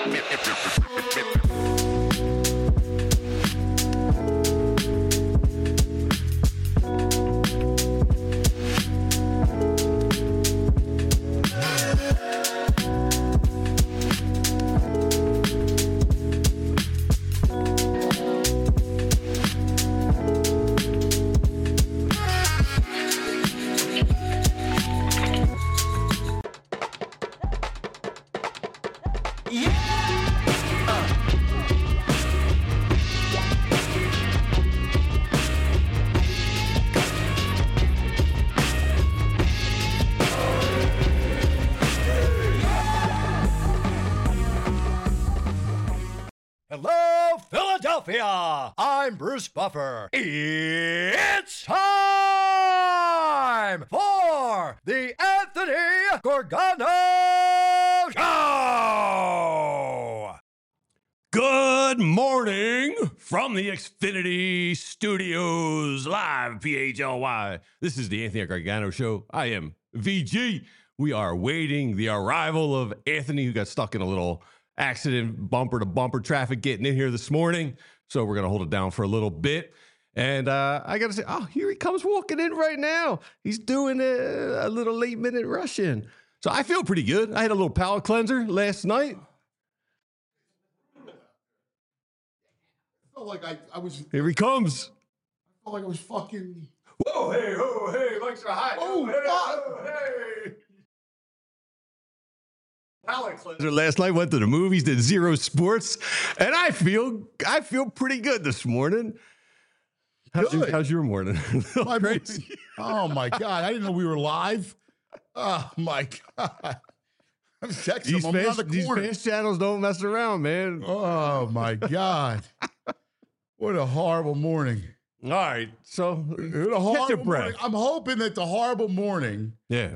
Hello, Philadelphia! I'm Bruce Buffer. It's time for the Anthony Gargano Show! Good morning from the Xfinity Studios, live PHLY. This is the Anthony Gargano Show. I am VG. We are waiting the arrival of Anthony, who got stuck in a little accident, bumper to bumper traffic getting in here this morning. So we're going to hold it down for a little bit. And I got to say, oh, here he comes walking in right now. He's doing a little late minute rush in. So I feel pretty good. I had a little palate cleanser last night. I felt like I was. Here he comes. I felt like I was fucking. Whoa, hey, Mike's are hot. Oh, hey. Palate cleanser last night, went to the movies, did Zero Sports, and I feel pretty good this morning. How's your morning? Oh my God! I didn't know we were live. Oh my God! I'm texting him. I'm on the corner. These fast channels don't mess around, man. Oh my God! What a horrible morning. All right, so catch your breath. I'm hoping that the horrible morning,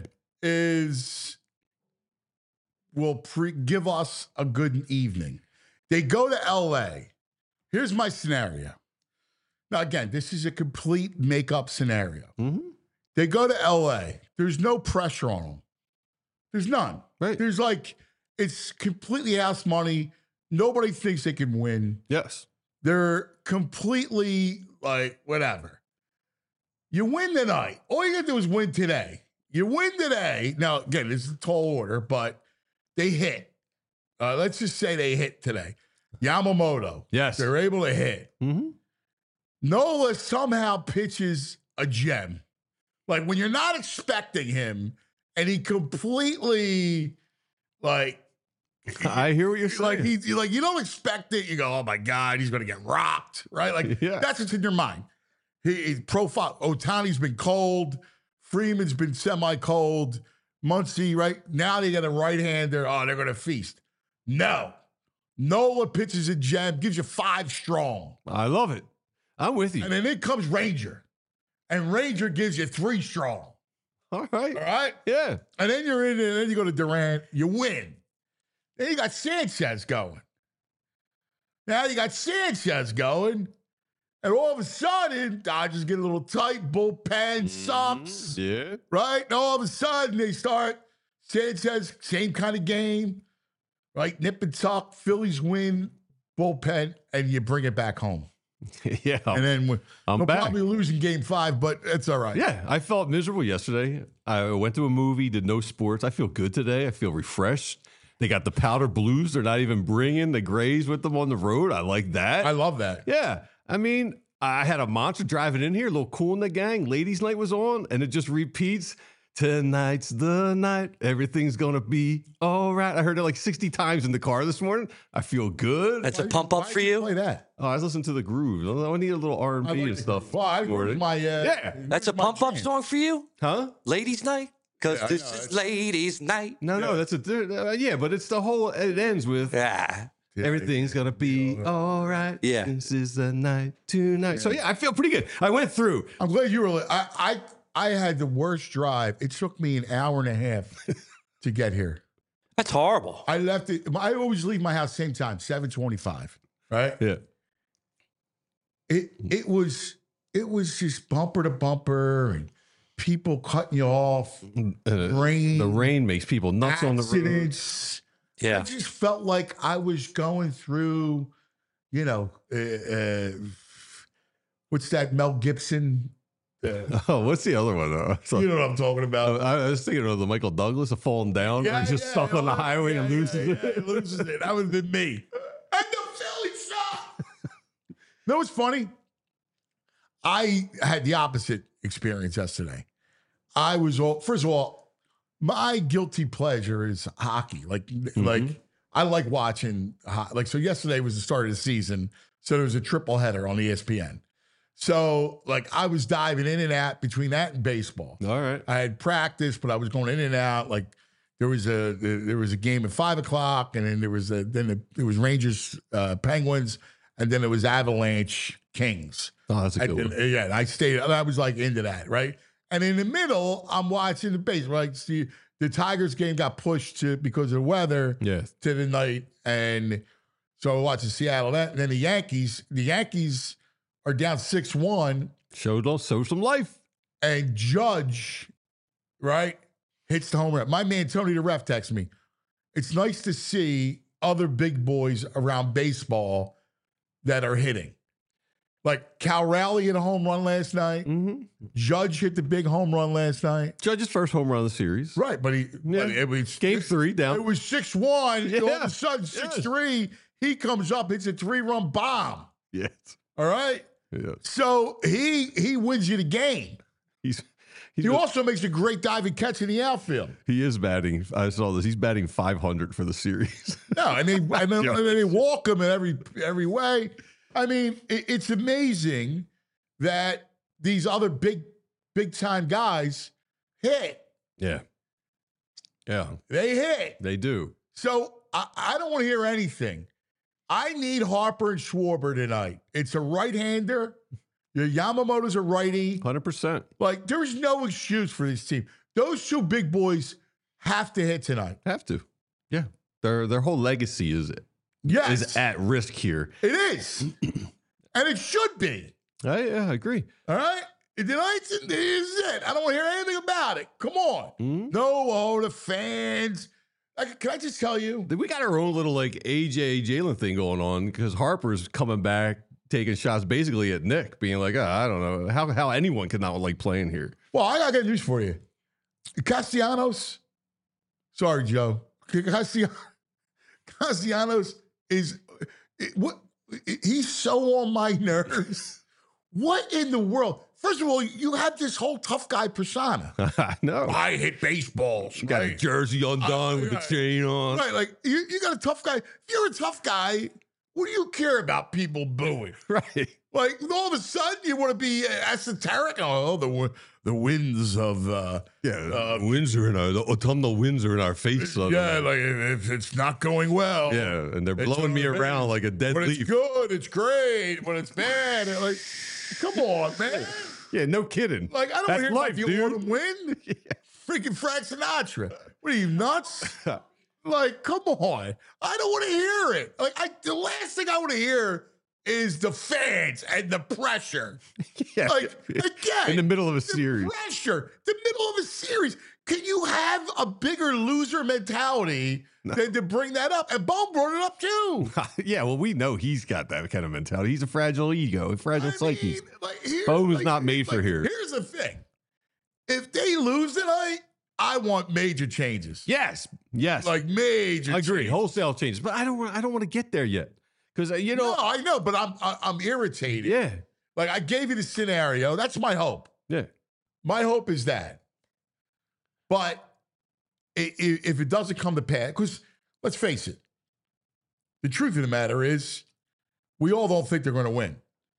will give us a good evening. They go to L.A. Here's my scenario. Now, again, this is a complete make-up scenario. Mm-hmm. They go to L.A. There's no pressure on them. There's none. Right. There's it's completely house money. Nobody thinks they can win. Yes. They're completely whatever. You win tonight. All you got to do is win today. You win today. Now, again, this is a tall order, but they hit. Let's just say they hit today. Yamamoto. Yes. They're able to hit. Mm-hmm. Nola somehow pitches a gem. Like when you're not expecting him and he completely I hear what you're saying. You don't expect it. You go, oh my God, he's going to get rocked, right? That's what's in your mind. His profile. Ohtani's been cold. Freeman's been semi-cold. Muncy, right? Now they got a right-hander. Oh, they're going to feast. No. Nola pitches a gem, gives you 5 strong. I love it. I'm with you. And then in comes Ranger. And Ranger gives you 3 strong. All right. All right? Yeah. And then you're in there, and then you go to Durant. You win. Then you got Sanchez going. Now you got Sanchez going. And all of a sudden, Dodgers get a little tight. Bullpen sucks. Yeah. Right? And all of a sudden, they start. Sanchez, same kind of game. Right? Nip and tuck. Phillies win. Bullpen. And you bring it back home. Yeah. And then we're back. probably losing game 5, but it's all right. Yeah. I felt miserable yesterday. I went to a movie, did no sports. I feel good today. I feel refreshed. They got the powder blues. They're not even bringing the grays with them on the road. I like that. I love that. Yeah. I mean, I had a monster driving in here, a little Cool in the Gang. Ladies' night was on, and it just repeats. Tonight's the night. Everything's going to be all right. I heard it 60 times in the car this morning. I feel good. That's a pump up for you? Play that. Oh, I was listening to the groove. I need a little R&B and stuff. Well, That's a pump up song for you? Huh? Ladies' night? Because this is ladies' night. No, that's but it's the whole, it ends with. Yeah. Everything's gonna be all right. Yeah. This is the night tonight. So I feel pretty good. I went through. I'm glad you were. I had the worst drive. It took me an hour and a half to get here. That's horrible. I left it. I always leave my house same time, 7:25. Right. Yeah. It was just bumper to bumper and people cutting you off. The rain makes people nuts on the road. Accidents. Yeah. I just felt like I was going through, you know, what's that Mel Gibson? What's the other one? You know what I'm talking about. I was thinking of the Michael Douglas, of falling down. Yeah, He's just stuck on the highway and loses it. He loses it. That would have been me. And the Philly shot. You know what's funny? I had the opposite experience yesterday. I was first of all, my guilty pleasure is hockey. Like I like watching. So yesterday was the start of the season, so there was a triple header on ESPN. So I was diving in and out between that and baseball. All right, I had practice, but I was going in and out. Like there was a game at 5 o'clock, and then there was Rangers Penguins, and then it was Avalanche Kings. Oh, that's a good one. Yeah, I stayed. I was into that, right? And in the middle, I'm watching the baseball. Right, see, the Tigers game got pushed because of the weather to the night, and so I watched Seattle. That, and then the Yankees are down 6-1. Show some life. And Judge, right, hits the home run. My man Tony the ref texts me. It's nice to see other big boys around baseball that are hitting. Like Cal Raleigh hit a home run last night. Mm-hmm. Judge hit the big home run last night. Judge's first home run of the series. Right, but it was game 3 down. It was 6-1. Yeah. All of a sudden, 6-3. He comes up, hits a 3-run bomb. Yes. All right. Yeah. So he wins you the game. He also makes a great diving catch in the outfield. He is batting. I saw this. He's batting 500 for the series. No, and they walk him in every way. I mean, it's amazing that these other big time guys hit. Yeah. Yeah. They hit. They do. So I don't want to hear anything. I need Harper and Schwarber tonight. It's a right-hander. Your Yamamoto's a righty. 100%. There's no excuse for this team. Those two big boys have to hit tonight. Have to. Yeah. Their whole legacy is at risk here. It is. And it should be. I agree. All right? Tonight's is it. I don't want to hear anything about it. Come on. Mm-hmm. No, the fans. Can I just tell you? We got our own little AJ Jalen thing going on because Harper's coming back, taking shots basically at Nick, being like, I don't know how anyone could not like playing here. Well, I got good news for you. Castellanos, sorry, Joe. Castellanos he's so on my nerves. What in the world? First of all, you have this whole tough guy persona. I know. I hit baseballs. You got a jersey undone with the chain on. Right, you got a tough guy. If you're a tough guy, what do you care about people booing? Right. All of a sudden, you want to be esoteric. Oh, the winds of winds are in the autumnal winds are in our face. If it's not going well. Yeah, and they're blowing me around like a dead leaf. It's good, it's great. When it's bad, come on, man. Yeah, no kidding. I don't hear life, you want to win. Yeah. Freaking Frank Sinatra. What are you, nuts? Come on. I don't want to hear it. The last thing I want to hear is the fans and the pressure. Yeah. Again. In the middle of a series. Pressure. The middle of a series. Can you have a bigger loser mentality than to bring that up? And Bo brought it up too. Yeah, well, we know he's got that kind of mentality. He's a fragile ego, a fragile psyche. Bo was not made for here. Here's the thing. If they lose tonight, I want major changes. Yes. Major. I agree. Changes. Wholesale changes, but I don't want to get there yet because No, I know, but I'm irritated. Yeah. I gave you the scenario. That's my hope. Yeah. My hope is that. But if it doesn't come to pass, because let's face it, the truth of the matter is, we all don't think they're going to win.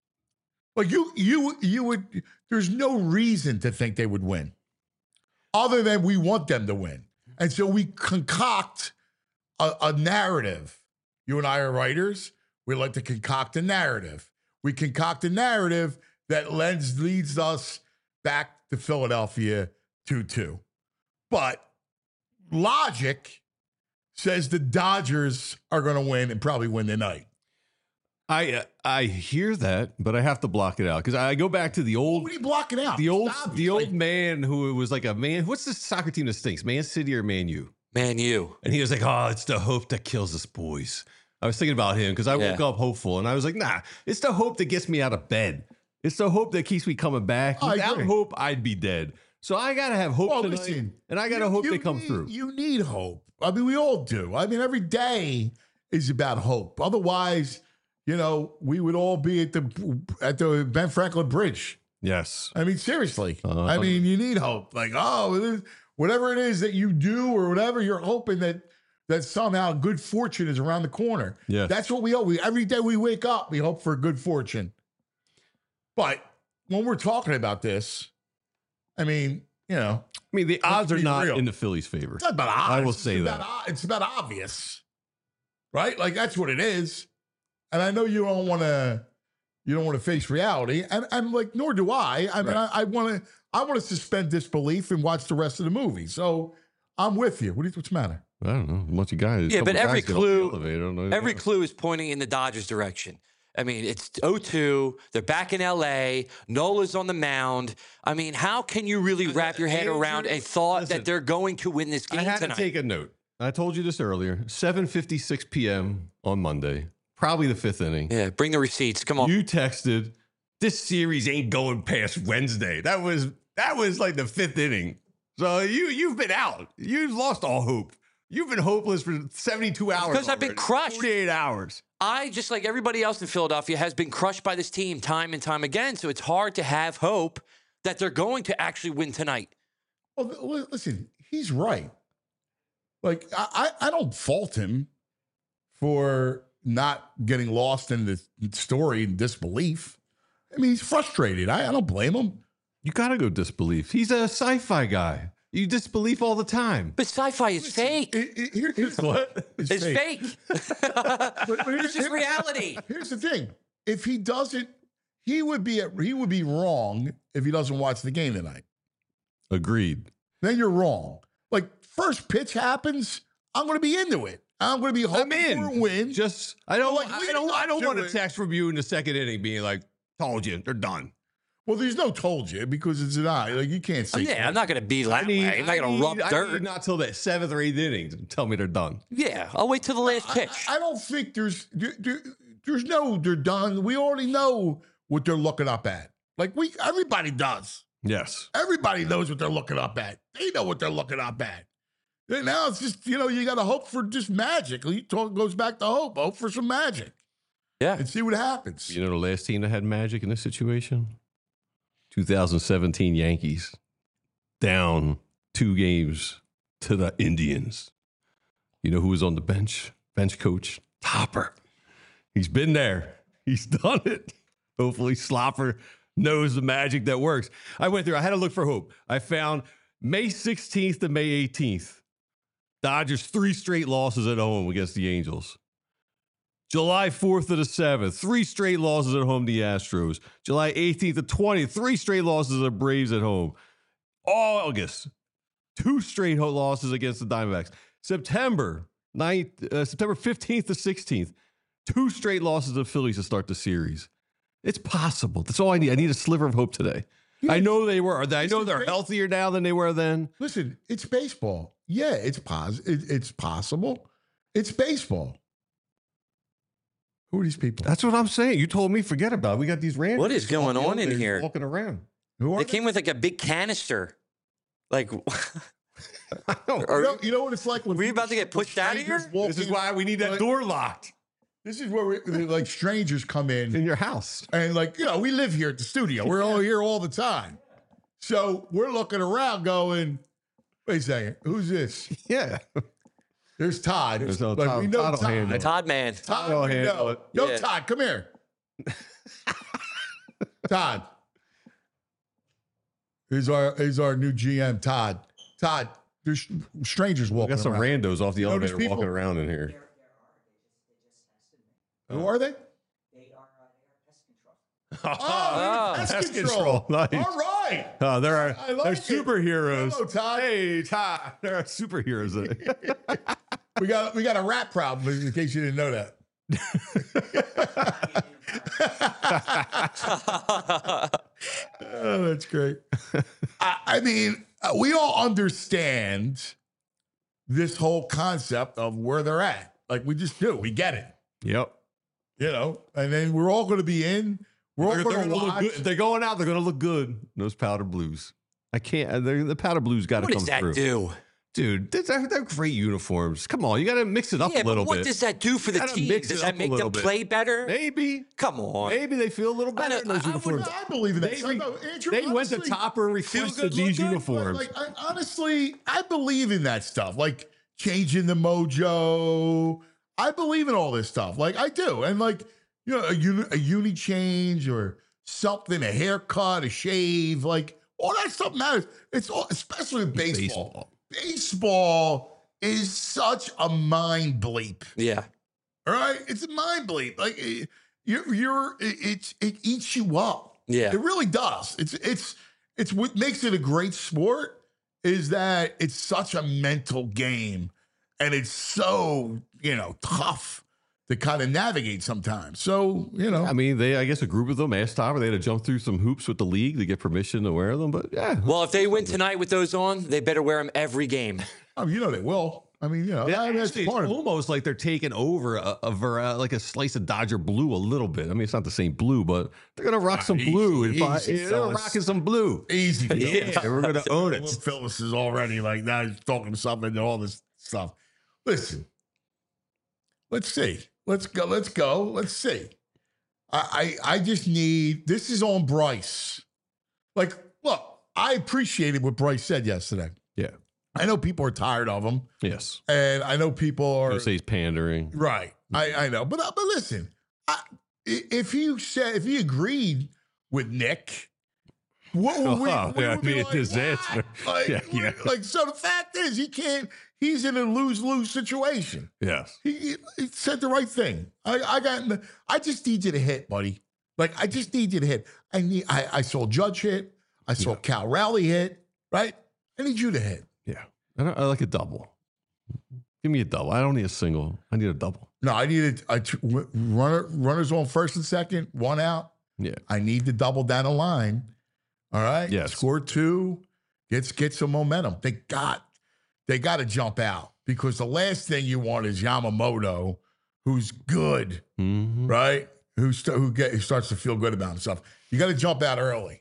You would. There's no reason to think they would win, other than we want them to win, and so we concoct a narrative. You and I are writers. We like to concoct a narrative. We concoct a narrative that leads us back to Philadelphia 2-2. But logic says the Dodgers are going to win and probably win tonight. I hear that, but I have to block it out because I go back to the old. What are you blocking out? The old man who was like a man. What's the soccer team that stinks? Man City or Man U? Man, you. And he was like, oh, it's the hope that kills us boys. I was thinking about him because I woke up hopeful, and I was like, nah, it's the hope that gets me out of bed. It's the hope that keeps me coming back. Without hope, I'd be dead. So I got to have hope tonight, listen, and I got to hope they come through. You need hope. I mean, we all do. I mean, every day is about hope. Otherwise, we would all be at the Ben Franklin Bridge. Yes. I mean, seriously. I mean, you need hope. Like, whatever it is that you do or whatever, you're hoping that somehow good fortune is around the corner. Yeah. That's what we hope. Every day we wake up, we hope for good fortune. But when we're talking about this, I mean, the odds are not in the Phillies' favor. It's not about odds. I will say that. It's about obvious, right? Like, that's what it is. And I know you don't want to face reality, and I'm like, nor do I. I mean, I want to suspend disbelief and watch the rest of the movie. So I'm with you. What's the matter? I don't know. A bunch of guys. Yeah, but every clue is pointing in the Dodgers' direction. I mean, it's 0-2. They're back in L.A. Nola's on the mound. I mean, how can you really wrap your head around a thought that they're going to win this game tonight? I had to take a note. I told you this earlier. 7:56 p.m. on Monday. Probably the fifth inning. Yeah, bring the receipts. Come on. You texted, this series ain't going past Wednesday. That was like the fifth inning. So you've been out. You've lost all hope. You've been hopeless for 72 hours. Because I've been crushed. 48 hours. I, just like everybody else in Philadelphia, has been crushed by this team time and time again. So it's hard to have hope that they're going to actually win tonight. Well, listen, he's right. Like, I don't fault him for not getting lost in the story and disbelief. I mean, he's frustrated. I don't blame him. You got to go disbelief. He's a sci-fi guy. You disbelief all the time. But sci-fi is fake. Here's what? It's fake. It's just reality. Here's the thing. If he doesn't, he would be wrong if he doesn't watch the game tonight. Agreed. Then you're wrong. Like, first pitch happens, I'm going to be into it. I'm going to be hoping for a win. I don't want a text from you in the second inning being like, told you, they're done. Well, there's no told you because it's an eye. Like, you can't say. Yeah, I'm not going to be that way. I'm not going to rub dirt. Not till the seventh or eighth inning to tell me they're done. Yeah, I'll wait till the last pitch. I don't think there's no they're done. We already know what they're looking up at. Like, everybody does. Yes. Everybody knows what they're looking up at. They know what they're looking up at. And now it's just, you got to hope for just magic. Goes back to hope. Hope for some magic. Yeah. And see what happens. You know the last team that had magic in this situation? 2017 Yankees. Down 2 games to the Indians. You know who was on the bench? Bench coach, Topper. He's been there. He's done it. Hopefully Slopper knows the magic that works. I went through. I had to look for hope. I found May 16th to May 18th. Dodgers 3 straight losses at home against the Angels. July 4th to the 7th, 3 straight losses at home to the Astros. July 18th to 20th, 3 straight losses to the Braves at home. August, 2 straight losses against the Diamondbacks. September 15th to 16th, 2 straight losses to the Phillies to start the series. It's possible. That's all I need. I need a sliver of hope today. Yeah. I know they're healthier now than they were then. Listen, it's baseball. Yeah, it's possible. It's baseball. Who are these people? That's what I'm saying. You told me forget about it. We got these randoms. What is going on in here? Walking around. They came with like a big canister. Like, you know what it's like when we're about to get pushed out of here? This is why we need that door locked. This is where like strangers come in your house. And we live here at the studio. We're all here all the time. So we're looking around going, wait a second, who's this? Yeah. There's Todd. We know Todd. Todd man. Todd, we know. Yo, Todd, come here. Todd. Here's our new GM, Todd. Todd, there's strangers walking around. We got some randos off the elevator walking around in here. Who are they? They are pest control. Pest control. Nice. All right. They're superheroes. Hello, Todd. Hey, Todd. They're superheroes. We got a rat problem in case you didn't know that. Oh, that's great. I mean, we all understand this whole concept of where they're at. Like we just do. We get it. Yep. You know, and then we're all going to be in. We're all going to watch. If they're going out, they're going to look good. Those powder blues. I can't. The powder blues got to come through. What does that do? Dude, they're great uniforms. Come on, you got to mix it up a little bit. What does that do for the team? Does that make them play better? Maybe. Come on. Maybe they feel a little better in those uniforms. I believe in that. They went to Topper and requested these uniforms. Honestly, I believe in that stuff. Like changing the mojo. I believe in all this stuff. Like I do. And like, you know, a uni change or something, a haircut, a shave, like all that stuff matters. It's all, especially in baseball. Baseball is such a mind bleep. Yeah. All right? It's a mind bleep. Like it eats you up. Yeah. It really does. It's what makes it a great sport is that it's such a mental game and it's so, you know, tough to kind of navigate sometimes. So, you know. I mean, I guess a group of them asked Topper. They had to jump through some hoops with the league to get permission to wear them. But yeah. Well, if they win tonight with those on, they better wear them every game. Oh, you know they will. I mean, you know, that's part of it. Almost like they're taking over like a slice of Dodger blue a little bit. I mean, it's not the same blue, but they're going to rock some blue. They're rocking some blue. Easy. Yeah, we're going to own it. Phyllis is already like, now he's talking something and all this stuff. Listen, let's see. Let's go. Let's see. I just need, this is on Bryce. Like, look, I appreciated what Bryce said yesterday. Yeah. I know people are tired of him. Yes. And I know people are. Say he's pandering. Right. I know. But listen, if he agreed with Nick, what would we be like? Disaster. Like, so the fact is, he's in a lose-lose situation. Yes. He said the right thing. I just need you to hit, buddy. Like, I just need you to hit. I saw Judge hit. I saw Cal Raleigh hit, right? I need you to hit. Yeah. I like a double. Give me a double. I don't need a single. I need a double. No, I need runners on first and second, one out. Yeah. I need the double down the line. All right. Yes. Score two. Get some momentum. They got to jump out because the last thing you want is Yamamoto, who's good, right? Who starts to feel good about himself. You got to jump out early.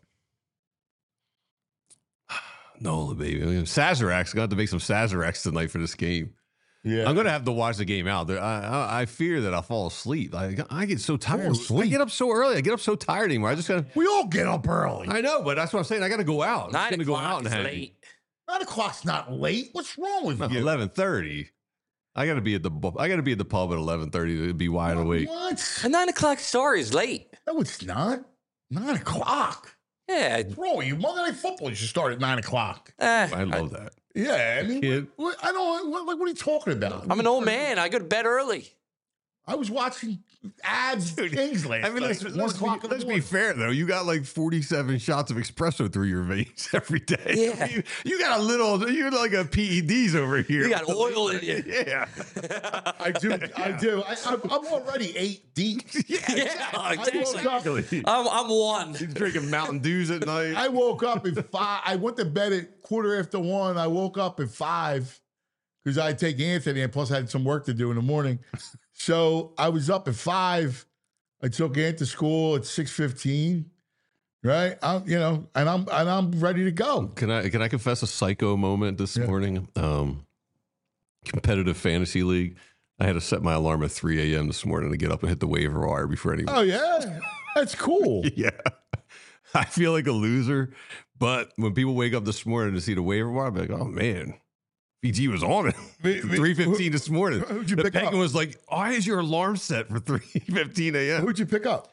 Nola, baby. Sazerac's got to make some Sazeracs tonight for this game. Yeah, I'm going to have to watch the game out. I fear that I'll fall asleep. I get so tired. I get up so early. I get up so tired anymore. We all get up early. I know, but that's what I'm saying. I got to go out. I'm going to go out and have late. 9 o'clock's not late. What's wrong with you? 11:30. I got to be at the pub at 11:30 to be wide awake. What? A 9 o'clock start is late. No, it's not. 9 o'clock. Yeah. What's wrong with you? Monday Night Football should start at 9 o'clock. I love that. Yeah, I mean, what are you talking about? I'm an old man. I go to bed early. I was watching ads things last night. Let's be fair, though. You got like 47 shots of espresso through your veins every day. Yeah. You got you're like a PEDs over here. You got oil in you. Yeah. I do. I'm already 8 deep. Yeah, exactly. I'm one. You're drinking Mountain Dews at night. I woke up at 5. I went to bed at 1:15. I woke up at 5 because I had to take Anthony, and plus I had some work to do in the morning. So I was up at 5. I took Ant to school at 6:15. Right, I'm ready to go. Can I confess a psycho moment this morning? Competitive fantasy league. I had to set my alarm at 3 a.m. this morning to get up and hit the waiver wire before anyone. Oh yeah, that's cool. Yeah, I feel like a loser, but when people wake up this morning to see the waiver wire, I'm like, oh man. VG was on it. 3:15 this morning. Who'd you pick up? Was like, why is your alarm set for 3:15 a.m.? Who'd you pick up?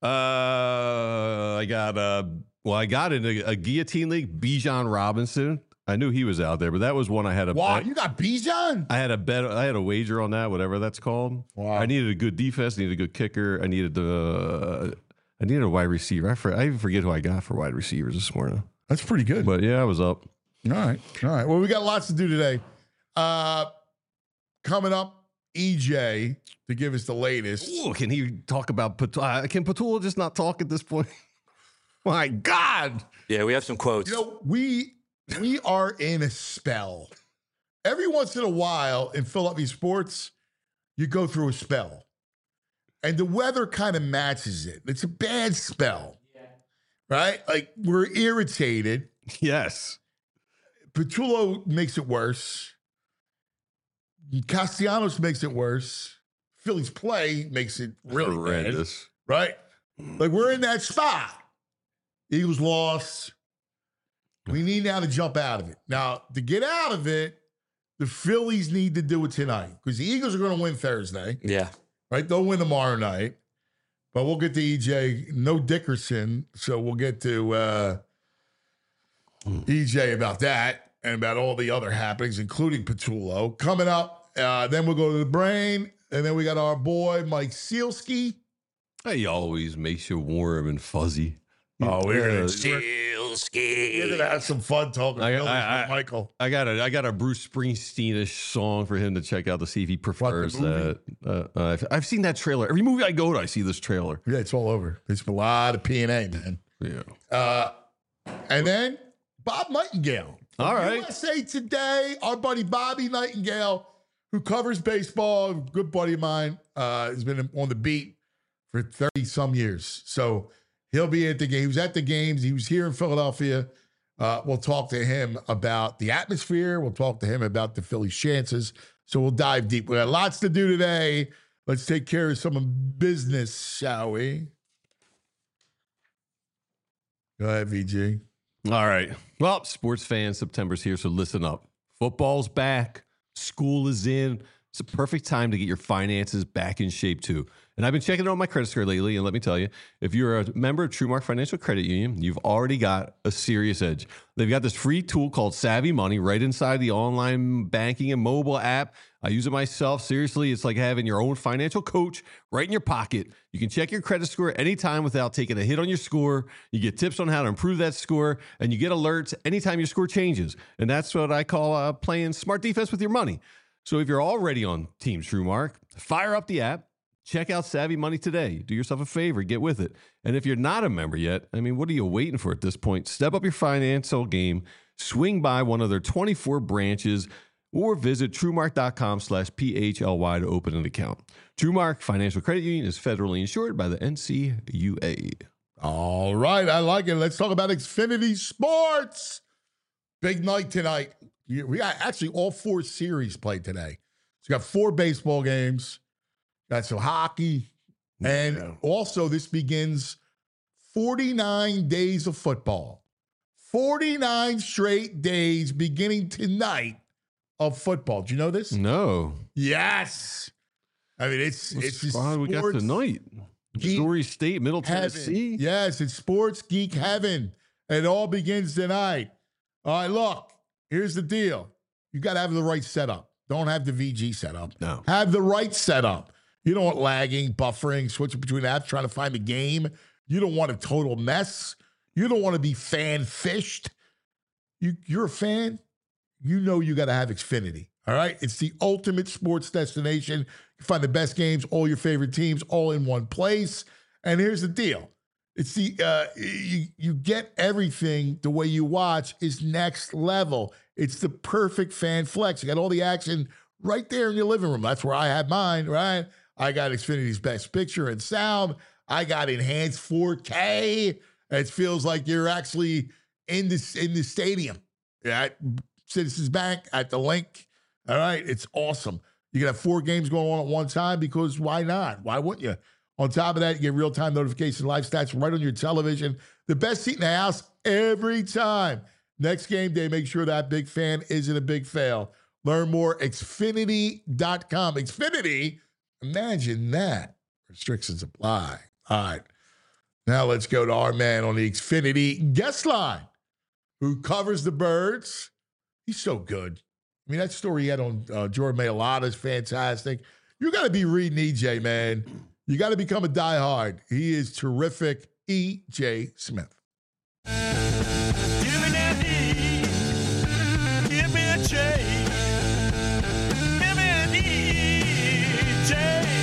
I got in a guillotine league, Bijan Robinson. I knew he was out there, but that was one I had a bet. You got Bijan? I had a bet. I had a wager on that, whatever that's called. Wow. I needed a good defense, needed a good kicker. I needed a wide receiver. I even forget who I got for wide receivers this morning. That's pretty good. But yeah, I was up. All right. Well, we got lots to do today. Coming up, EJ to give us the latest. Ooh, can he talk about Patula? Can Patula just not talk at this point? My God. Yeah, we have some quotes. We are in a spell. every once in a while in Philadelphia sports, you go through a spell. And the weather kind of matches it. It's a bad spell, right? Like, we're irritated. Yes. Petullo makes it worse. Castellanos makes it worse. Philly's play makes it really horrendous, right? Like, we're in that spot. Eagles lost. We need now to jump out of it. Now, to get out of it, the Phillies need to do it tonight because the Eagles are going to win Thursday. Yeah. Right? They'll win tomorrow night. But we'll get to EJ. No Dickerson. So we'll get to EJ about that and about all the other happenings, including Petullo. Coming up, then we'll go to the brain. And then we got our boy, Mike Sealski. He always makes you warm and fuzzy. Oh, we're going to have some fun talking with Michael. I got a Bruce Springsteen-ish song for him to check out to see if he prefers that. I've seen that trailer. Every movie I go to, I see this trailer. Yeah, it's all over. There's a lot of P&A, man. Yeah. And then Bob Nightingale. All right. USA Today, our buddy Bobby Nightingale, who covers baseball, good buddy of mine, has been on the beat for 30-some years. So he'll be at the game. He was at the games. He was here in Philadelphia. We'll talk to him about the atmosphere. We'll talk to him about the Phillies' chances. So we'll dive deep. We got lots to do today. Let's take care of some business, shall we? Go ahead, VG. All right. Well, sports fans, September's here, so listen up. Football's back. School is in. It's a perfect time to get your finances back in shape, too. And I've been checking it on my credit score lately, and let me tell you, if you're a member of TrueMark Financial Credit Union, you've already got a serious edge. They've got this free tool called Savvy Money right inside the online banking and mobile app. I use it myself. Seriously, it's like having your own financial coach right in your pocket. You can check your credit score anytime without taking a hit on your score. You get tips on how to improve that score, and you get alerts anytime your score changes. And that's what I call playing smart defense with your money. So if you're already on Team TrueMark, fire up the app. Check out Savvy Money today. Do yourself a favor. Get with it. And if you're not a member yet, I mean, what are you waiting for at this point? Step up your financial game. Swing by one of their 24 branches or visit TrueMark.com/PHLY to open an account. TrueMark Financial Credit Union is federally insured by the NCUA. All right. I like it. Let's talk about Xfinity Sports. Big night tonight. We got actually all 4 series played today. So you got 4 baseball games. Got some hockey. And also this begins 49 days of football. 49 straight days beginning tonight of football. Do you know this? No. Yes. I mean, it's what we got tonight. Missouri State, Middle Tennessee. Yes, it's sports geek heaven. It all begins tonight. All right, look, here's the deal. You got to have the right setup. Don't have the VG setup. No. Have the right setup. You don't want lagging, buffering, switching between apps, trying to find the game. You don't want a total mess. You don't want to be fan-fished. You're a fan. You know you got to have Xfinity, all right? It's the ultimate sports destination. You find the best games, all your favorite teams, all in one place. And here's the deal. It's the you get everything the way you watch is next level. It's the perfect fan flex. You got all the action right there in your living room. That's where I have mine, right? I got Xfinity's best picture and sound. I got enhanced 4K. It feels like you're actually in the stadium at Citizens Bank at the Link. All right, it's awesome. You can have 4 games going on at one time because why not? Why wouldn't you? On top of that, you get real-time notification live stats right on your television. The best seat in the house every time. Next game day, make sure that big fan isn't a big fail. Learn more, Xfinity.com. Xfinity, imagine that. Restrictions apply. All right. Now let's go to our man on the Xfinity guest line who covers the Birds. He's so good. I mean, that story he had on Jordan Mailata is fantastic. You got to be reading EJ, man. You got to become a diehard. He is terrific. EJ Smith. Give me that E. Give me a J. Give me an EJ.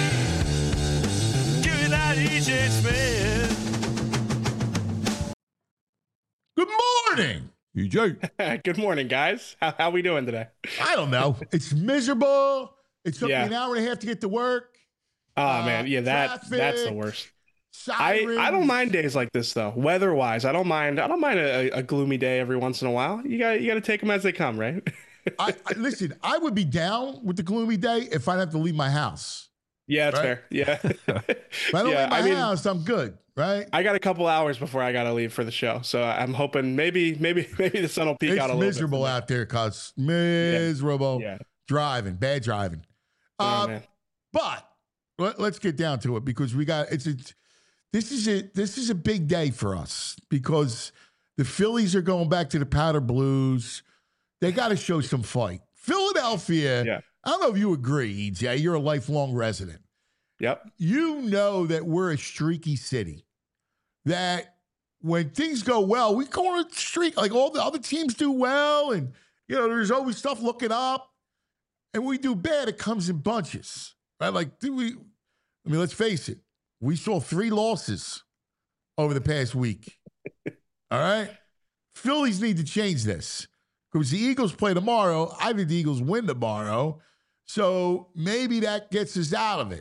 Give me that EJ Smith. Good morning. EJ. Good morning, guys. How we doing today? I don't know. It's miserable. It took me Yeah. an hour and a half to get to work. Oh man, yeah, that's the traffic, worst. sirens. I don't mind days like this though. Weather-wise, I don't mind a gloomy day every once in a while. You got to take them as they come, right? Listen, I would be down with the gloomy day if I'd have to leave my house. Yeah, that's Right? fair. Yeah. If I don't Yeah, leave my house, I'm good, right? I got a couple hours before I got to leave for the show, so I'm hoping maybe the sun will peek It's out a little bit. miserable out there, cuz. Miserable. Yeah. Driving, bad driving. Oh, man. But let's get down to it because this is a big day for us because the Phillies are going back to the Powder Blues. They got to show some fight. Philadelphia, Yeah. I don't know if you agree, EJ, you're a lifelong resident. Yep. You know that we're a streaky city. That when things go well, we go on a streak. Like all the other teams do well, and there's always stuff looking up. And we do bad, it comes in bunches. Right? Like, let's face it. We saw 3 losses over the past week. All right? Phillies need to change this. Because the Eagles play tomorrow. I think the Eagles win tomorrow. So maybe that gets us out of it.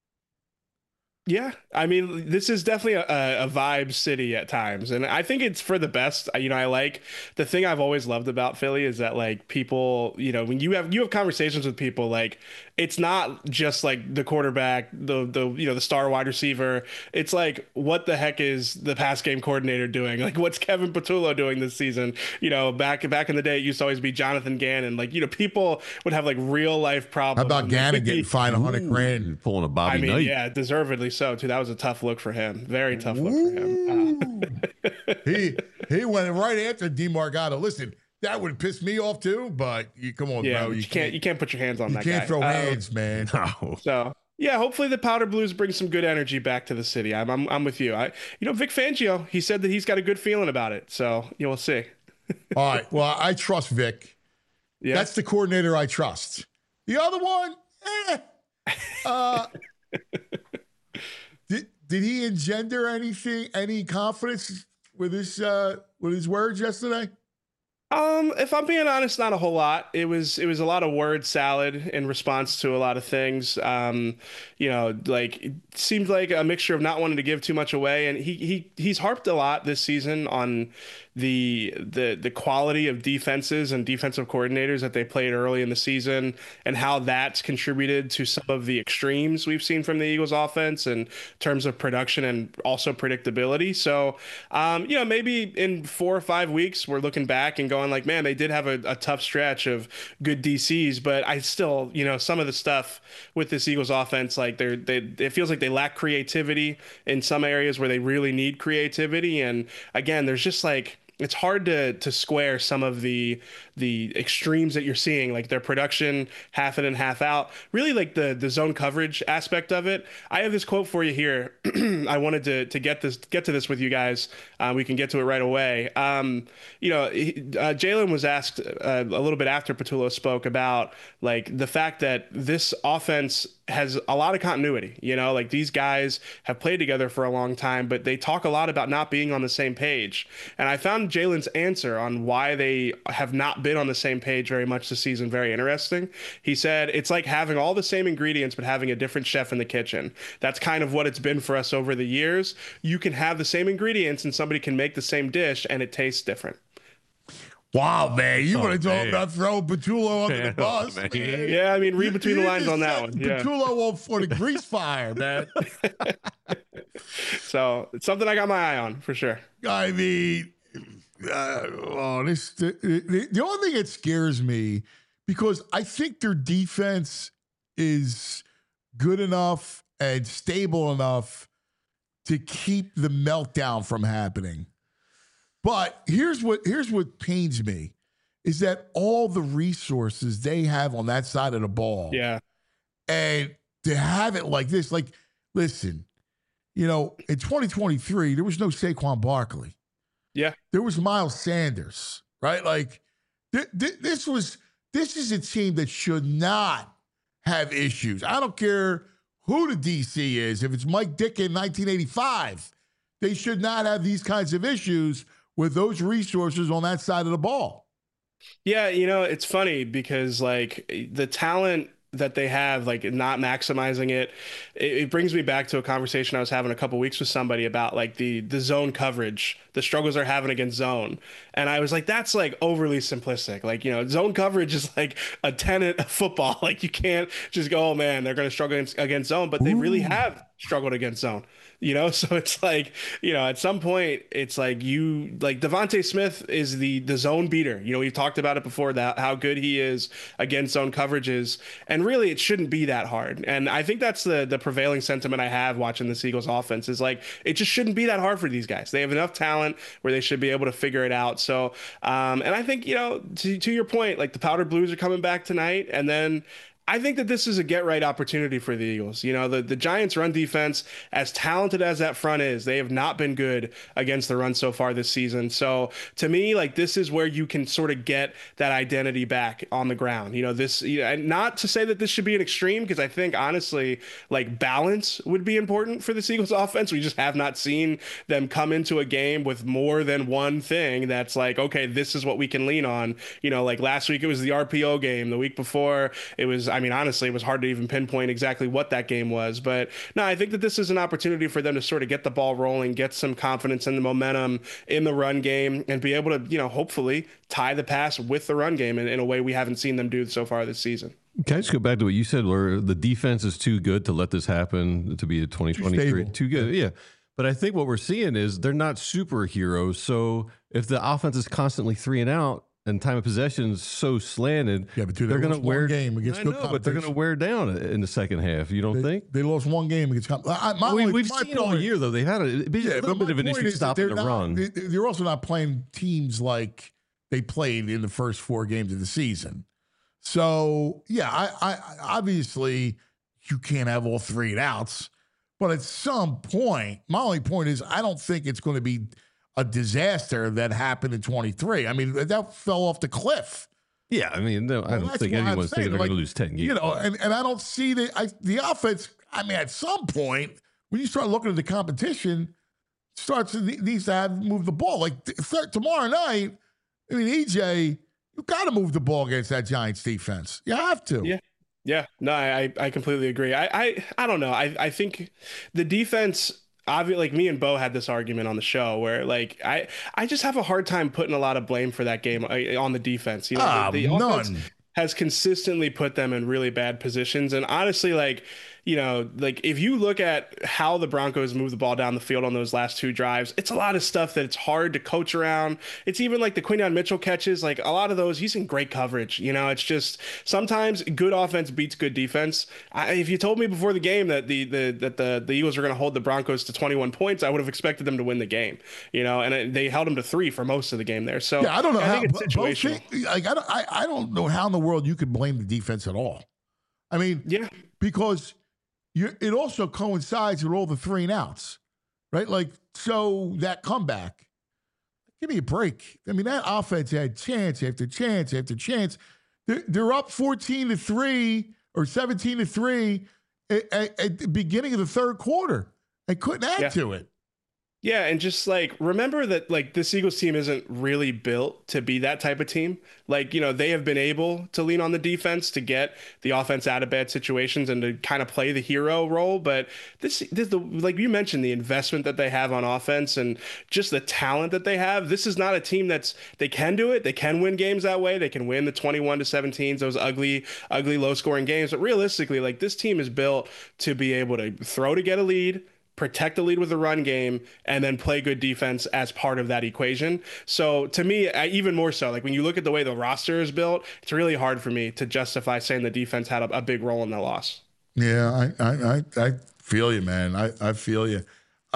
Yeah, I mean, this is definitely a vibe city at times, and I think it's for the best. I like the thing I've always loved about Philly is that like people, when you have conversations with people, like it's not just like the quarterback, the star wide receiver. It's like, what the heck is the pass game coordinator doing? Like, what's Kevin Patullo doing this season? Back in the day, it used to always be Jonathan Gannon. Like, people would have like real life problems. How about Gannon getting fined $100,000? Pulling a Bobby Knight. Yeah, deservedly so too. That was a tough look for him. Very tough look for him. He went right after DeMarcado. Listen, that would piss me off too. But come on, Yeah, bro, you can't put your hands on that guy. You can't throw hands, man. No. So yeah, hopefully the Powder Blues bring some good energy back to the city. I'm with you. Vic Fangio, he said that he's got a good feeling about it. So we'll see. All right. Well, I trust Vic. Yeah, That's the coordinator I trust. The other one, Did he engender any confidence with his words yesterday? If I'm being honest, not a whole lot. It was a lot of word salad in response to a lot of things. Like it seemed like a mixture of not wanting to give too much away, and he's harped a lot this season on the quality of defenses and defensive coordinators that they played early in the season and how that's contributed to some of the extremes we've seen from the Eagles offense in terms of production and also predictability. So, maybe in 4 or 5 weeks, we're looking back and going like, man, they did have a tough stretch of good DCs, but I still, some of the stuff with this Eagles offense, like it feels like they lack creativity in some areas where they really need creativity. And again, there's just like, it's hard to square some of the extremes that you're seeing, like their production half in and half out, really like the zone coverage aspect of it. I have this quote for you here. I wanted to get to this with you guys. We can get to it right away. Jalen was asked a little bit after Patullo spoke about like the fact that this offense has a lot of continuity, like these guys have played together for a long time, but they talk a lot about not being on the same page. And I found Jalen's answer on why they have not been on the same page very much this season very interesting. He said, it's like having all the same ingredients, but having a different chef in the kitchen. That's kind of what it's been for us over the years. You can have the same ingredients and somebody can make the same dish and it tastes different. Wow, man. You want to talk about throwing Patullo under the bus, man. Yeah, I mean, read between the lines on that one. Yeah. Patullo for the grease fire, man. So it's something I got my eye on for sure. I mean, the only thing that scares me, because I think their defense is good enough and stable enough to keep the meltdown from happening. But here's what pains me is that all the resources they have on that side of the ball. Yeah. And to have it like this, like, listen, in 2023, there was no Saquon Barkley. Yeah. There was Miles Sanders, right? Like, this is a team that should not have issues. I don't care who the DC is. If it's Mike Dick in 1985, they should not have these kinds of issues with those resources on that side of the ball. Yeah, it's funny because like the talent that they have, like not maximizing it brings me back to a conversation I was having a couple weeks with somebody about like the zone coverage, the struggles they're having against zone. And I was like, that's like overly simplistic. Like, zone coverage is like a tenet of football. Like you can't just go, oh man, they're going to struggle against zone, but they really have struggled against zone. So it's like, at some point it's like Devontae Smith is the zone beater. We've talked about it before, that how good he is against zone coverages, and really it shouldn't be that hard. And I think that's the prevailing sentiment I have watching the Eagles offense is like, it just shouldn't be that hard for these guys. They have enough talent where they should be able to figure it out. So, and I think, to your point, like the Powder Blues are coming back tonight, and then I think that this is a get-right opportunity for the Eagles. The Giants' run defense, as talented as that front is, they have not been good against the run so far this season. So to me, like this is where you can sort of get that identity back on the ground. And not to say that this should be an extreme, because I think honestly, like balance would be important for the Eagles offense. We just have not seen them come into a game with more than one thing that's like, okay, this is what we can lean on. Like last week it was the RPO game. The week before it was, honestly, it was hard to even pinpoint exactly what that game was. But no, I think that this is an opportunity for them to sort of get the ball rolling, get some confidence in the momentum in the run game, and be able to, hopefully tie the pass with the run game in a way we haven't seen them do so far this season. Can I just go back to what you said, where the defense is too good to let this happen, to be a 2023? Too good, yeah. But I think what we're seeing is they're not superheroes. So if the offense is constantly 3 and out, and time of possession is so slanted, yeah, but they're going to wear game against good but they're going to wear down in the second half. You don't think they lost one game against? We've seen all year though. They've had a little bit of an issue stopping the run. They're also not playing teams like they played in the first 4 games of the season. So yeah, I obviously you can't have all 3 and outs, but at some point, my only point is I don't think it's going to be a disaster that happened in 23. I mean, that fell off the cliff. Yeah, I mean, no, I don't think anyone's thinking they're going to lose 10 games. And I don't see the offense. I mean, at some point, when you start looking at the competition, needs to move the ball. Like tomorrow night, I mean, EJ, you got to move the ball against that Giants defense. You have to. Yeah. Yeah. No, I completely agree. I don't know. I think the defense, obviously, like me and Bo had this argument on the show where like I just have a hard time putting a lot of blame for that game on the defense. The offense has consistently put them in really bad positions, and honestly, like if you look at how the Broncos move the ball down the field on those last 2 drives, it's a lot of stuff that it's hard to coach around. It's even like the Quinyon Mitchell catches, like a lot of those, he's in great coverage. It's just sometimes good offense beats good defense. If you told me before the game that the Eagles were going to hold the Broncos to 21 points, I would have expected them to win the game. And they held them to 3 for most of the game there. So yeah, I don't know I how. think it's situational. I don't know how in the world you could blame the defense at all. I mean, yeah, because it also coincides with all the 3 and outs, right? Like, so that comeback, give me a break. I mean, that offense had chance after chance after chance. They're up 14-3 or 17-3 at the beginning of the third quarter. They couldn't add to it. Yeah, and just like remember that like this Eagles team isn't really built to be that type of team. Like, they have been able to lean on the defense to get the offense out of bad situations and to kind of play the hero role. But this like you mentioned, the investment that they have on offense and just the talent that they have. This is not a team they can do it. They can win games that way. They can win the 21-17s, those ugly low scoring games. But realistically, like this team is built to be able to throw to get a lead, protect the lead with the run game, and then play good defense as part of that equation. So to me, even more so, like when you look at the way the roster is built, it's really hard for me to justify saying the defense had a big role in the loss. Yeah, I feel you, man. I feel you.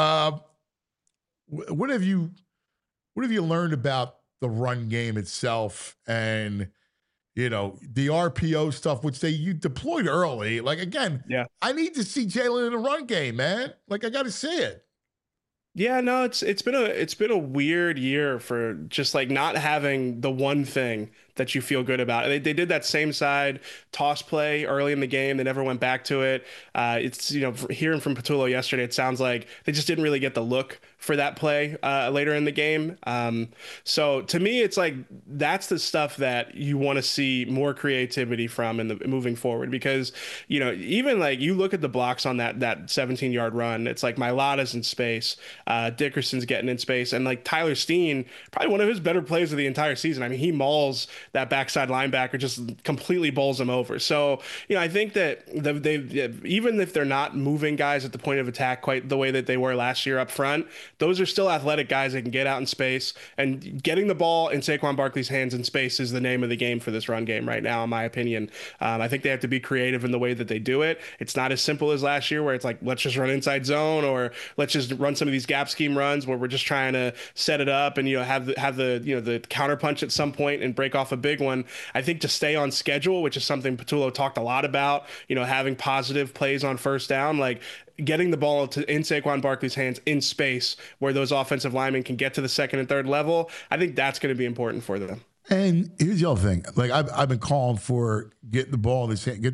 What have you learned about the run game itself and the RPO stuff, which you deployed early? Like, again, yeah, I need to see Jalen in the run game, man. Like, I got to see it. Yeah, no, it's been a weird year for just like not having the one thing that you feel good about. They did that same side toss play early in the game. They never went back to it. It's, hearing from Patullo yesterday, it sounds like they just didn't really get the look for that play later in the game. So to me, it's like that's the stuff that you want to see more creativity from in the moving forward, because even like you look at the blocks on that 17-yard run, it's like Mailata's in space, Dickerson's getting in space, and like Tyler Steen, probably one of his better plays of the entire season. I mean, he mauls that backside linebacker, just completely bowls him over. So I think that they even if they're not moving guys at the point of attack quite the way that they were last year up front, those are still athletic guys that can get out in space, and getting the ball in Saquon Barkley's hands in space is the name of the game for this run game right now, in my opinion. I think they have to be creative in the way that they do it. It's not as simple as last year where it's like, let's just run inside zone, or let's just run some of these gap scheme runs where we're just trying to set it up and have the counter punch at some point and break off a big one. I think to stay on schedule, which is something Patullo talked a lot about, having positive plays on first down, like getting the ball in Saquon Barkley's hands in space where those offensive linemen can get to the second and third level, I think that's going to be important for them. And here's the other thing. Like I've been calling for get the ball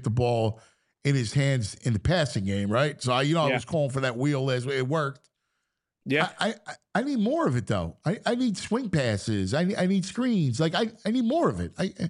in his hands in the passing game, right? So I was calling for that wheel as it worked. Yeah. I need more of it though. I need swing passes. I need screens. Like I need more of it.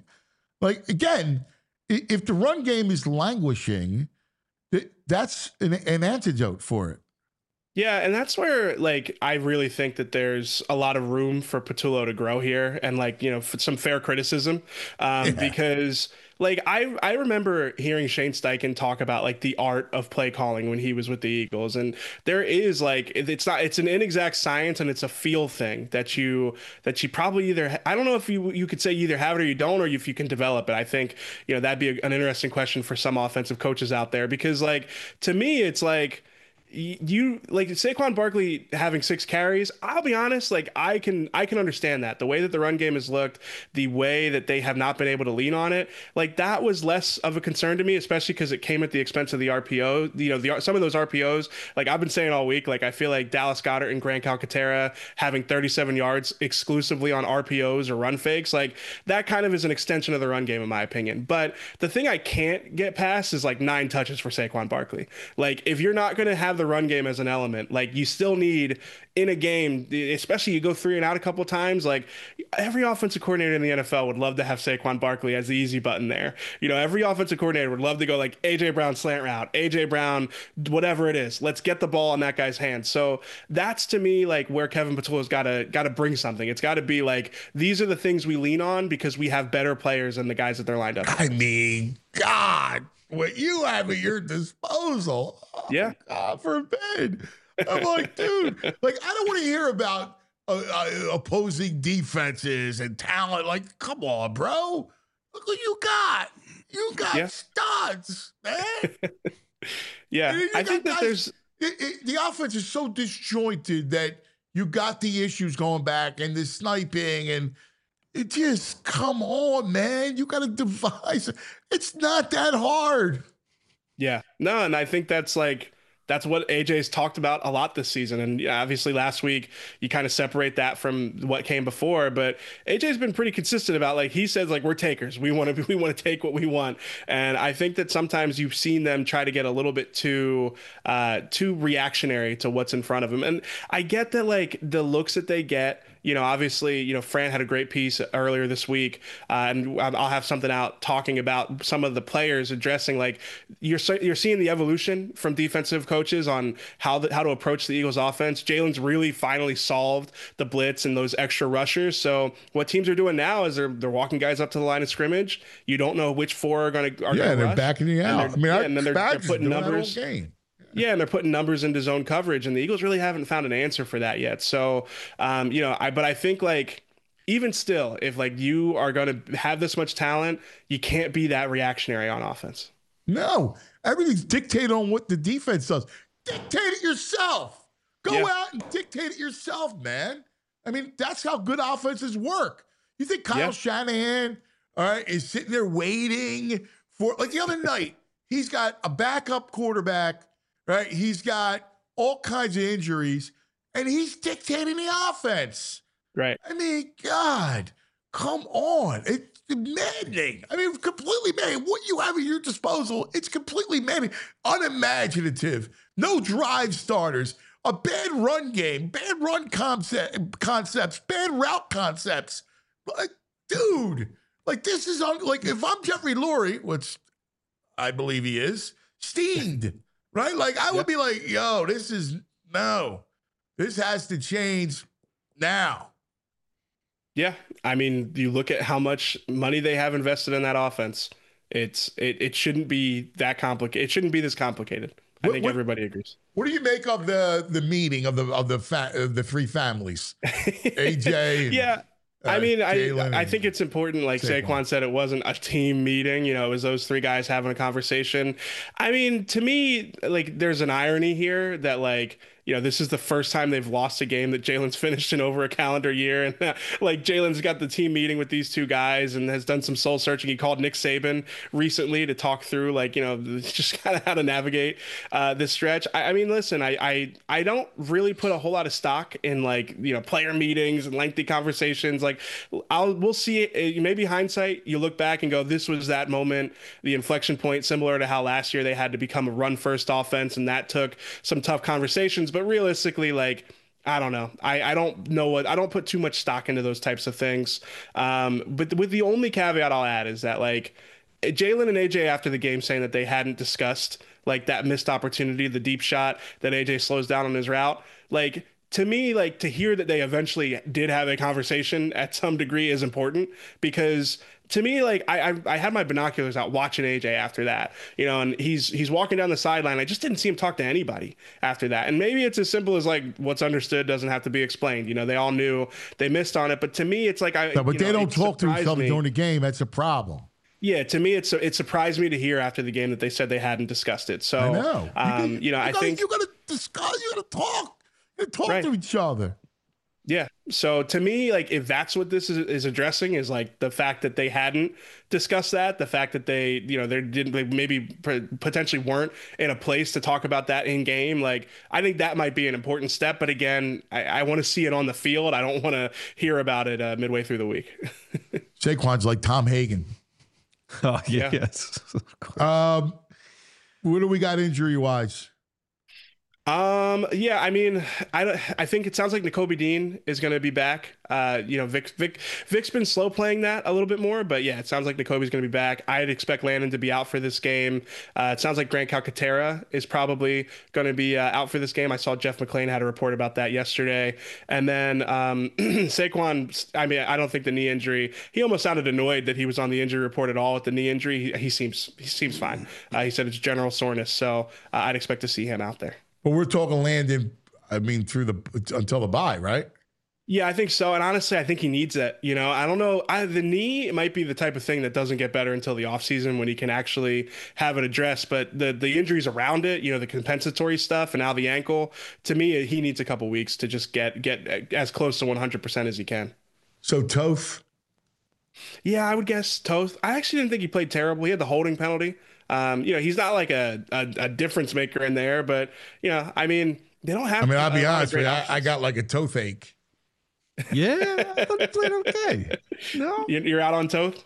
Again, if the run game is languishing, that's an antidote for it. Yeah, and that's where, like, I really think that there's a lot of room for Patullo to grow here, and, like, for some fair criticism, because, like, I remember hearing Shane Steichen talk about, like, the art of play calling when he was with the Eagles, and there is, like, it's an inexact science, and it's a feel thing that you probably either, I don't know if you could say you either have it or you don't, or if you can develop it. I think, that'd be an interesting question for some offensive coaches out there, because, like, to me, it's like, you like Saquon Barkley having 6 carries. I'll be honest, like I can understand that the way that the run game has looked, the way that they have not been able to lean on it, like that was less of a concern to me, especially because it came at the expense of the RPO. Some of those RPOs, like I've been saying all week, like I feel like Dallas Goedert and Grant Calcaterra having 37 yards exclusively on RPOs or run fakes, like that kind of is an extension of the run game in my opinion. But the thing I can't get past is like 9 touches for Saquon Barkley. Like if you're not going to have the run game as an element, like you still need in a game, especially you go 3 and out a couple of times, like every offensive coordinator in the NFL would love to have Saquon Barkley as the easy button there. Every offensive coordinator would love to go like AJ Brown slant route, AJ Brown, whatever it is. Let's get the ball in that guy's hands. So that's to me like where Kevin Patullo's got to bring something. It's got to be like these are the things we lean on because we have better players than the guys that they're lined up. I mean, God, what you have at your disposal. Oh, yeah. God forbid. I'm like, dude, like, I don't want to hear about opposing defenses and talent. Like, come on, bro. Look what you got. You got studs, man. Yeah. I think that there's... the offense is so disjointed that you got the issues going back and the sniping and it just, come on, man. You got to devise. It's not that hard. Yeah. No, and I think that's what AJ's talked about a lot this season. And obviously last week you kind of separate that from what came before, but AJ's been pretty consistent about like, he says like, we're takers. We want to take what we want. And I think that sometimes you've seen them try to get a little bit too reactionary to what's in front of them. And I get that like the looks that they get, obviously, Fran had a great piece earlier this week, and I'll have something out talking about some of the players addressing like you're seeing the evolution from defensive coaches on how to approach the Eagles offense. Jalen's really finally solved the blitz and those extra rushers. So what teams are doing now is they're walking guys up to the line of scrimmage. You don't know which 4 are going to they're rush, backing you out. And then they're putting numbers. Yeah, and they're putting numbers into zone coverage, and the Eagles really haven't found an answer for that yet. So, but I think like even still, if like you are going to have this much talent, you can't be that reactionary on offense. No, everything's dictated on what the defense does. Dictate it yourself. Go out and dictate it yourself, man. I mean, that's how good offenses work. You think Kyle Shanahan, all right, is sitting there waiting for like the other night? He's got a backup quarterback. Right, he's got all kinds of injuries, and he's dictating the offense. Right. I mean, God, come on! maddening. I mean, completely maddening. What you have at your disposal, it's completely maddening. Unimaginative. No drive starters. A bad run game. Bad run concepts. Bad route concepts. Like, dude, like this is like if I'm Jeffrey Lurie, which I believe he is, steamed, right? Like I would be like, yo, this has to change now. Yeah, I mean, you look at how much money they have invested in that offense. It shouldn't be that complicated. It shouldn't be this complicated. I think everybody agrees. What do you make of the meeting of the three families? AJ. Yeah. I mean, I think it's important, like Saquon said, it wasn't a team meeting. It was those three guys having a conversation. I mean, to me, like, there's an irony here that, like, this is the first time they've lost a game that Jalen's finished in over a calendar year. And like Jalen's got the team meeting with these two guys and has done some soul searching. He called Nick Saban recently to talk through, like, just kind of how to navigate this stretch. I mean, listen, I don't really put a whole lot of stock in, like, player meetings and lengthy conversations. Like, we'll see it. Maybe hindsight, you look back and go, this was that moment, the inflection point, similar to how last year they had to become a run first offense. And that took some tough conversations. But realistically, like, I don't know. I don't know I don't put too much stock into those types of things. But with the only caveat I'll add is that, like, Jalen and AJ after the game saying that they hadn't discussed, like, that missed opportunity, the deep shot that AJ slows down on his route. Like, to me, like, to hear that they eventually did have a conversation at some degree is important, because to me, like, I had my binoculars out watching AJ after that, and he's walking down the sideline. I just didn't see him talk to anybody after that. And maybe it's as simple as, like, what's understood doesn't have to be explained. They all knew they missed on it. But to me, it's like, but they don't talk to each other during the game. That's a problem. Yeah, to me, it surprised me to hear after the game that they said they hadn't discussed it. So, I know. I think you got to discuss. You got to talk. You got to talk to each other. Yeah. So to me, like, if that's what this is addressing, is like the fact that they hadn't discussed that, the fact that they maybe potentially weren't in a place to talk about that in game. Like, I think that might be an important step. But again, I want to see it on the field. I don't want to hear about it midway through the week. Saquon's like Tom Hagen. Oh, yeah. Yes. What do we got injury wise? Yeah, I mean, I think it sounds like Nakobe Dean is going to be back. Vic's been slow playing that a little bit more, but yeah, it sounds like Nakobe's going to be back. I'd expect Landon to be out for this game. It sounds like Grant Calcaterra is probably going to be out for this game. I saw Jeff McClain had a report about that yesterday. And then Saquon, I mean, I don't think the knee injury, he almost sounded annoyed that he was on the injury report at all with the knee injury. He seems fine. He said it's general soreness, so I'd expect to see him out there. But we're talking Landon, I mean, until the bye, right? Yeah, I think so. And honestly, I think he needs it. I don't know. The knee might be the type of thing that doesn't get better until the offseason when he can actually have it addressed. But the injuries around it, the compensatory stuff, and now the ankle, to me, he needs a couple weeks to just get as close to 100% as he can. So Toth? Yeah, I would guess Toth. I actually didn't think he played terrible. He had the holding penalty. He's not like a difference maker in there, but I mean, they don't have. I mean, I'll be honest with you, I got like a toothache. Yeah, I thought he played okay. No, you're out on Toth.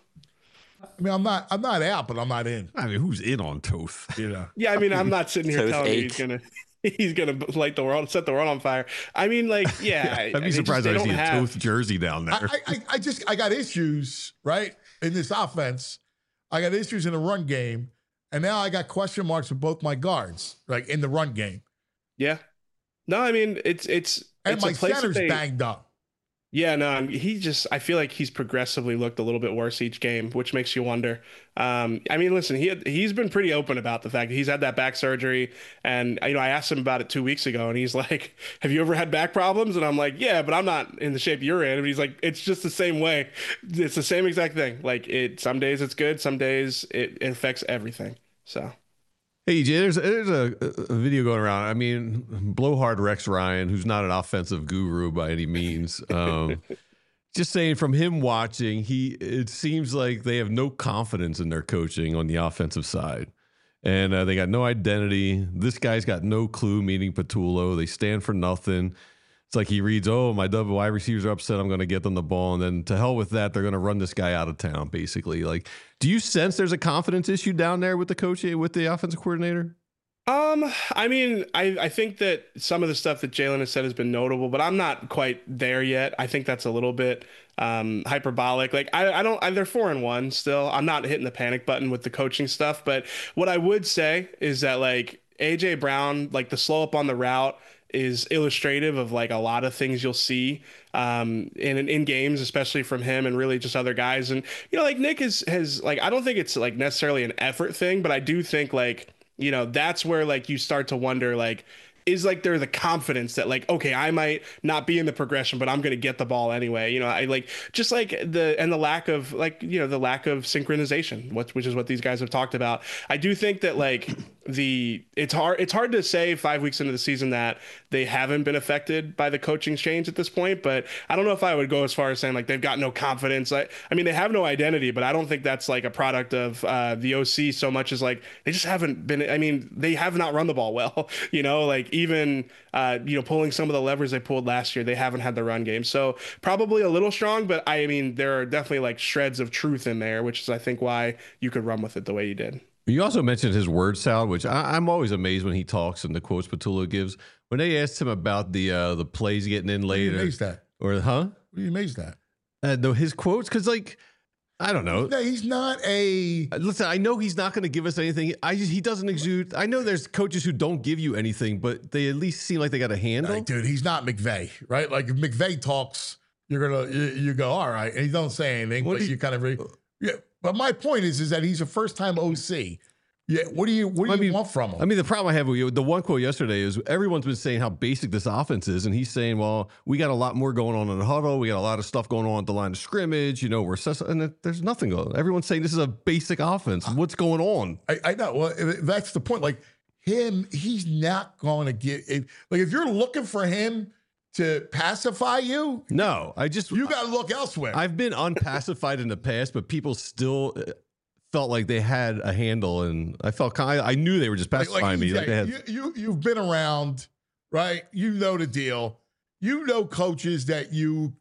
I mean, I'm not out, but I'm not in. I mean, who's in on Toth? Yeah, I mean, I'm not sitting here telling you he's gonna light the world, set the world on fire. I mean, like, yeah, I'd be surprised I see a Toth jersey down there. I got issues right in this offense. I got issues in the run game. And now I got question marks with both my guards, like in the run game. Yeah. No, I mean, it's my center's banged up. Yeah, no, I feel like he's progressively looked a little bit worse each game, which makes you wonder. I mean, listen, he's been pretty open about the fact that he's had that back surgery. And, I asked him about it 2 weeks ago, and he's like, have you ever had back problems? And I'm like, yeah, but I'm not in the shape you're in. And he's like, it's just the same way. It's the same exact thing. Like, some days it's good. Some days it affects everything. So. Hey, EJ, there's a video going around. I mean, blowhard Rex Ryan, who's not an offensive guru by any means, just saying from him watching, it seems like they have no confidence in their coaching on the offensive side. And they got no identity. This guy's got no clue, meaning Patullo. They stand for nothing. It's like he reads, oh, my double wide receivers are upset. I'm going to get them the ball. And then to hell with that, they're going to run this guy out of town, basically. Like, do you sense there's a confidence issue down there with the coach, with the offensive coordinator? I mean, I think that some of the stuff that Jalen has said has been notable, but I'm not quite there yet. I think that's a little bit hyperbolic. Like I don't, they're 4-1 still. I'm not hitting the panic button with the coaching stuff, but what I would say is that like AJ Brown, like the slow up on the route is illustrative of like a lot of things you'll see in games, especially from him and really just other guys. And, like Nick has like, I don't think it's like necessarily an effort thing, but I do think like, that's where like you start to wonder, like, is like there the confidence that like, okay, I might not be in the progression, but I'm going to get the ball anyway. I like just like the lack of like, the lack of synchronization, which is what these guys have talked about. I do think that like it's hard to say 5 weeks into the season that they haven't been affected by the coaching change at this point, but I don't know if I would go as far as saying like they've got no confidence. I mean, they have no identity, but I don't think that's like a product of the OC so much as like they just haven't been. I mean, they have not run the ball well, like even pulling some of the levers they pulled last year, they haven't had the run game. So probably a little strong, but I mean, there are definitely like shreds of truth in there, which is I think why you could run with it the way you did. You also mentioned his word salad, which I'm always amazed when he talks and the quotes Patullo gives. When they asked him about the plays getting in later, what are you amazed at? Or huh? What are you amazed at? His quotes, because like I don't know. No, he's not a. Listen, I know he's not going to give us anything. He doesn't exude. I know there's coaches who don't give you anything, but they at least seem like they got a handle. Right, dude, he's not McVay, right? Like if McVay talks, you go all right, and he don't say anything, but you kind of yeah. But my point is that he's a first-time OC. Yeah, what do you want from him? I mean, the problem I have with you, the one quote yesterday is everyone's been saying how basic this offense is, and he's saying, well, we got a lot more going on in the huddle. We got a lot of stuff going on at the line of scrimmage. And there's nothing going on. Everyone's saying this is a basic offense. What's going on? I know. Well, that's the point. Like he's not going to get like if you're looking for him to pacify you. No, you got to look elsewhere. I've been unpacified in the past, but people still felt like they had a handle, and I felt I knew they were just pacifying me. Like they had, you've been around, right? You know the deal. You know coaches that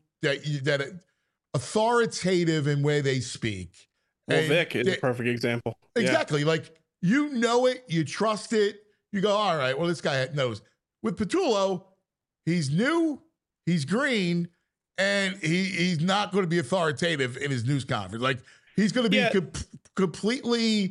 authoritative in where they speak. Well, Vic is a perfect example. Exactly. Yeah. Like you know it, you trust it. You go, all right. Well, this guy knows. With Patullo, he's new, he's green, and he's not going to be authoritative in his news conference. Like he's going to be completely.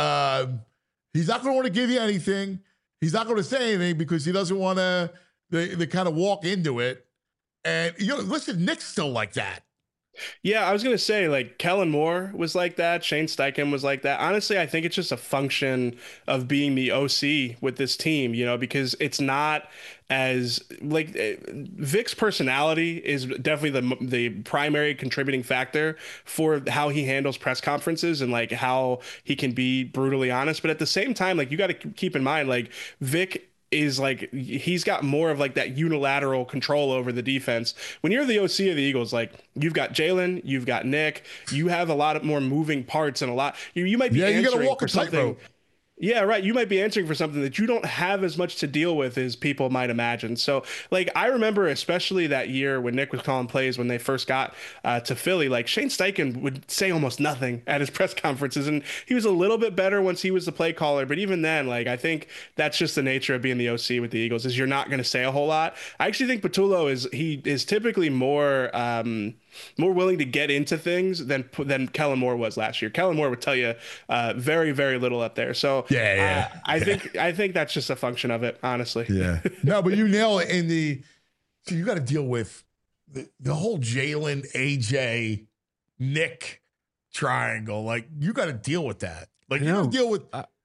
He's not going to want to give you anything. He's not going to say anything because he doesn't want to. They kind of walk into it. And listen, Nick's still like that. Yeah, I was going to say, like, Kellen Moore was like that. Shane Steichen was like that. Honestly, I think it's just a function of being the OC with this team, because it's not as, like, Vic's personality is definitely the primary contributing factor for how he handles press conferences and, like, how he can be brutally honest. But at the same time, like, you got to keep in mind, like, Vic is like he's got more of like that unilateral control over the defense. When you're the OC of the Eagles, like you've got Jalen, you've got Nick, you have a lot of more moving parts and a lot. You might be answering for something. Yeah, right. You might be answering for something that you don't have as much to deal with as people might imagine. So, like, I remember especially that year when Nick was calling plays when they first got to Philly, like Shane Steichen would say almost nothing at his press conferences. And he was a little bit better once he was the play caller. But even then, like, I think that's just the nature of being the OC with the Eagles is you're not going to say a whole lot. I actually think Patullo is typically more willing to get into things than Kellen Moore was last year. Kellen Moore would tell you very, very little up there. So I think that's just a function of it, honestly. Yeah. No, but you nail it so you got to deal with the whole Jalen, AJ, Nick triangle. Like you got to deal with that. Like you got to deal with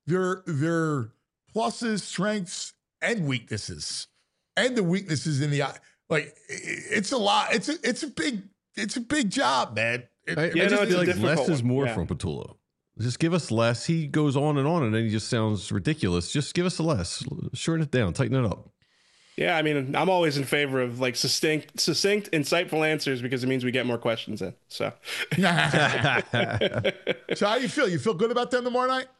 their pluses, strengths, and weaknesses, and the weaknesses in the like. It's a lot. It's a big job, man. I just feel like less is more from Patullo. Just give us less. He goes on, and then he just sounds ridiculous. Just give us a less. Shorten it down. Tighten it up. Yeah, I mean, I'm always in favor of like succinct, insightful answers because it means we get more questions in. So, so how you feel? You feel good about them tomorrow night?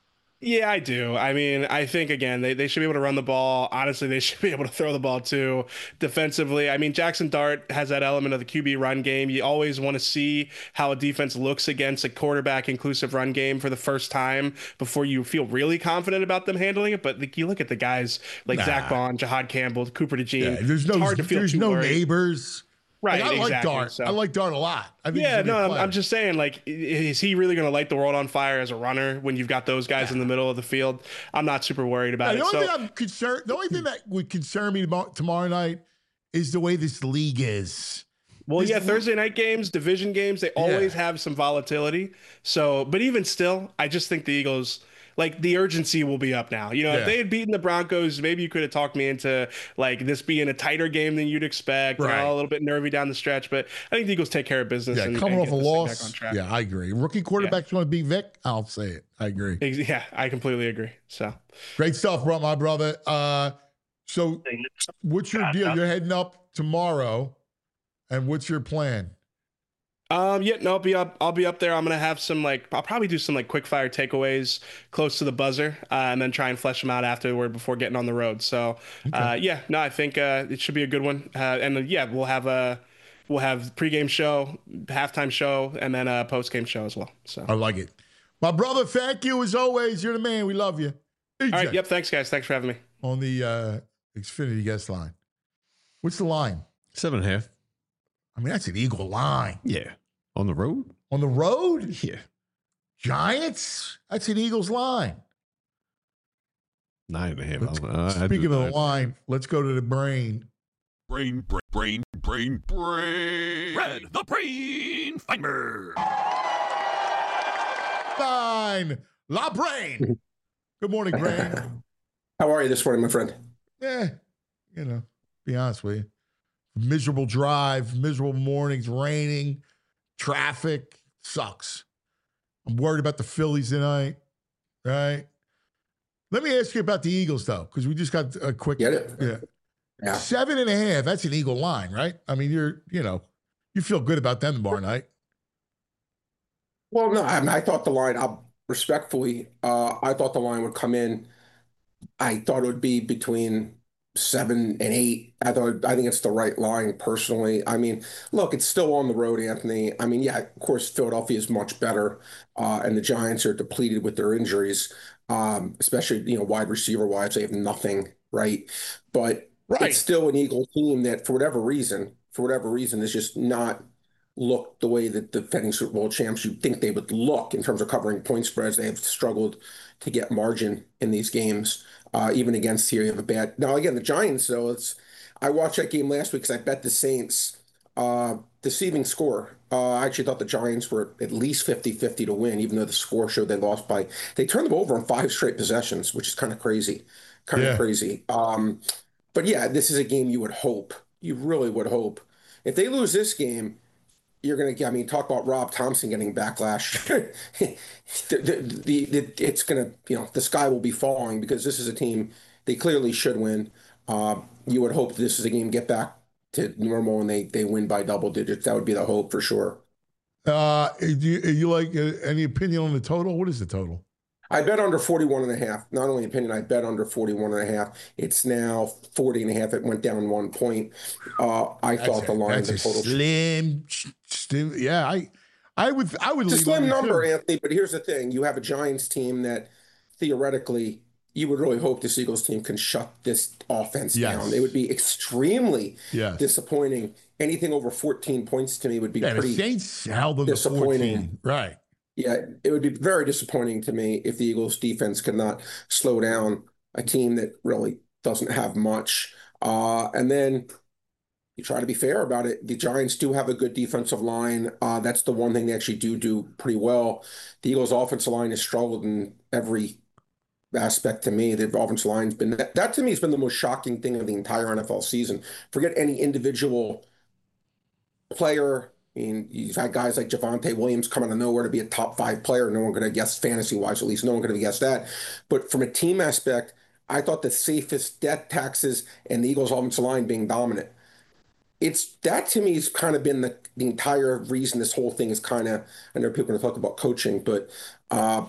Yeah, I do. I mean, I think again, they should be able to run the ball. Honestly, they should be able to throw the ball too. Defensively, I mean, Jackson Dart has that element of the QB run game. You always want to see how a defense looks against a quarterback inclusive run game for the first time before you feel really confident about them handling it. But you look at the guys like Zach Bond, Jahad Campbell, Cooper DeJean. Yeah, there's no neighbors. Right, like, I exactly. like Dart. So, I like Dart a lot. I think I'm just saying, like, is he really going to light the world on fire as a runner when you've got those guys in the middle of the field? I'm not super worried about it. The only thing that would concern me tomorrow night is the way this league is. Well, Thursday night games, division games, they always have some volatility. So, but even still, I just think the Eagles, like, the urgency will be up now. If they had beaten the Broncos, maybe you could have talked me into like this being a tighter game than you'd expect. Right. A little bit nervy down the stretch, but I think the Eagles take care of business. Yeah, coming off a loss. Yeah, I agree. Rookie quarterbacks want to beat Vic. I'll say it. I agree. Yeah, I completely agree. So great stuff, my brother. So what's your deal? You're heading up tomorrow, and what's your plan? I'll be up there. I'm gonna have I'll probably do some quick fire takeaways close to the buzzer, and then try and flesh them out afterward before getting on the road. So, I think it should be a good one. We'll have pregame show, halftime show, and then a postgame show as well. So I like it, my brother. Thank you as always. You're the man. We love you. EJ. All right. Yep. Thanks, guys. Thanks for having me on the Xfinity guest line. What's the line? 7.5. I mean, that's an Eagle line. Yeah. On the road? On the road? Yeah. Giants? That's an Eagles line. 9.5. Speaking of the line, let's go to the brain. Brain. Red, the brain finder. Fine. La Brain. Good morning, Brain. How are you this morning, my friend? Yeah, be honest with you. Miserable drive, miserable mornings, raining, traffic, sucks. I'm worried about the Phillies tonight, right? Let me ask you about the Eagles, though, because we just got a quick. Get it? Yeah. 7.5, that's an Eagle line, right? I mean, you feel good about them tomorrow night. Well, no, I thought the line, respectfully, I thought the line would come in. I thought it would be between 7 and 8. I think it's the right line personally. I mean, look, it's still on the road, Anthony. I mean, yeah, of course, Philadelphia is much better, and the Giants are depleted with their injuries, especially wide receiver wise. They have nothing, right? But it's still an Eagle team that, for whatever reason, is just not looked the way that the defending Super Bowl champs you'd think they would look in terms of covering point spreads. They have struggled to get margin in these games. Even against here, you have a bad. Now, again, the Giants, though, I watched that game last week because I bet the Saints deceiving score. I actually thought the Giants were at least 50-50 to win, even though the score showed they lost by. They turned them over on 5 straight possessions, which is kind of crazy. Crazy. But yeah, this is a game you really would hope. If they lose this game, you're going to, talk about Rob Thompson getting backlash. It's going to, the sky will be falling because this is a team they clearly should win. You would hope this is a game get back to normal and they win by double digits. That would be the hope for sure. You like any opinion on the total? What is the total? I bet under 41.5. Not only opinion, I bet under 41.5. It's now 40.5. It went down 1 point. I thought the line, the total slim. Yeah, I would. It's a slim number, Anthony. But here's the thing: you have a Giants team that theoretically you would really hope this Eagles team can shut this offense down. It would be extremely disappointing. Anything over 14 points to me would be pretty the Saints held them disappointing. To 14. Right. Yeah, it would be very disappointing to me if the Eagles defense could not slow down a team that really doesn't have much. And then you try to be fair about it. The Giants do have a good defensive line. That's the one thing they actually do pretty well. The Eagles' offensive line has struggled in every aspect to me. The offensive line's been that to me has been the most shocking thing of the entire NFL season. Forget any individual player. I mean, you've had guys like Javonte Williams come out of nowhere to be a top 5 player. No one going to guess fantasy-wise, at least no one going to guess that. But from a team aspect, I thought the safest death taxes and the Eagles' offensive line being dominant. That to me has kind of been the entire reason this whole thing is kind of, I know people are going to talk about coaching, but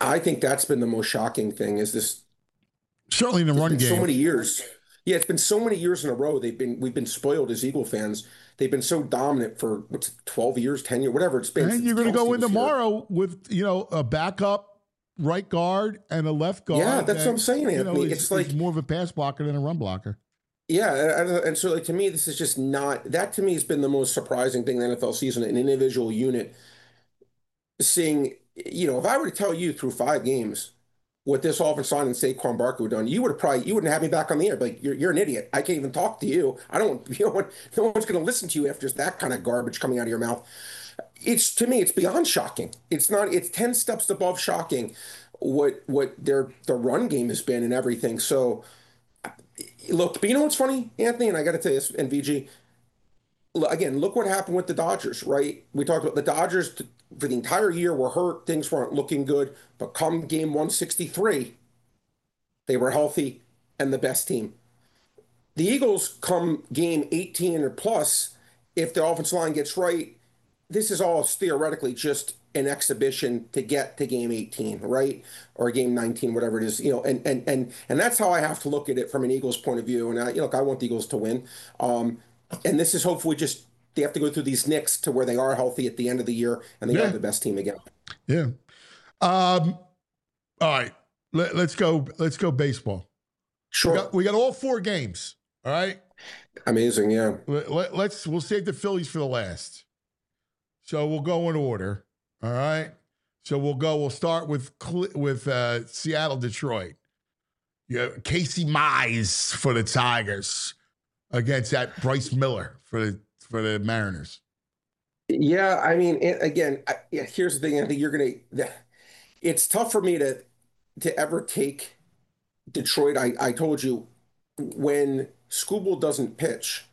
I think that's been the most shocking thing is this. Certainly in the run game. So many years. Yeah, it's been so many years in a row. We've been spoiled as Eagle fans. They've been so dominant for 12 years, 10 years, whatever it's been. And you're going to go in tomorrow with, a backup right guard and a left guard. Yeah, that's what I'm saying, Anthony. It's like more of a pass blocker than a run blocker. Yeah, and so to me, this is just not that. To me, has been the most surprising thing in the NFL season. An individual unit seeing, if I were to tell you through 5 games what this offensive line and Saquon Barkley would have done, you wouldn't have me back on the air. Like you're an idiot. I can't even talk to you. I don't. No one's going to listen to you after that kind of garbage coming out of your mouth. To me, it's beyond shocking. It's not. It's 10 steps above shocking. What the run game has been and everything. So. Look, but you know what's funny, Anthony, and I got to tell you this, and VG, again, look what happened with the Dodgers, right? We talked about the Dodgers for the entire year were hurt. Things weren't looking good. But come game 163, they were healthy and the best team. The Eagles come game 18 or plus, if the offensive line gets right, this is all theoretically just an exhibition to get to game 18, right? Or game 19, whatever it is, and that's how I have to look at it from an Eagles point of view. And I want the Eagles to win. And this is hopefully just, they have to go through these nicks to where they are healthy at the end of the year and they are the best team again. Yeah. All right. Let's go baseball. Sure. We got all 4 games. All right. Amazing. Yeah. We'll save the Phillies for the last. So we'll go in order. All right. So we'll start with Seattle, Detroit. Casey Mize for the Tigers against that Bryce Miller for the Mariners. Yeah, I mean, again, here's the thing. I think it's tough for me to ever take Detroit. I told you when Skubal doesn't pitch,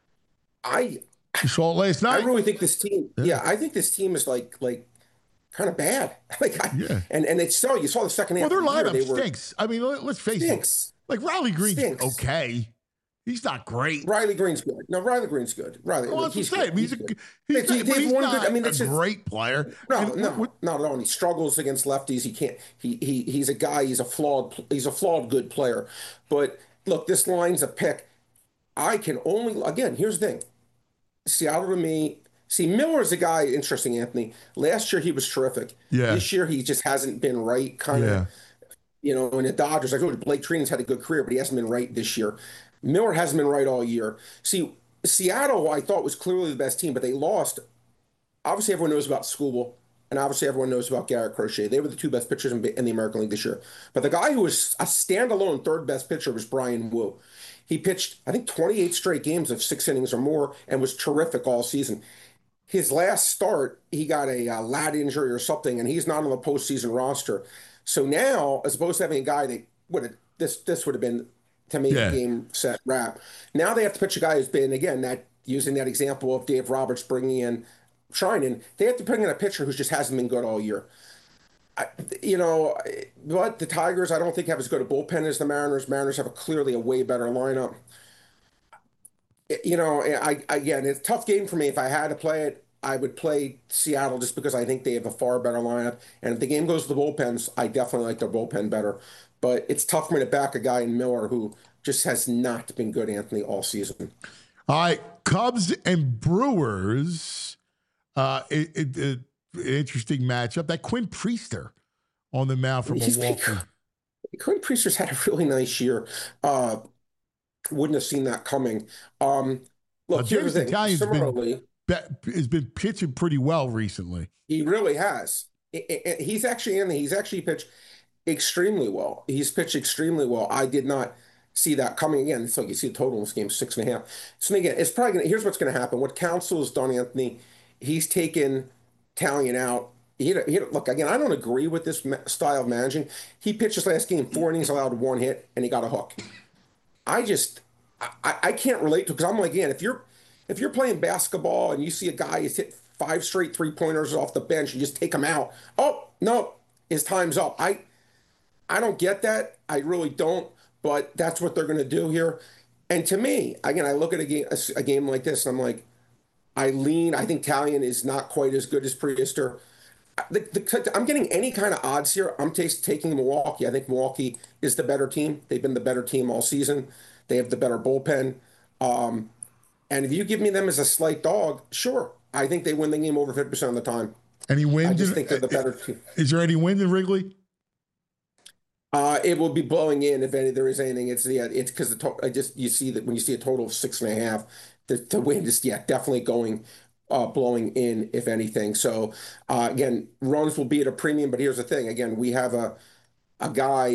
You saw it last night. I really think this team. Yeah, I think this team is like kind of bad. And you saw the second half. Well, their lineup stinks. I mean, let's face it. Like Riley Green's okay. He's not great. Riley Green's good. No, Riley Green's good. He's not a great player. No, not at all. And he struggles against lefties. He can't. He's a guy. He's a flawed good player. But look, this line's a pick. I can only here's the thing. Seattle to me. See, Miller's a guy, interesting, Anthony. Last year, he was terrific. Yeah. This year, he just hasn't been right, kind of. In the Dodgers, I told you, Blake Treinen's had a good career, but he hasn't been right this year. Miller hasn't been right all year. See, Seattle, I thought, was clearly the best team, but they lost. Obviously, everyone knows about Skubal, and obviously, everyone knows about Garrett Crochet. They were the 2 best pitchers in the American League this year. But the guy who was a standalone 3rd best pitcher was Brian Wu. He pitched, I think, 28 straight games of 6 innings or more and was terrific all season. His last start, he got a lat injury or something, and he's not on the postseason roster. So now, as opposed to having a guy that this would have been to make a game set wrap. Now they have to pitch a guy who's been, again, using that example of Dave Roberts bringing in Treinen, they have to bring in a pitcher who just hasn't been good all year. But the Tigers, I don't think have as good a bullpen as the Mariners. Mariners have clearly a way better lineup. Again, it's a tough game for me. If I had to play it, I would play Seattle just because I think they have a far better lineup. And if the game goes to the bullpens, I definitely like their bullpen better. But it's tough for me to back a guy in Miller who just has not been good, Anthony, all season. All right, Cubs and Brewers. Interesting matchup. That Quinn Priester on the mound for Milwaukee. Quinn Priester's had a really nice year. Wouldn't have seen that coming. Look, James Italian's has been pitching pretty well recently. He really has. He's actually pitched extremely well. He's pitched extremely well. I did not see that coming. Again, so you see the total in this game, 6.5. So again, it's probably here's what's going to happen. What Counsell has done, Anthony, he's taken Talion out. Look, again, I don't agree with this style of managing. He pitched his last game, 4 innings, allowed 1 hit, and he got a hook. I can't relate to it because I'm like, again, if you're playing basketball and you see a guy who's hit 5 straight 3-pointers off the bench, you just take him out. Oh, no, his time's up. I don't get that. I really don't, but that's what they're going to do here. And to me, again, I look at a game like this and I'm like, I think Talion is not quite as good as Priester. I'm getting any kind of odds here. I'm taking Milwaukee. I think Milwaukee is the better team. They've been the better team all season. They have the better bullpen. And if you give me them as a slight dog, sure. I think they win the game over 50% of the time. Any wind? I just think they're the better team. Is there any wind in Wrigley? It will be blowing in if there is anything. It's because you see that when you see a total of 6.5, the wind is definitely going blowing in if anything. So again, runs will be at a premium. But here's the thing: again, we have a guy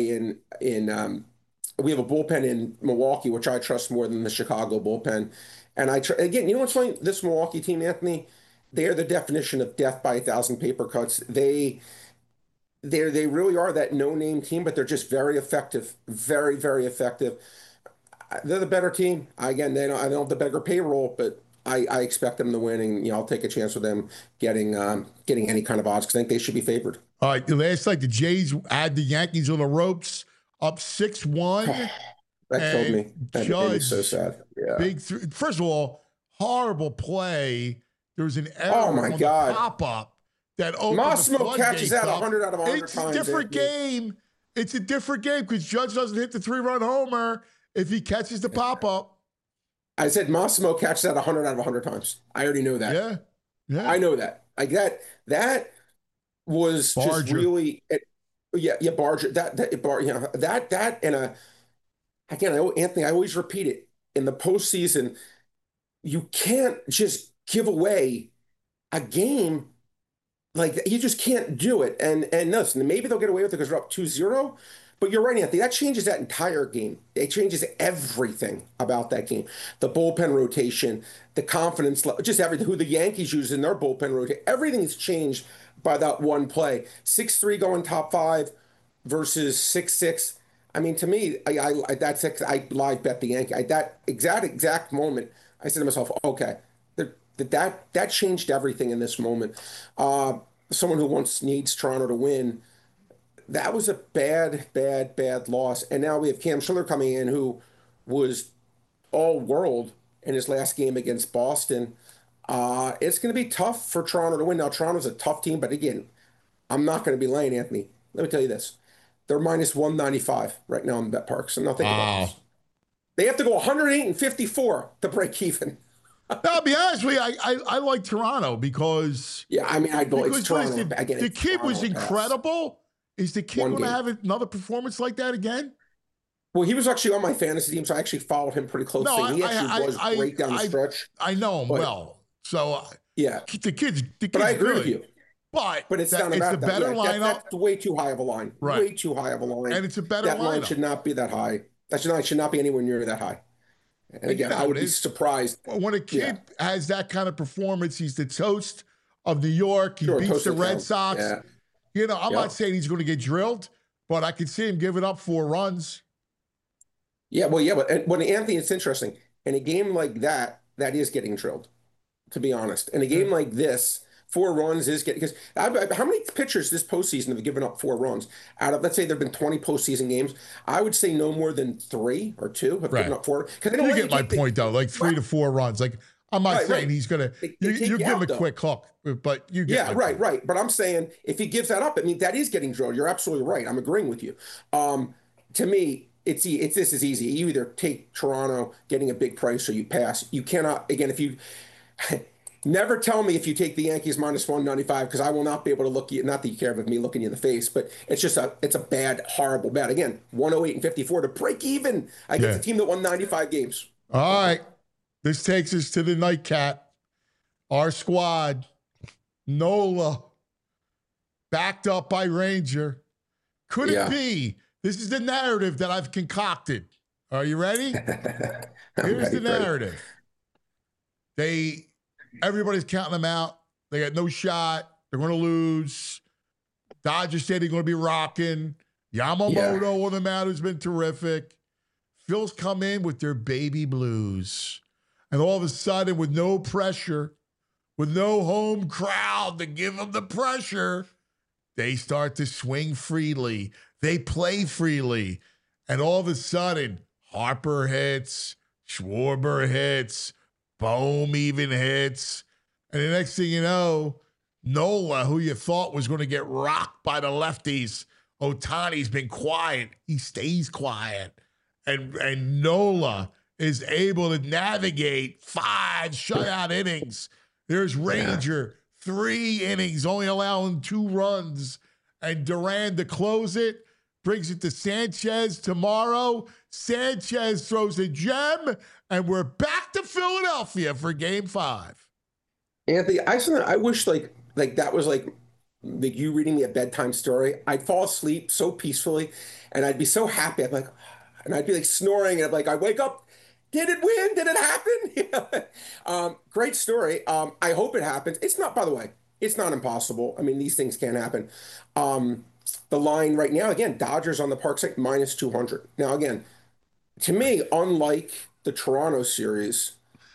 we have a bullpen in Milwaukee, which I trust more than the Chicago bullpen. And again, you know what's funny? This Milwaukee team, Anthony, they are the definition of death by 1,000 paper cuts. They really are that no-name team, but they're just very effective, very, very effective. They're the better team. Again, I don't have the bigger payroll, but I expect them to win, and I'll take a chance with them getting any kind of odds because I think they should be favored. All right, last night the Jays had the Yankees on the ropes, up 6-1. That killed me. That made me so sad. Yeah. First of all, horrible play. There was an error on the pop-up that opened Massimo catches that 100 out of 100 times. It's a different game. It's a different game because Judge doesn't hit the 3-run homer if he catches the pop-up. I said Massimo catches that 100 out of 100 times. I already know that. Yeah. I know that. Like that was Barger. Just really Barger. That and again, Anthony, I always repeat it. In the postseason, you can't just give away a game like that. You just can't do it. And listen, maybe they'll get away with it because they're up 2-0. But you're right, Anthony. That changes that entire game. It changes everything about that game. The bullpen rotation, the confidence, just everything. Who the Yankees use in their bullpen rotation. Everything's changed by that one play. 6-3 going top 5 versus 6-6. I mean, to me, I live bet the Yankee. That exact moment, I said to myself, okay, that changed everything in this moment. Someone who needs Toronto to win. That was a bad loss. And now we have Cam Schiller coming in, who was all world in his last game against Boston. It's going to be tough for Toronto to win. Now, Toronto's a tough team, but again, I'm not going to be laying, Anthony. Let me tell you this. They're minus 195 right now in bet parks. I'm not thinking about this. They have to go 108 and 54 to break even. I'll be honest with you, I like Toronto because... Yeah, I mean, it's Toronto. The kid was incredible. Is the kid going to have another performance like that again? Well, he was actually on my fantasy team, so I actually followed him pretty closely. He actually was great down the stretch. I know him well. So, yeah. The kid's But I agree with you. But it's the better lineup. That's way too high of a line. Right. Way too high of a line. And it's a better that lineup. Line should not be that high. That should not be anywhere near that high. And again, I would be surprised. When a kid has that kind of performance, he's the toast of New York. He beats the Red Sox. Yeah. I'm not saying he's going to get drilled, but I could see him giving up 4 runs. Yeah, but when Anthony, it's interesting. In a game like that is getting drilled, to be honest. In a game like this, 4 runs is getting, because how many pitchers this postseason have given up 4 runs? Out of, let's say there have been 20 postseason games, I would say no more than 3 or 2 have given up 4. You get my point, though, like 3 to 4 runs. Like, I'm not saying he's going to, you give him a quick hook, but you get right. But I'm saying if he gives that up, I mean, that is getting drilled. You're absolutely right. I'm agreeing with you. To me, this is easy. You either take Toronto getting a big price or you pass. You cannot, again, if you... Never tell me if you take the Yankees minus 195 because I will not be able to look you. Not that you care with me looking you in the face, but it's a bad, horrible bet. Again, 108 and 54 to break even against a team that won 95 games. All right, this takes us to the nightcap. Our squad, Nola, backed up by Ranger. Could it be? This is the narrative that I've concocted. Are you ready? Here's the narrative. Everybody's counting them out. They got no shot. They're going to lose. Dodgers said they're going to be rocking. Yamamoto on the mound has been terrific. Phil's come in with their baby blues. And all of a sudden, with no pressure, with no home crowd to give them the pressure, they start to swing freely. They play freely. And all of a sudden, Harper hits, Schwarber hits, Bohm even hits. And the next thing you know, Nola, who you thought was going to get rocked by the lefties. Ohtani's been quiet. He stays quiet. And Nola is able to navigate 5 shutout innings. There's Ranger, 3 innings, only allowing 2 runs. And Duran to close it, brings it to Sanchez tomorrow. Sanchez throws a gem, and we're back to Philadelphia for Game 5. Anthony, I wish like that was like you reading me a bedtime story. I'd fall asleep so peacefully, and I'd be so happy. I'd be like, and I'd be like snoring, and I'd be like, I wake up. Did it win? Did it happen? Great story. I hope it happens. It's not, by the way, it's not impossible. I mean, these things can happen. The line right now, again, Dodgers on the park side, minus 200. Now, again, to me, unlike the Toronto series,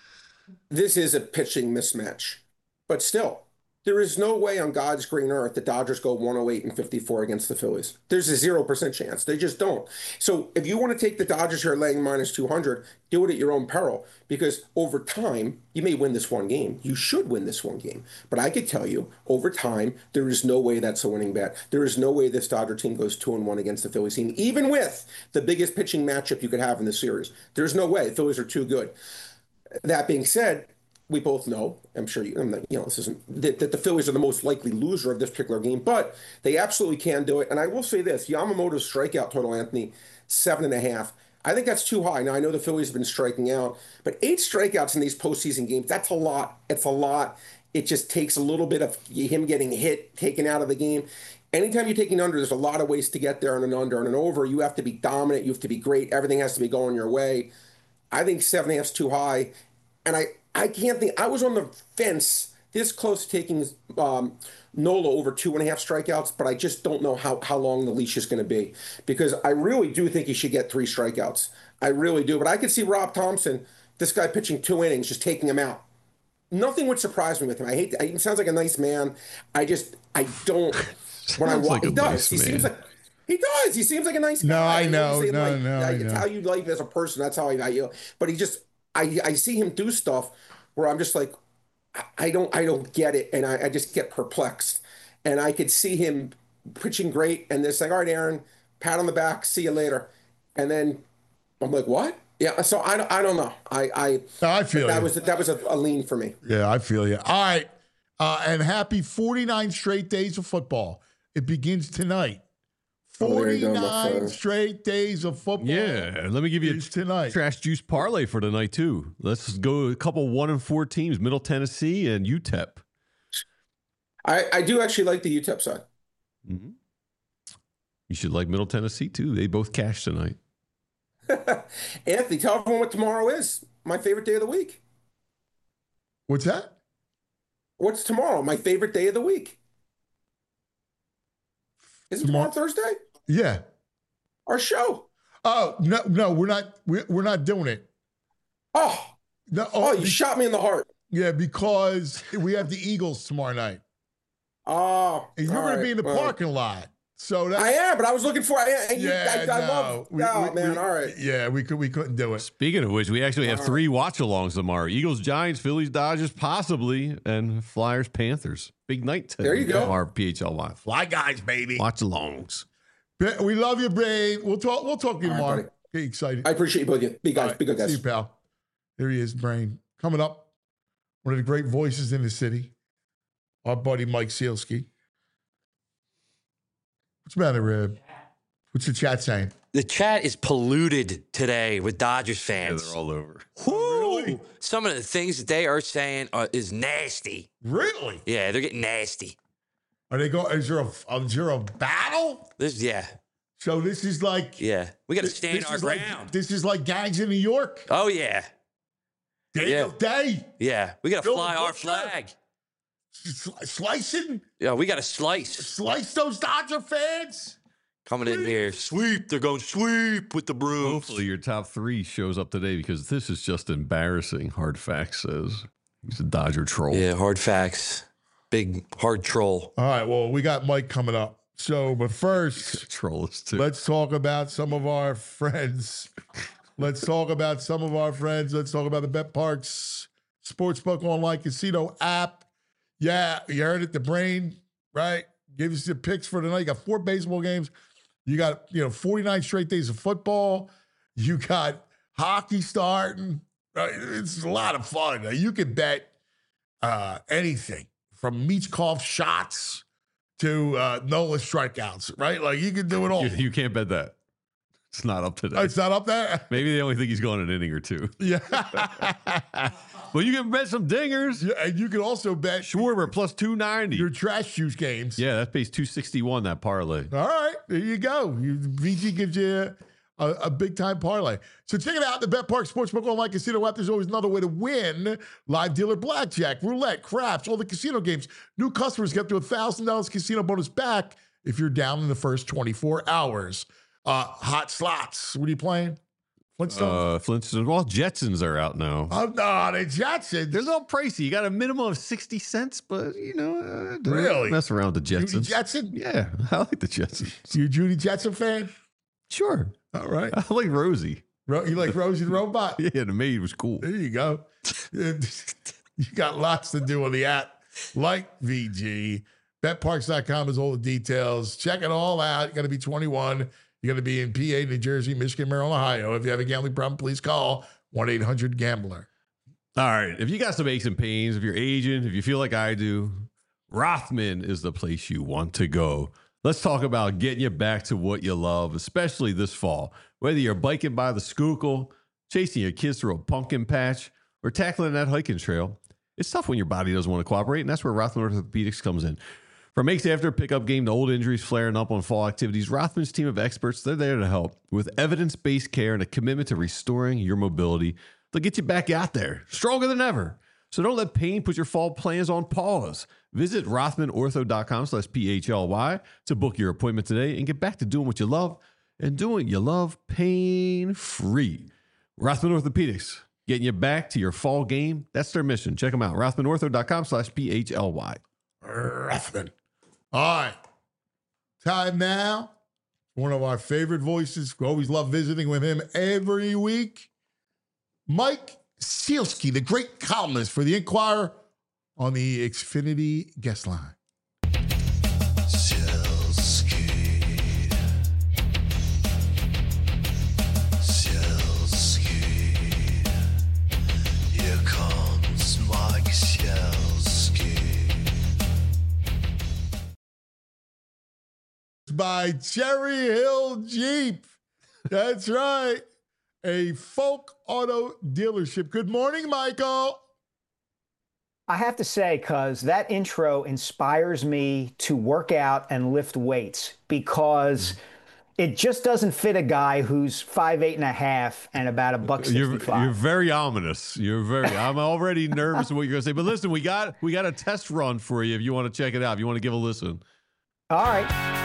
this is a pitching mismatch. But still, there is no way on God's green earth the Dodgers go 108-54 against the Phillies. There's a 0% chance. They just don't. So if you want to take the Dodgers here laying minus 200, do it at your own peril. Because over time, you may win this one game. You should win this one game. But I could tell you, over time, there is no way that's a winning bet. There is no way this Dodger team goes 2-1 against the Phillies team, even with the biggest pitching matchup you could have in the series. There's no way. The Phillies are too good. That being said, we both know, I'm sure this isn't that the Phillies are the most likely loser of this particular game, but they absolutely can do it. And I will say this: Yamamoto's strikeout total, Anthony, 7.5. I think that's too high. Now I know the Phillies have been striking out, but 8 strikeouts in these postseason games, that's a lot. It's a lot. It just takes a little bit of him getting hit, taken out of the game. Anytime you're taking under, there's a lot of ways to get there on an under and an over. You have to be dominant. You have to be great. Everything has to be going your way. I think 7.5 is too high. And I can't think. I was on the fence this close to taking Nola over 2.5 strikeouts, but I just don't know how long the leash is going to be, because I really do think he should get 3 strikeouts. I really do. But I could see Rob Thompson, this guy pitching 2 innings, just taking him out. Nothing would surprise me with him. He sounds like a nice man. I don't. When I watch, he does. He seems like. He does. He seems like a nice guy. No, I know. No, it's how you like as a person. That's how I you. But he just. I see him do stuff where I'm just like, I don't get it, and I just get perplexed. And I could see him pitching great, and they're like, all right, Aaron, pat on the back, see you later. And then I'm like, what? Yeah. So I don't know. I feel that was a lean for me. Yeah, I feel you. All right, and happy 49 straight days of football. It begins tonight. 49 straight days of football. Yeah, let me give you a tonight. Trash juice parlay for tonight too. Let's go a couple 1-4 teams: Middle Tennessee and UTEP. I do actually like the UTEP side. Mm-hmm. You should like Middle Tennessee too. They both cashed tonight. Anthony, tell everyone what tomorrow is. My favorite day of the week. What's that? What's tomorrow? My favorite day of the week. Is it tomorrow Thursday? Yeah. Our show. Oh, no, we're not doing it. Oh. No, you shot me in the heart. Yeah, because we have the Eagles tomorrow night. Oh. And you're going to be in the parking lot. So I am, but I was looking for I love man. All right. Yeah, we couldn't do it. Speaking of which, we actually have 3 watch-alongs tomorrow. Eagles, Giants, Phillies, Dodgers, possibly, and Flyers, Panthers. Big night today. There you go. Our PHLY. Fly guys, baby. Watch-alongs. We love you, Brain. We'll talk to you tomorrow. Get excited. I appreciate you both. Be good guys. See you, pal. There he is, Brain. Coming up, one of the great voices in the city, our buddy Mike Sealski. What's the matter, Rib? What's the chat saying? The chat is polluted today with Dodgers fans. Yeah, they're all over. Really? Some of the things that they are saying is nasty. Really? Yeah, they're getting nasty. Are they going? Is there a battle? Yeah. So this is like. Yeah, we got to stand our ground. This is like gangs in New York. Oh yeah. Daniel Day. Yeah, we got to fly our flag. Slicing? Yeah, we got to slice. Slice those Dodger fans? Coming in here. Sweep. They're going sweep with the broom. Hopefully your top 3 shows up today, because this is just embarrassing, Hard Facts says. He's a Dodger troll. Yeah, Hard Facts. Big, hard troll. All right, well, we got Mike coming up. So, but first, troll us too. Let's talk about some of our friends. Let's talk about the Bet Parks Sportsbook online casino app. Yeah, you heard it. The brain, right? Give us the picks for tonight. You got 4 baseball games. You got 49 straight days of football. You got hockey starting. Right? It's a lot of fun. You can bet anything from Michkov shots to Nola strikeouts, right? Like you can do it all. You can't bet that. It's not up today. Oh, it's not up there? Maybe they only think he's going an inning or 2. Yeah. Well, you can bet some dingers. Yeah, and you can also bet Schwarber plus 290. your trash juice games. Yeah, that pays 261, that parlay. All right, there you go. VG gives you a big time parlay. So check it out. The Bet Park Sportsbook Online Casino app. There's always another way to win. Live dealer blackjack, roulette, craps, all the casino games. New customers get up to $1,000 casino bonus back if you're down in the first 24 hours. Hot slots. What are you playing? Flintstones? Flintstones. Well, Jetsons are out now. Oh, no, the Jetsons. They're a little pricey. You got a minimum of 60 cents, but, Really? Mess around with the Jetsons. Judy Jetson? Yeah, I like the Jetsons. You a Judy Jetson fan? Sure. All right. I like Rosie. You like Rosie the Robot? Yeah, the maid was cool. There you go. You got lots to do on the app, like VG. BetParks.com is all the details. Check it all out. You got to be 21. You got to be in PA, New Jersey, Michigan, Maryland, Ohio. If you have a gambling problem, please call 1-800-GAMBLER. All right. If you got some aches and pains, if you're aging, if you feel like I do, Rothman is the place you want to go. Let's talk about getting you back to what you love, especially this fall. Whether you're biking by the Schuylkill, chasing your kids through a pumpkin patch, or tackling that hiking trail, it's tough when your body doesn't want to cooperate, and that's where Rothman Orthopedics comes in. From aches after a pickup game to old injuries flaring up on fall activities, Rothman's team of experts, they're there to help. With evidence-based care and a commitment to restoring your mobility, they'll get you back out there, stronger than ever. So don't let pain put your fall plans on pause. Visit RothmanOrtho.com/PHLY to book your appointment today and get back to doing what you love and doing what you love pain-free. Rothman Orthopedics, getting you back to your fall game. That's their mission. Check them out. RothmanOrtho.com/PHLY. Rothman. All right. Time now. One of our favorite voices. We always love visiting with him every week. Mike Sielski, the great columnist for the Inquirer on the Xfinity guest line. Here comes Mike Sielski. By Cherry Hill Jeep. That's right. A Folk Auto dealership. Good morning, Michael. I have to say, cuz that intro inspires me to work out and lift weights because it just doesn't fit a guy who's 5'8.5" and about $165. You're very ominous. I'm already nervous of what you're gonna say. But listen, we got a test run for you if you want to check it out, if you want to give a listen. All right.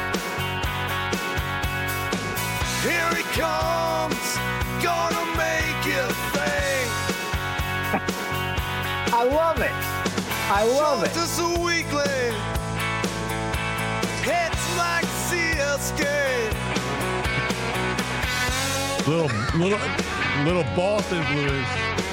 Here he comes, gonna make you think. I love it. I love it. Just a weekly. It's like Sielski. Little Boston blues.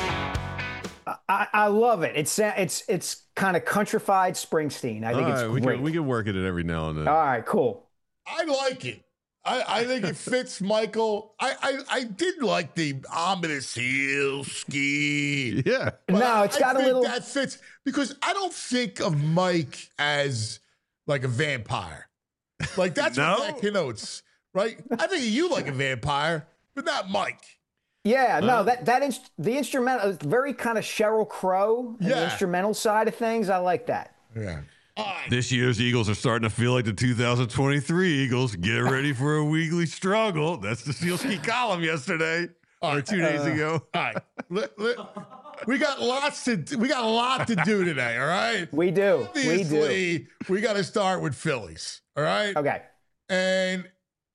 I love it. It's kind of countrified Springsteen. I think it's great. We can work at it every now and then. All right, cool. I like it. I think it fits Michael. I did like the ominous heel ski. Yeah. No, it's got a little. That fits because I don't think of Mike as like a vampire. Like that's what that connotes, right? I think of you like a vampire, but not Mike. Yeah, no, the instrumental is very kind of Sheryl Crow. The instrumental side of things, I like that. Yeah. This year's Eagles are starting to feel like the 2023 Eagles. Get ready for a weekly struggle. That's the Sielski column yesterday or 2 days ago. All right, we got a lot to do today. All right, we do. Obviously, we got to start with Phillies. All right. Okay. And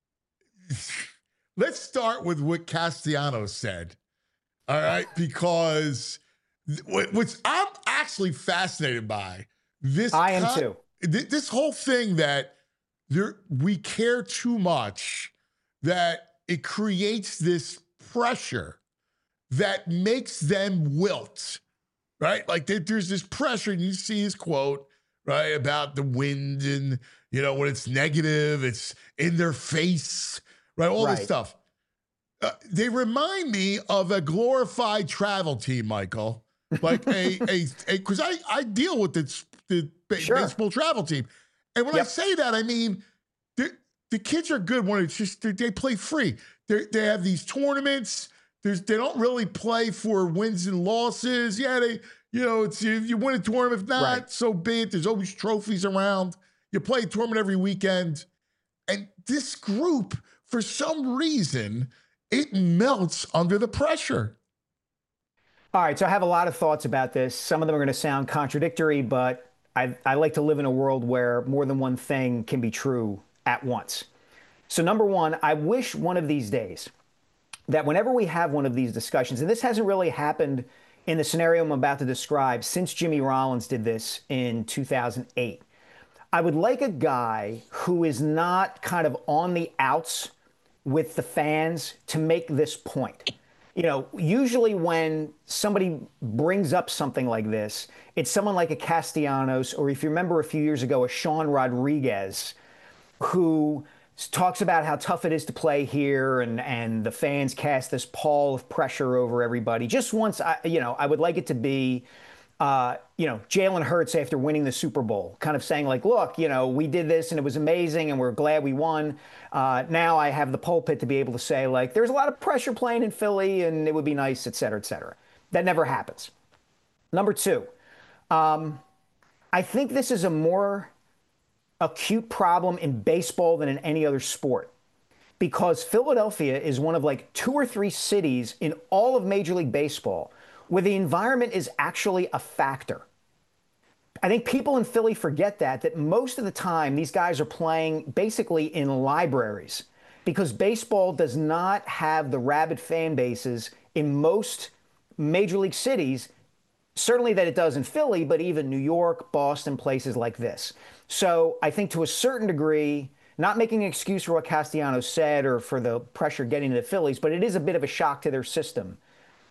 let's start with what Castellanos said. All right, because what I'm actually fascinated by. I am too. This whole thing that we care too much, that it creates this pressure that makes them wilt, right? Like there's this pressure, and you see his quote, right? About the wind and, when it's negative, it's in their face, right? All this stuff. They remind me of a glorified travel team, Michael. Like because I deal with the baseball travel team. And when I say that, I mean, the kids are good when it's just, they play free. They have these tournaments. They don't really play for wins and losses. Yeah, it's if you win a tournament, if not, so be it. There's always trophies around. You play a tournament every weekend. And this group, for some reason, it melts under the pressure. All right, so I have a lot of thoughts about this. Some of them are going to sound contradictory, but I like to live in a world where more than one thing can be true at once. So number one, I wish one of these days that whenever we have one of these discussions, and this hasn't really happened in the scenario I'm about to describe since Jimmy Rollins did this in 2008, I would like a guy who is not kind of on the outs with the fans to make this point. Usually when somebody brings up something like this, it's someone like a Castellanos, or if you remember a few years ago, a Sean Rodriguez, who talks about how tough it is to play here and the fans cast this pall of pressure over everybody. Just once, I would like it to be, Jalen Hurts after winning the Super Bowl, kind of saying like, look, we did this and it was amazing and we're glad we won. Now I have the pulpit to be able to say like, there's a lot of pressure playing in Philly and it would be nice, et cetera, et cetera. That never happens. Number two, I think this is a more acute problem in baseball than in any other sport, because Philadelphia is one of like 2 or 3 cities in all of Major League Baseball where the environment is actually a factor. I think people in Philly forget that most of the time these guys are playing basically in libraries, because baseball does not have the rabid fan bases in most major league cities, certainly that it does in Philly, but even New York, Boston, places like this. So I think to a certain degree, not making an excuse for what Castellanos said or for the pressure getting to the Phillies, but it is a bit of a shock to their system.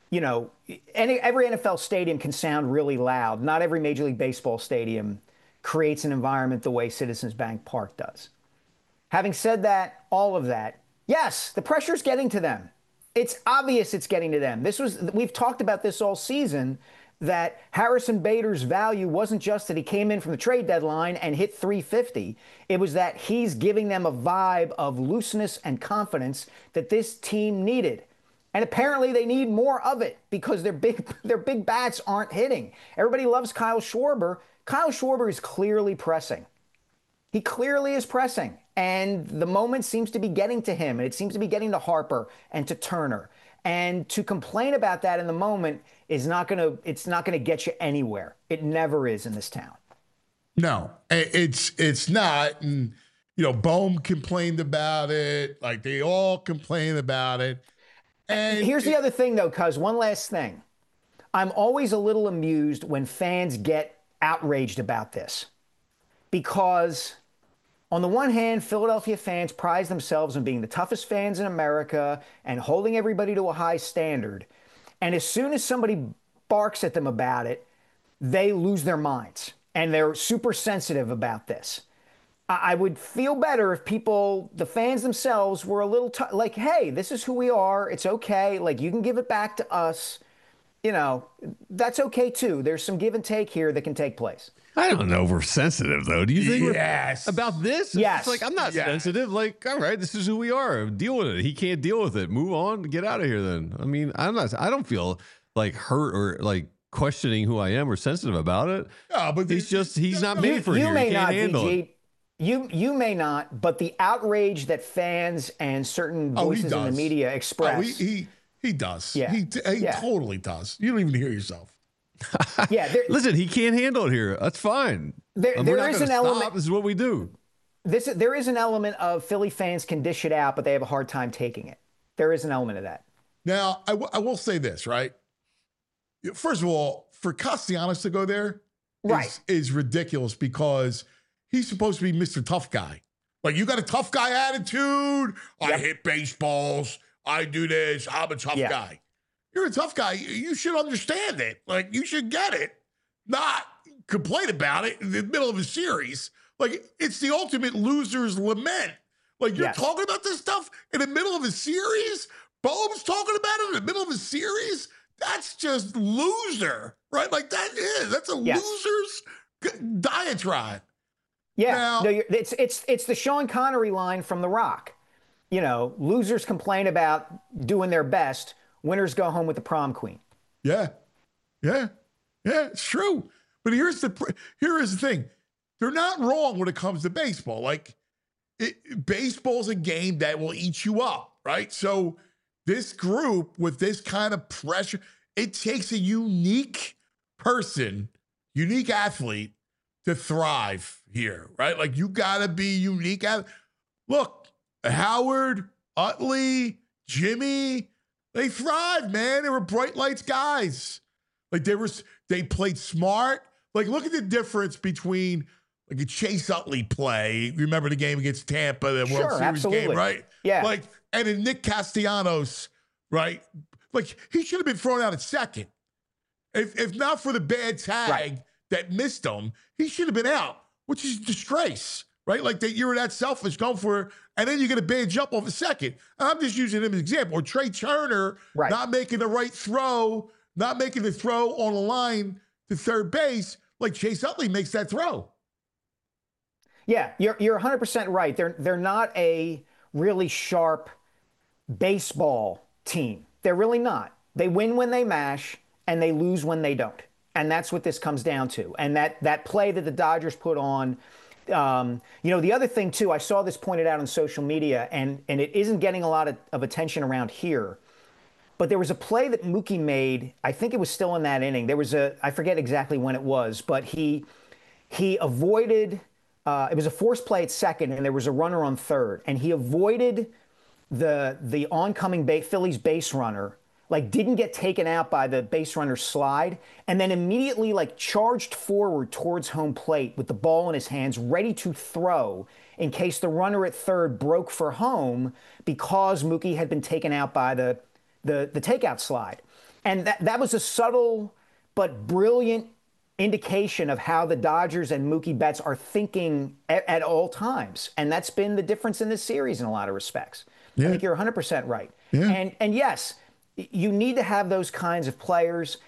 Every NFL stadium can sound really loud. Not every Major League Baseball stadium creates an environment the way Citizens Bank Park does. Having said that, all of that, yes, the pressure's getting to them. It's obvious it's getting to them. We've talked about this all season, that Harrison Bader's value wasn't just that he came in from the trade deadline and hit 350. It was that he's giving them a vibe of looseness and confidence that this team needed. And apparently they need more of it because their big bats aren't hitting. Everybody loves Kyle Schwarber. Kyle Schwarber is clearly pressing. He clearly is pressing. And the moment seems to be getting to him. And it seems to be getting to Harper and to Turner. And to complain about that in the moment it's not going to get you anywhere. It never is in this town. No, it's not. And, Bohm complained about it. Like they all complain about it. And here's the other thing, though, cuz one last thing. I'm always a little amused when fans get outraged about this, because on the one hand, Philadelphia fans prize themselves on being the toughest fans in America and holding everybody to a high standard. And as soon as somebody barks at them about it, they lose their minds and they're super sensitive about this. I would feel better if the fans themselves, were a little like, hey, this is who we are. It's okay. Like, you can give it back to us. That's okay too. There's some give and take here that can take place. I don't know if we're sensitive, though. Do you think yes. about this? Yes. It's like, I'm not sensitive. Like, all right, this is who we are. Deal with it. He can't deal with it. Move on. Get out of here then. I mean, I don't feel like hurt or like questioning who I am or sensitive about it. No, but he's not made for it. You may not, VG. You may not, but the outrage that fans and certain voices in the media express. He does. Yeah. He totally does. You don't even hear yourself. Yeah. Listen, he can't handle it here. That's fine. There is an element. This is what we do. There is an element of Philly fans can dish it out, but they have a hard time taking it. There is an element of that. Now, I will say this, right? First of all, for Castellanos to go there is ridiculous, because he's supposed to be Mr. Tough Guy. Like, you got a tough guy attitude. I hit baseballs. I do this. I'm a tough guy. You're a tough guy. You should understand it. Like, you should get it. Not complain about it in the middle of a series. Like, it's the ultimate loser's lament. Like, you're talking about this stuff in the middle of a series? Bohm's talking about it in the middle of a series? That's just loser, right? Like, that's a loser's diatribe. Yeah, now, no, it's the Sean Connery line from The Rock. You know, losers complain about doing their best. Winners go home with the prom queen. Yeah, it's true. But here is the thing. They're not wrong when it comes to baseball. Like, baseball's a game that will eat you up, right? So this group with this kind of pressure, it takes a unique person, unique athlete to thrive here, right? Like, you got to be unique. Look, Howard, Utley, Jimmy, they thrived, man. They were bright lights guys. Like, they played smart. Like, look at the difference between like a Chase Utley play. Remember the game against Tampa, the World Series game, right? Yeah. Like, and in Nick Castellanos, right? Like, he should have been thrown out at second. If not for the bad tag that missed him, he should have been out, which is a disgrace, right? Like, that you're that selfish, going for it, and then you get a bad jump off a second. And I'm just using him as an example. Or Trey Turner not making the right throw, not making the throw on the line to third base, like Chase Utley makes that throw. Yeah, you're 100% right. They're not a really sharp baseball team. They're really not. They win when they mash, and they lose when they don't. And that's what this comes down to. And that play that the Dodgers put on, the other thing, too, I saw this pointed out on social media, and it isn't getting a lot of attention around here. But there was a play that Mookie made. I think it was still in that inning. There was I forget exactly when it was, but he avoided, it was a forced play at second, and there was a runner on third. And he avoided the oncoming Phillies base runner, like didn't get taken out by the base runner's slide, and then immediately like charged forward towards home plate with the ball in his hands, ready to throw in case the runner at third broke for home because Mookie had been taken out by the takeout slide. And that was a subtle but brilliant indication of how the Dodgers and Mookie Betts are thinking at all times. And that's been the difference in this series in a lot of respects. I think you're 100% right. Yeah. And yes, you need to have those kinds of players.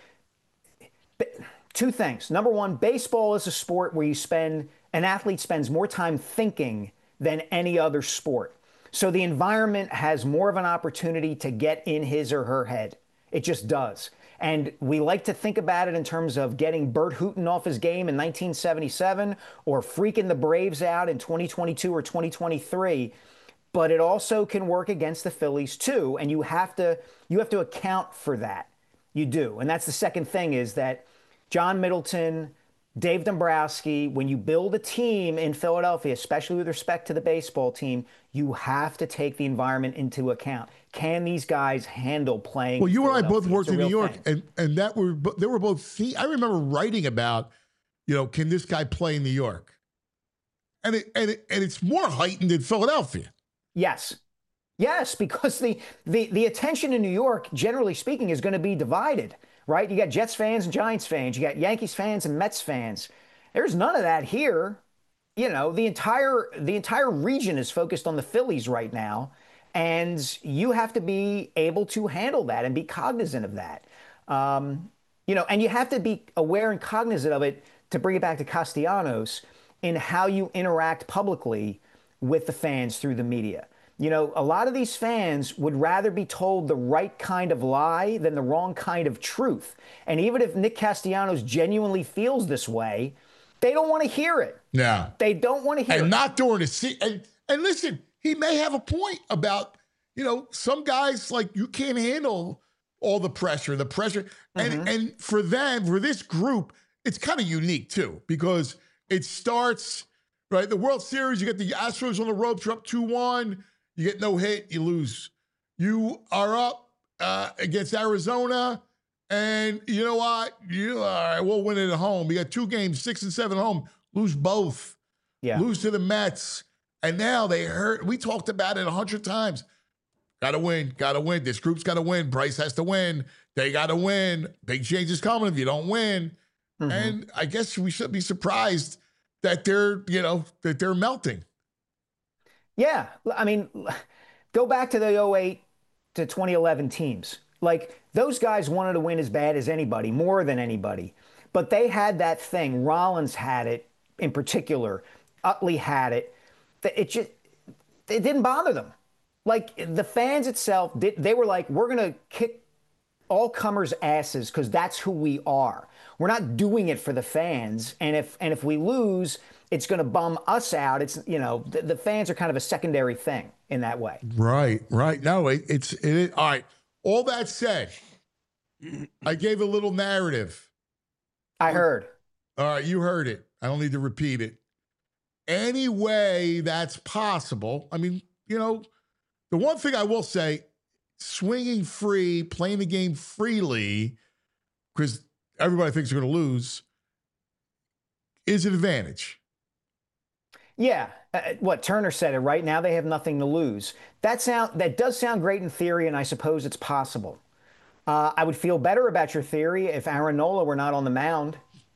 Two things. Number one, baseball is a sport where an athlete spends more time thinking than any other sport. So the environment has more of an opportunity to get in his or her head. It just does. And we like to think about it in terms of getting Bert Hooton off his game in 1977 or freaking the Braves out in 2022 or 2023. But it also can work against the Phillies too, and you have to account for that. You do. And that's the second thing, is that John Middleton, Dave Dombrowski, when you build a team in Philadelphia, especially with respect to the baseball team, you have to take the environment into account. Can these guys handle playing? Well, you and I both worked in New York, and they were both. I remember writing about, can this guy play in New York? And it's more heightened in Philadelphia. Yes, because the attention in New York, generally speaking, is going to be divided. Right? You got Jets fans and Giants fans. You got Yankees fans and Mets fans. There's none of that here. The entire region is focused on the Phillies right now, and you have to be able to handle that and be cognizant of that. And you have to be aware and cognizant of it, to bring it back to Castellanos, in how you interact publicly with the fans through the media. A lot of these fans would rather be told the right kind of lie than the wrong kind of truth. And even if Nick Castellanos genuinely feels this way, they don't want to hear it. Yeah. They don't want to hear it. And not during the season. And listen, he may have a point about, some guys, like, you can't handle all the pressure. And for this group, it's kind of unique too, because it starts, right? The World Series, you get the Astros on the ropes, you're up 2-1. You get no hit, you lose. You are up against Arizona, and you know what? All right, we'll win it at home. You got 2 games, 6 and 7 at home. Lose both. Yeah. Lose to the Mets. And now they hurt. We talked about it 100 times. Got to win. This group's got to win. Bryce has to win. They got to win. Big change is coming if you don't win. Mm-hmm. And I guess we should be surprised that they're melting. Yeah. I mean, go back to the 08 to 2011 teams. Like, those guys wanted to win as bad as anybody, more than anybody. But they had that thing. Rollins had it in particular. Utley had it. It didn't bother them. Like, the fans itself, they were like, we're going to kick all comers' asses because that's who we are. We're not doing it for the fans. And if we lose, it's going to bum us out. It's, the fans are kind of a secondary thing in that way. Right. No, it's all right. All that said, I gave a little narrative. I heard. All right, you heard it. I don't need to repeat it. Any way that's possible. I mean, the one thing I will say, swinging free, playing the game freely, because everybody thinks they're going to lose, is an advantage. Yeah. What Turner said it right now, they have nothing to lose. That does sound great in theory, and I suppose it's possible. I would feel better about your theory if Aaron Nola were not on the mound.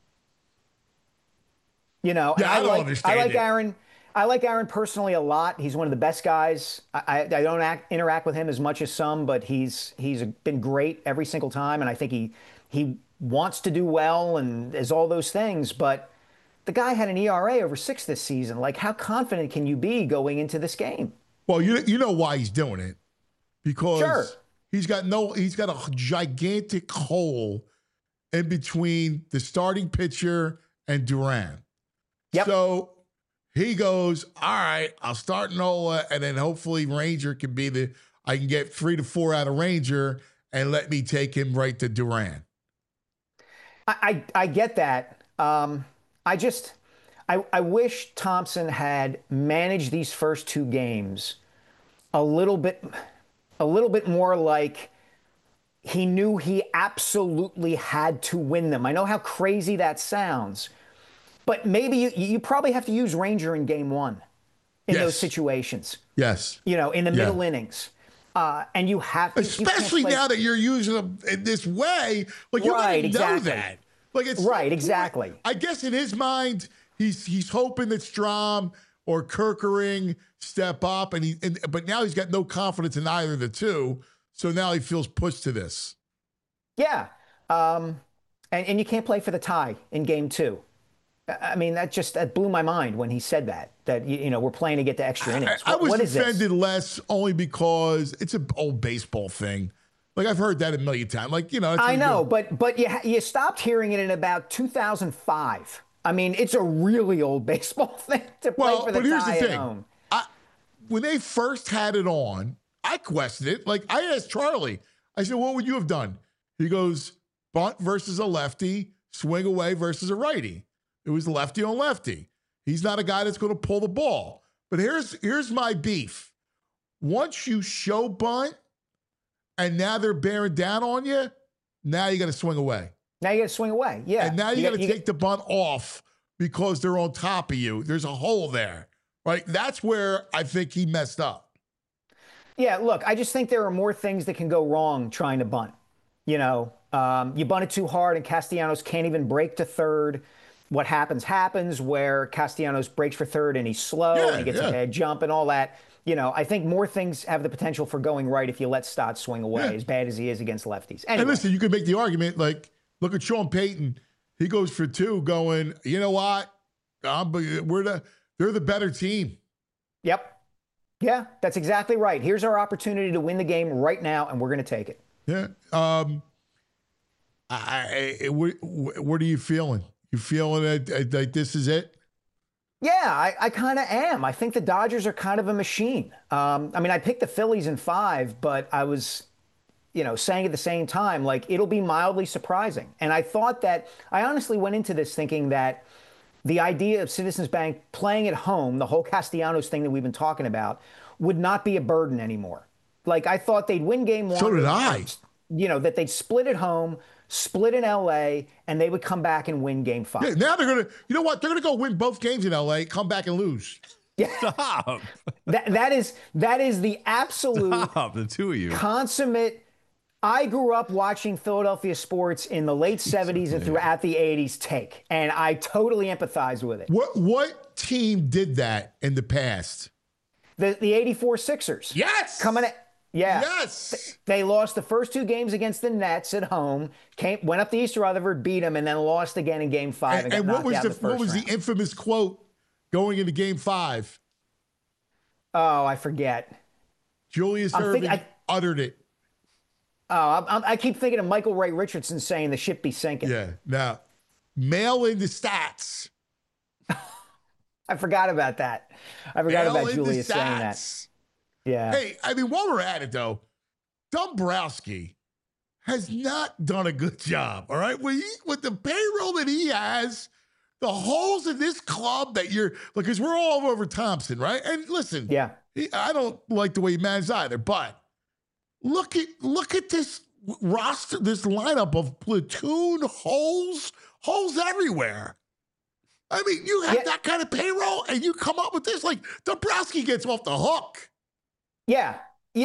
Yeah, I don't understand. I like Aaron. I like Aaron personally a lot. He's one of the best guys. I don't interact with him as much as some, but he's been great every single time, and I think he wants to do well and is all those things. But the guy had an ERA over 6 this season. Like, how confident can you be going into this game? Well, you know why he's doing it, because sure. he's got a gigantic hole in between the starting pitcher and Duran. Yep. So he goes, all right, I'll start Nola, and then hopefully Ranger can be I can get 3 to 4 out of Ranger and let me take him right to Duran. I get that. I wish Thompson had managed these first 2 games a little bit more like he knew he absolutely had to win them. I know how crazy that sounds, but maybe you probably have to use Ranger in game 1 in those situations. Yes. In the middle innings. And you have to. Especially now that you're using them in this way. Like, you're going to know that. Like, it's right, exactly. I guess in his mind, he's hoping that Strom or Kerkering step up, but now he's got no confidence in either of the two. So now he feels pushed to this. Yeah. And you can't play for the tie in game 2. I mean, that blew my mind when he said that we're playing to get to extra innings. I was offended less only because it's an old baseball thing. Like, I've heard that a million times. Like, I know, but you stopped hearing it in about 2005. I mean, it's a really old baseball thing to play for the tie at home. When they first had it on, I questioned it. Like, I asked Charlie, I said, what would you have done? He goes, bunt versus a lefty, swing away versus a righty. It was lefty on lefty. He's not a guy that's going to pull the ball. But here's my beef. Once you show bunt and now they're bearing down on you, now you got to swing away. Now you got to swing away. Yeah. And now you got to take the bunt off because they're on top of you. There's a hole there, right? That's where I think he messed up. Yeah, look, I just think there are more things that can go wrong trying to bunt. You bunt it too hard and Castellanos can't even break to third. What happens where Castellanos breaks for third and he's slow and he gets a bad jump and all that. I think more things have the potential for going right if you let Stott swing away, as bad as he is against lefties. Anyway. And listen, you could make the argument, like, look at Sean Payton. He goes for 2 going, you know what? They're the better team. Yep. Yeah, that's exactly right. Here's our opportunity to win the game right now, and we're going to take it. Yeah. What are you feeling? You feeling like this is it? Yeah, I kind of am. I think the Dodgers are kind of a machine. I picked the Phillies in 5, but I was, saying at the same time, like, it'll be mildly surprising. And I honestly went into this thinking that the idea of Citizens Bank playing at home, the whole Castellanos thing that we've been talking about, would not be a burden anymore. Like, I thought they'd win game 1. So did I. That they'd split at home, split in L.A., and they would come back and win game 5. Yeah, now they're going to, you know what? They're going to go win both games in L.A., come back and lose. Yeah. Stop. That is the absolute Stop, the two of you. Consummate I grew up watching Philadelphia sports in the late 70s and throughout the 80s take, and I totally empathize with it. What team did that in the past? The 84 Sixers. Yes. Coming at, yeah. Yes. They lost the first 2 games against the Nets at home, went up to East Rutherford, beat them, and then lost again in Game 5. And what was the infamous quote going into Game 5? Oh, I forget. Julius Erving uttered it. Oh, I keep thinking of Michael Ray Richardson saying the ship be sinking. Yeah. Now, mail in the stats. I forgot about that. I forgot about Julius saying that. Yeah. Hey, I mean, while we're at it, though, Dombrowski has not done a good job, all right? With the payroll that he has, the holes in this club that because we're all over Thompson, right? And listen, yeah, I don't like the way he managed either, but look at this roster, this lineup of platoon holes everywhere. I mean, you have that kind of payroll and you come up with this, like Dombrowski gets off the hook. Yeah.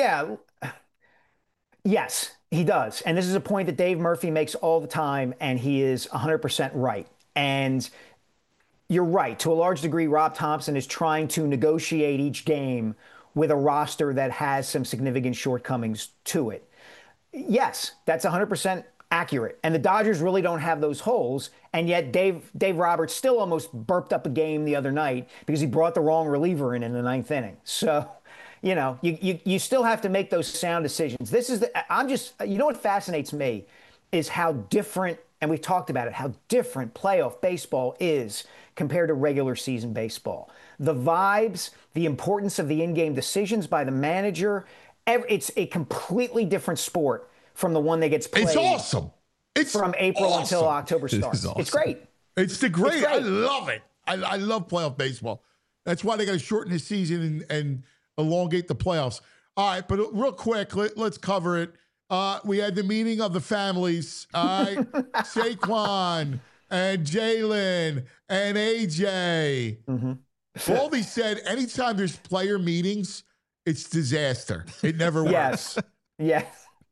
Yes, he does. And this is a point that Dave Murphy makes all the time, and he is 100% right. And you're right. To a large degree, Rob Thompson is trying to negotiate each game with a roster that has some significant shortcomings to it. Yes, that's 100% accurate. And the Dodgers really don't have those holes. And yet Dave Roberts still almost burped up a game the other night because he brought the wrong reliever in the 9th inning. So, you still have to make those sound decisions. You know what fascinates me is how different, and we've talked about it, how different playoff baseball is compared to regular season baseball. The vibes, the importance of the in-game decisions by the manager, it's a completely different sport from the one that gets played. It's awesome. It's from April awesome. until October starts. Awesome. It's great. It's great. I love it. I love playoff baseball. That's why they got to shorten the season and elongate the playoffs. All right, but real quick, let's cover it. We had the meeting of the families. All right, Saquon and Jalen and AJ. Mm-hmm. Baldy said anytime there's player meetings, it's disaster. It never works. Yes.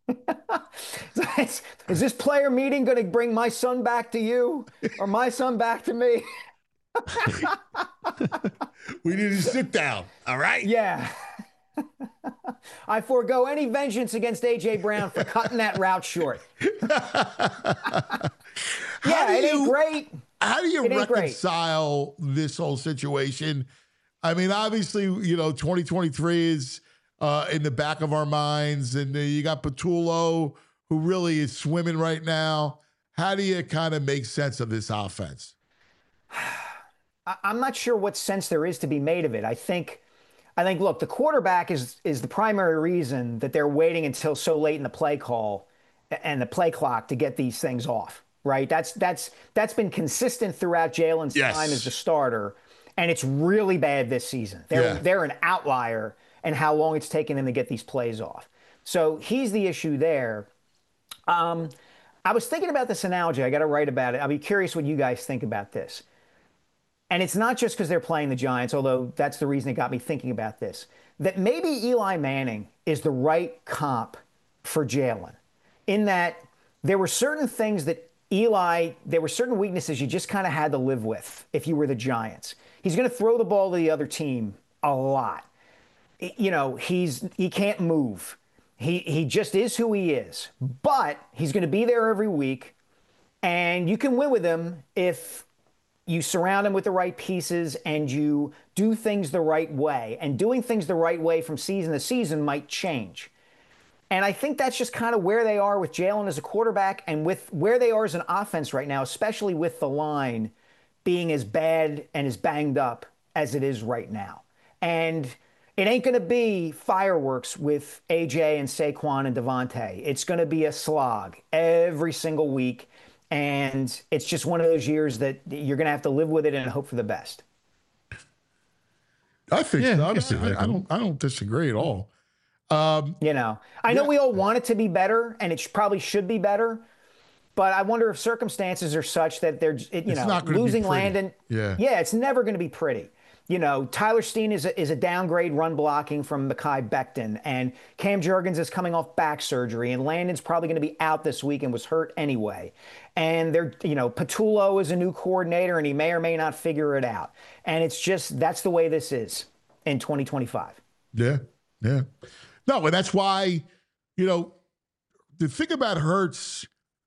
Is this player meeting going to bring my son back to you or my son back to me? We need to sit down. All right. Yeah. I forego any vengeance against A.J. Brown for cutting that route short. It ain't great. How do you reconcile this whole situation? I mean, obviously, 2023 is in the back of our minds, and you got Patullo, who really is swimming right now. How do you kind of make sense of this offense? I'm not sure what sense there is to be made of it. I think, look, the quarterback is the primary reason that they're waiting until so late in the play call and the play clock to get these things off, right? That's been consistent throughout Jalen's time as the starter, and it's really bad this season. They're an outlier in how long it's taken him to get these plays off. So he's the issue there. I was thinking about this analogy. I got to write about it. I'll be curious what you guys think about this. And it's not just because they're playing the Giants, although that's the reason it got me thinking about this, that maybe Eli Manning is the right comp for Jalen, in that there were certain things that there were certain weaknesses you just kind of had to live with if you were the Giants. He's going to throw the ball to the other team a lot. He can't move. He just is who he is. But he's going to be there every week, and you can win with him if you surround him with the right pieces and you do things the right way. And doing things the right way from season to season might change. And I think that's just kind of where they are with Jalen as a quarterback and with where they are as an offense right now, especially with the line being as bad and as banged up as it is right now. And it ain't going to be fireworks with AJ and Saquon and Devontae. It's going to be a slog every single week. And it's just one of those years that you're going to have to live with it and hope for the best. I think so. I don't disagree at all. I know we all want it to be better, and it probably should be better. But I wonder if circumstances are such that it's not losing Landon. Yeah, it's never going to be pretty. Tyler Steen is a downgrade run blocking from Mekhi Becton, and Cam Jurgens is coming off back surgery, and Landon's probably going to be out this week and was hurt anyway. And Patullo is a new coordinator, and he may or may not figure it out. And it's just, that's the way this is in 2025. Yeah. No, and that's why, the thing about Hurts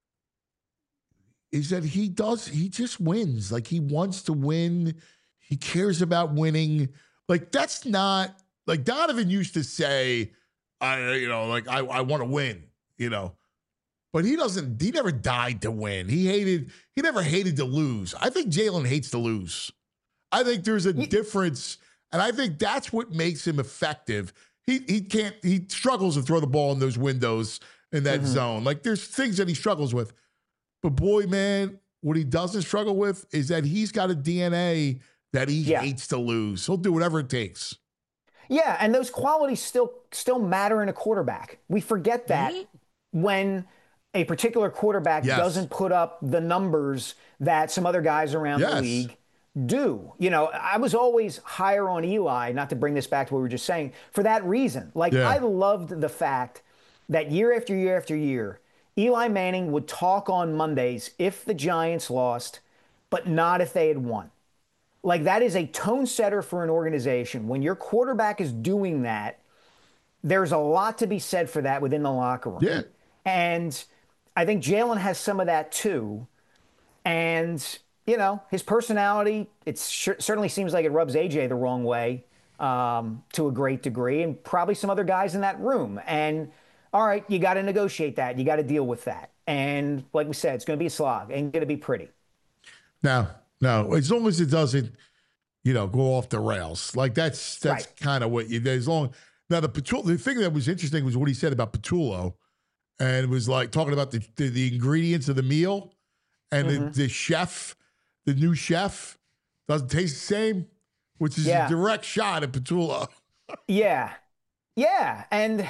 is that he just wins. Like, he wants to win. He cares about winning. Like, that's not, like Donovan used to say, I want to win, But he never died to win. He never hated to lose. I think Jalen hates to lose. I think there's a difference, and I think that's what makes him effective. He struggles to throw the ball in those windows in that zone. Like, there's things that he struggles with. But boy, man, what he doesn't struggle with is that he's got a DNA that he hates to lose. He'll do whatever it takes. Yeah, and those qualities still matter in a quarterback. We forget that when a particular quarterback doesn't put up the numbers that some other guys around the league do. I was always higher on Eli, not to bring this back to what we were just saying, for that reason. I loved the fact that year after year after year, Eli Manning would talk on Mondays if the Giants lost, but not if they had won. Like, that is a tone setter for an organization. When your quarterback is doing that, there's a lot to be said for that within the locker room. Yeah. And I think Jalen has some of that too. And, his personality, certainly seems like it rubs AJ the wrong way to a great degree, and probably some other guys in that room. And, all right, you got to negotiate that. You got to deal with that. And like we said, it's going to be a slog. Ain't going to be pretty. No, as long as it doesn't, go off the rails. Like, that's right. Kind of what as long. Now, the thing that was interesting was what he said about Patullo, and it was like talking about the ingredients of the meal, and the chef, the new chef, doesn't taste the same, which is a direct shot at Patullo. Yeah, and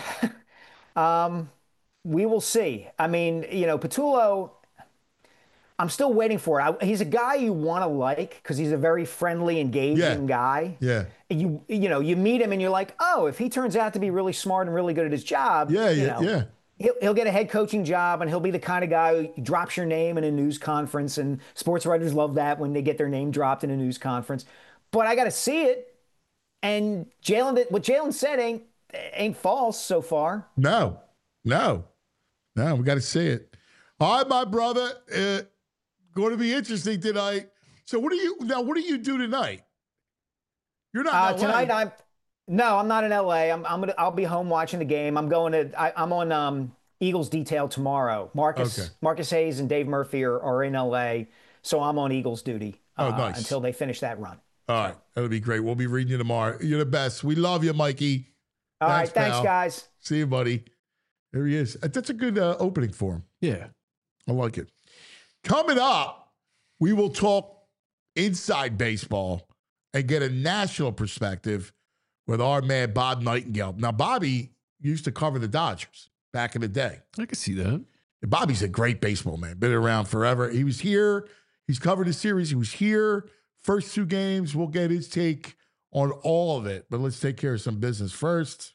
we will see. I mean, Patullo, I'm still waiting for it. He's a guy you want to like because he's a very friendly, engaging guy. Yeah. You meet him and you're like, oh, if he turns out to be really smart and really good at his job, he'll get a head coaching job, and he'll be the kind of guy who drops your name in a news conference, and sports writers love that when they get their name dropped in a news conference. But I got to see it. And what Jalen said ain't false so far. No, we got to see it. All right, my brother. Going to be interesting tonight. So what do you do tonight? You're not in LA. Tonight. I'm not in LA. I'll be home watching the game. I'm on Eagles detail tomorrow. Marcus Hayes and Dave Murphy are in LA, so I'm on Eagles duty nice. Until they finish that run. All right, that'll be great. We'll be reading you tomorrow. You're the best. We love you, Mikey. All right, thanks, guys. See you, buddy. There he is. That's a good opening for him. Yeah, I like it. Coming up, we will talk inside baseball and get a national perspective with our man, Bob Nightingale. Now, Bobby used to cover the Dodgers back in the day. I can see that. Bobby's a great baseball man. Been around forever. He was here. He's covered the series. He was here. First 2 games. We'll get his take on all of it. But let's take care of some business first.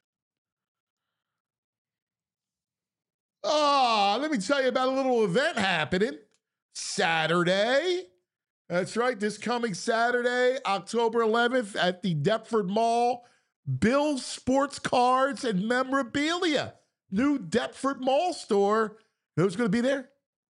Let me tell you about a little event happening Saturday. That's right. This coming Saturday, October 11th at the Deptford Mall. Bill's Sports Cards and Memorabilia. New Deptford Mall store. Who's going to be there?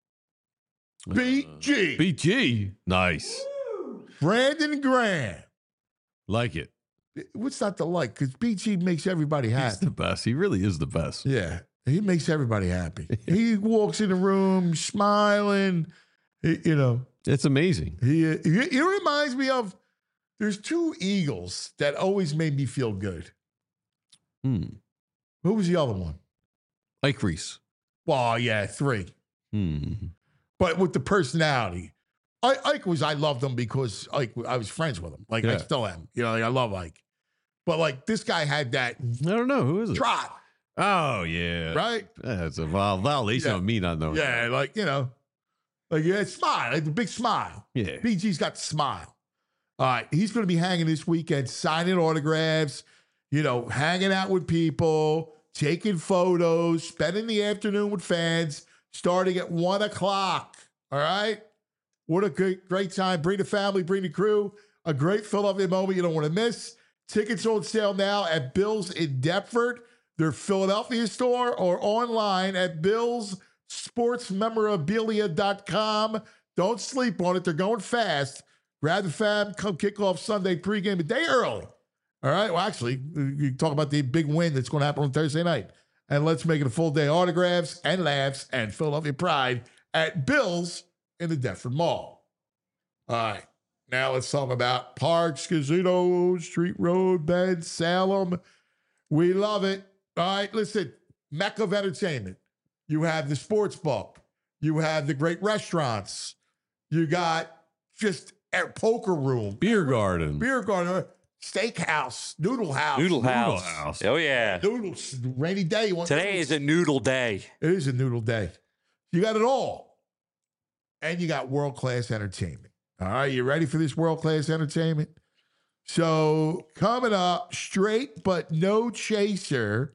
BG. BG. Nice. Brandon Graham. Like it. What's not to like? Because BG makes everybody happy. He's the best. He really is the best. Yeah. He makes everybody happy. He walks in the room smiling. It's amazing. He reminds me of, there's 2 Eagles that always made me feel good. Who was the other one? Ike Reese. Well, yeah, 3. But with the personality. Ike I loved him because I was friends with him. Like, I still am. I love Ike. But, this guy had that. I don't know. Who is it? Trot. Oh, yeah. Right? That's a violation of me not knowing. Yeah, smile. Like, the big smile. Yeah. BG's got the smile. All right, he's going to be hanging this weekend, signing autographs, hanging out with people, taking photos, spending the afternoon with fans, starting at 1 o'clock. All right? What a great time. Bring the family, bring the crew. A great Philadelphia moment you don't want to miss. Tickets on sale now at Bill's in Deptford, their Philadelphia store, or online at BillsSportsMemorabilia.com. Don't sleep on it. They're going fast. Grab the fam, come kick off Sunday pregame a day early. All right? Well, actually, you talk about the big win that's going to happen on Thursday night. And let's make it a full day. Autographs and laughs and Philadelphia pride at Bill's in the Deptford Mall. All right. Now let's talk about Parks Casino, Street Road, Bend, Salem. We love it. All right, listen, mecca of entertainment. You have the sports book. You have the great restaurants. You got just a poker room. Beer garden. Steakhouse. Noodle house. Noodle house. Oh, yeah. Noodles. Rainy day. Today is a noodle day. It is a noodle day. You got it all. And you got world-class entertainment. All right, you ready for this world-class entertainment? So coming up, straight but no chaser.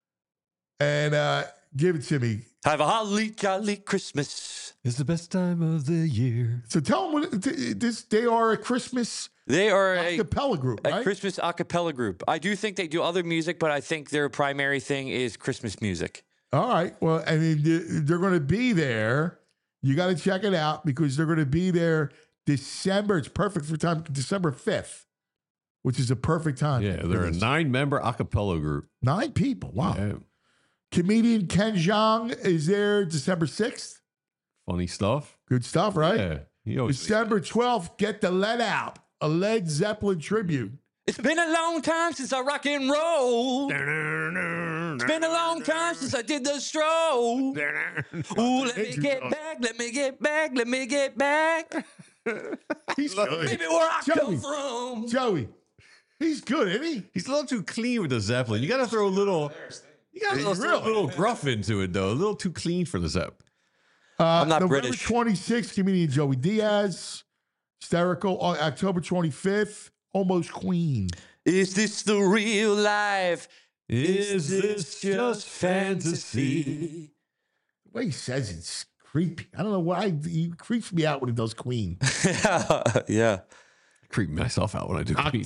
And give it to me. Have a holly jolly Christmas. It's the best time of the year. So tell them they are a Christmas. They are a cappella group, right? A Christmas a cappella group. I do think they do other music, but I think their primary thing is Christmas music. All right. Well, I mean, they're going to be there. You got to check it out because they're going to be there December. It's perfect for time. December 5th, which is a perfect time. Yeah, they're a 9-member a cappella group. 9 people. Wow. Yeah. Comedian Ken Jeong is there December 6th. Funny stuff. Good stuff, right? Yeah. December 12th, Get the Lead Out, a Led Zeppelin tribute. It's been a long time since I rock and roll. It's been a long time since I did the stroll. Ooh, let me get back, let me get back, let me get back. He's good. Maybe where I come from. Joey, he's good, isn't he? He's a little too clean with the Zeppelin. You got to throw a little. You got to throw a little gruff into it, though. A little too clean for the Zepp. I'm not November British. 26th, comedian Joey Diaz. Hysterical. October 25th, Almost Queen. Is this the real life? Is this just fantasy? The way he says it's creepy. I don't know why. He creeps me out when he does Queen. Yeah. I creep myself out when I do Queen.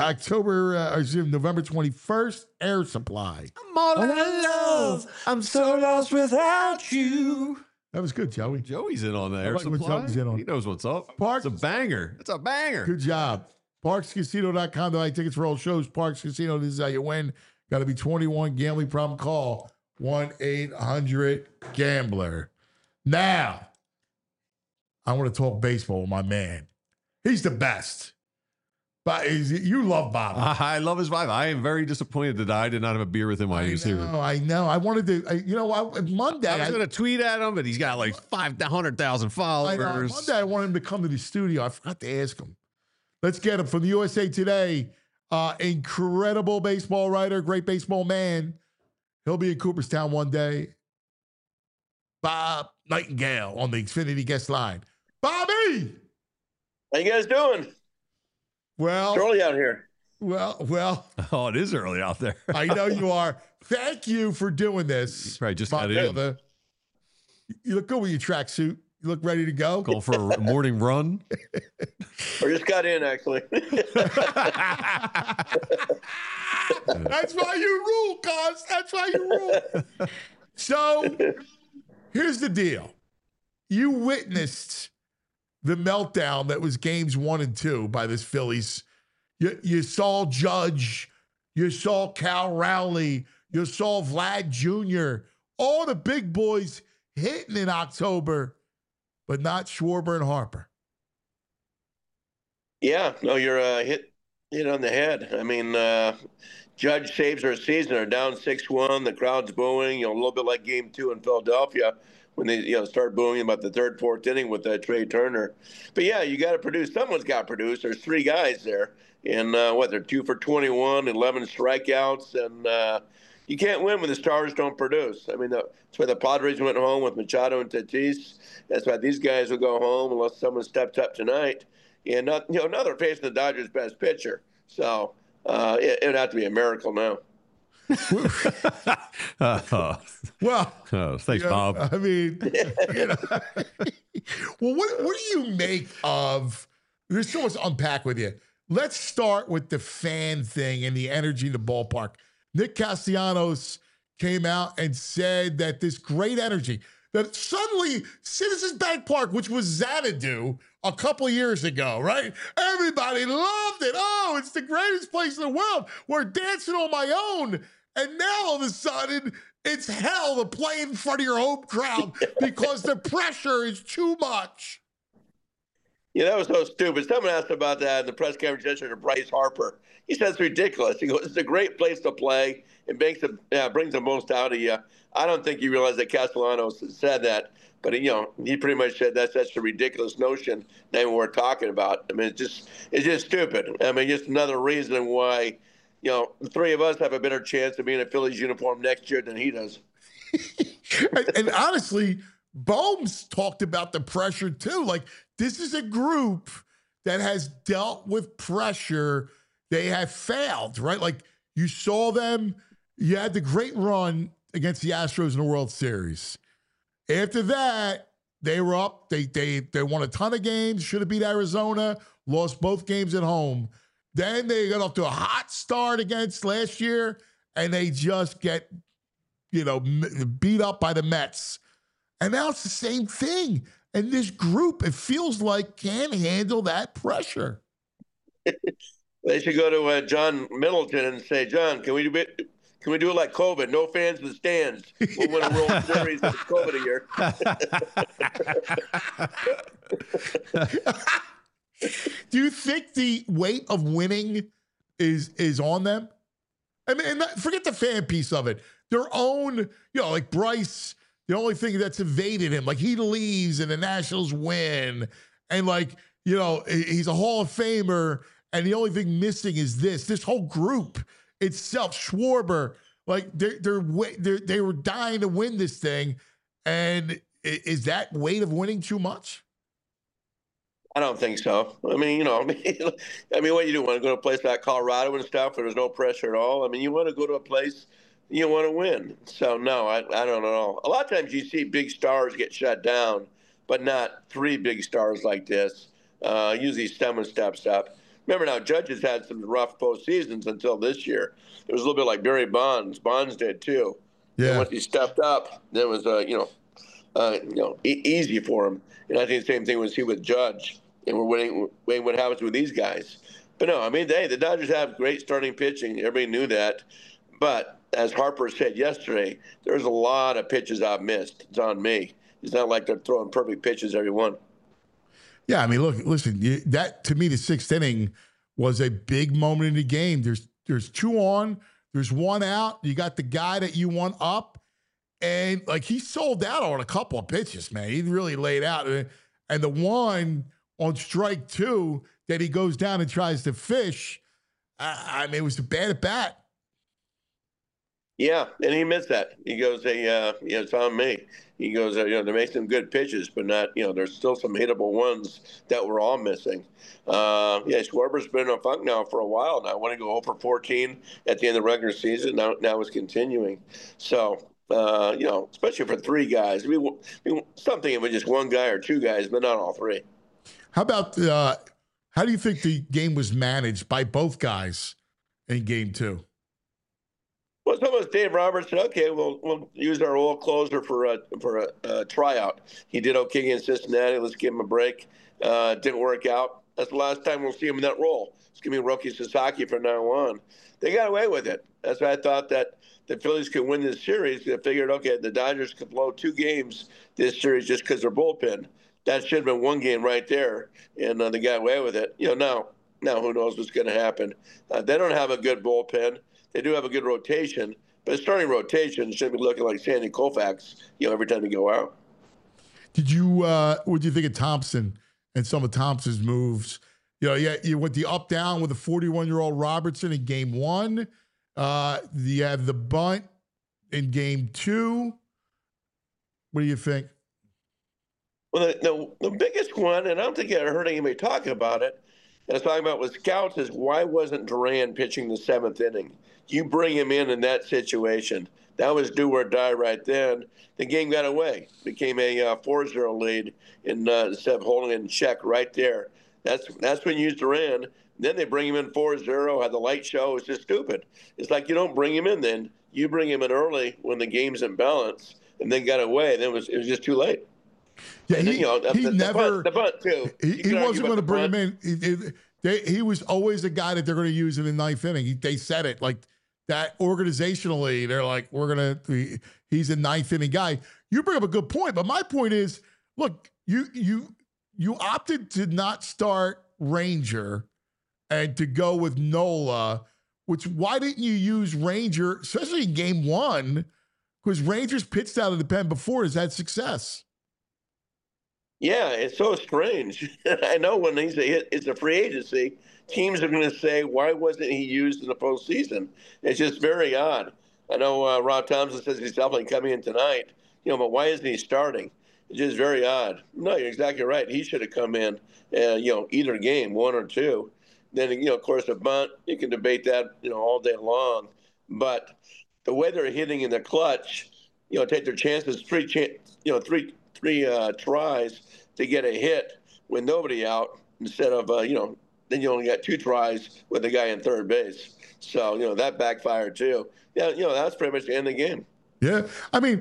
November 21st, Air Supply. I'm all out of love. I'm so lost without you. That was good, Joey. Joey's in on the Air like what Supply. Joey's in on. He knows what's up. Parks. It's a banger. It's a banger. Good job. ParksCasino.com. To buy tickets for all shows. Parks Casino. This is how you win. Got to be 21. Gambling problem. Call 1-800-GAMBLER. Now, I want to talk baseball with my man. He's the best. But you love Bob. I love his vibe. I am very disappointed that I did not have a beer with him while he was here. I know. I wanted to. Monday. I was going to tweet at him, but he's got like 500,000 followers. Monday, I wanted him to come to the studio. I forgot to ask him. Let's get him from the USA Today. Incredible baseball writer, great baseball man. He'll be in Cooperstown one day. Bob Nightingale on the Xfinity guest line. Bobby! How you guys doing? Well, it's early out here. Well. Oh, it is early out there. I know you are. Thank you for doing this. Right, just got in. You look good with your tracksuit. You look ready to go. Go for a morning run. I just got in, actually. That's why you rule, cuz. That's why you rule. So, here's the deal. You witnessed the meltdown that was games 1 and 2 by this Phillies. You saw Judge. You saw Cal Rowley. You saw Vlad Jr. All the big boys hitting in October, but not Schwarber and Harper. Yeah, no, you're hit on the head. I mean, Judge saves our season. They're down 6-1. The crowd's booing. A little bit like Game 2 in Philadelphia when they start booing about the third, fourth inning with Trey Turner. But yeah, you got to produce. Someone's got to produce. There's 3 guys there, and they're 2 for 21, 11 strikeouts, and you can't win when the stars don't produce. I mean, that's why the Padres went home with Machado and Tatis. That's why these guys will go home unless someone steps up tonight. And now they're facing the Dodgers' best pitcher. So it would have to be a miracle now. Well, thanks, Bob. I mean, well, what do you make of? There's so much to unpack with you. Let's start with the fan thing and the energy in the ballpark. Nick Castellanos came out and said that this great energy, that suddenly Citizens Bank Park, which was Xanadu a couple years ago, right? Everybody loved it. Oh, it's the greatest place in the world. We're dancing on my own. And now all of a sudden, it's hell to play in front of your home crowd because the pressure is too much. Yeah, that was so stupid. Someone asked about that in the press conference yesterday to Bryce Harper. He said it's ridiculous. He goes, it's a great place to play. It brings the most out of you. I don't think you realize that Castellanos said that, but he pretty much said that's such a ridiculous notion. Not what we're talking about. I mean, it's just stupid. I mean, just another reason why, the three of us have a better chance of being in a Phillies uniform next year than he does. and honestly, Bohm's talked about the pressure too. Like, this is a group that has dealt with pressure. They have failed, right? Like, you saw them. You had the great run against the Astros in the World Series. After that, they were up. They won a ton of games. Should have beat Arizona. Lost both games at home. Then they got off to a hot start against last year, and they just get, beat up by the Mets. And now it's the same thing. And this group, it feels like, can't handle that pressure. They should go to John Middleton and say, John, can we do it like COVID? No fans in the stands. We'll win a World Series with COVID a year. Do you think the weight of winning is on them? I mean, and forget the fan piece of it. Their own, like Bryce, the only thing that's evaded him, like he leaves and the Nationals win. And he's a Hall of Famer. And the only thing missing is this whole group itself, Schwarber, like they were dying to win this thing. And is that weight of winning too much? I don't think so. I mean, what you do, want to go to a place like Colorado and stuff where there's no pressure at all? I mean, you want to go to a place you want to win. So, no, I don't know. A lot of times you see big stars get shut down, but not three big stars like this. Usually someone steps up. Remember now, Judge has had some rough postseasons until this year. It was a little bit like Barry Bonds. Bonds did too. Yeah. And once he stepped up, it was easy for him. And I think the same thing was with Judge. And we're waiting what happens with these guys. But no, I mean, the Dodgers have great starting pitching. Everybody knew that. But as Harper said yesterday, there's a lot of pitches I've missed. It's on me. It's not like they're throwing perfect pitches every one. Yeah, I mean, listen, that to me, the sixth inning was a big moment in the game. There's two on, there's one out. You got the guy that you want up, and like he sold out on a couple of pitches, man. He really laid out, and the one on strike two that he goes down and tries to fish. I mean, it was a bad at bat. Yeah, and he missed that. He goes, it's on me. He goes, they make some good pitches, but not, there's still some hittable ones that we're all missing. Schwarber's been in a funk now for a while now. I want to go 0 for 14 at the end of the regular season. Now it's continuing. So, especially for three guys. Something if it's just one guy or two guys, but not all three. How about, how do you think the game was managed by both guys in game two? Well, someone, Dave Roberts said, okay, we'll use our old closer for a tryout. He did okay against Cincinnati. Let's give him a break. Didn't work out. That's the last time we'll see him in that role. It's going to be Roki Sasaki from now on. They got away with it. That's why I thought that the Phillies could win this series. They figured, okay, the Dodgers could blow 2 games this series just because they're bullpen. That should have been one game right there, and they got away with it. Now who knows what's going to happen. They don't have a good bullpen. They do have a good rotation, but starting rotation should be looking like Sandy Koufax, every time they go out. What do you think of Thompson and some of Thompson's moves? You went the up-down with a 41-year-old Robertson in game one. You have the bunt in game 2. What do you think? Well, the biggest one, and I don't think I heard anybody talk about it, and I was talking about with scouts, is why wasn't Duran pitching the 7th inning? You bring him in that situation. That was do or die right then. The game got away. Became a 4-0 lead instead of holding it in check right there. That's when you use Duran. Then they bring him in 4-0, had the light show. It's just stupid. It's like you don't bring him in then. You bring him in early when the game's in balance, and then got away. Then it was just too late. Yeah, And he never. the bunt too. He wasn't going to bring him in. He was always the guy that they're going to use in the 9th inning. They said it like that organizationally. They're like, he's a 9th inning guy. You bring up a good point, but my point is, look, you opted to not start Ranger and to go with Nola. Why didn't you use Ranger, especially in game 1? Because Ranger's pitched out of the pen before, has had success. Yeah, it's so strange. I know when it's a free agency, teams are going to say, why wasn't he used in the postseason? It's just very odd. I know Rob Thompson says he's definitely coming in tonight, but why isn't he starting? It's just very odd. No, you're exactly right. He should have come in, either game, 1 or 2. Then, of course, a bunt, you can debate that, all day long. But the way they're hitting in the clutch, take their chances, three tries to get a hit with nobody out instead of, then you only got 2 tries with the guy in third base. So, that backfired too. Yeah, that's pretty much the end of the game. Yeah. I mean,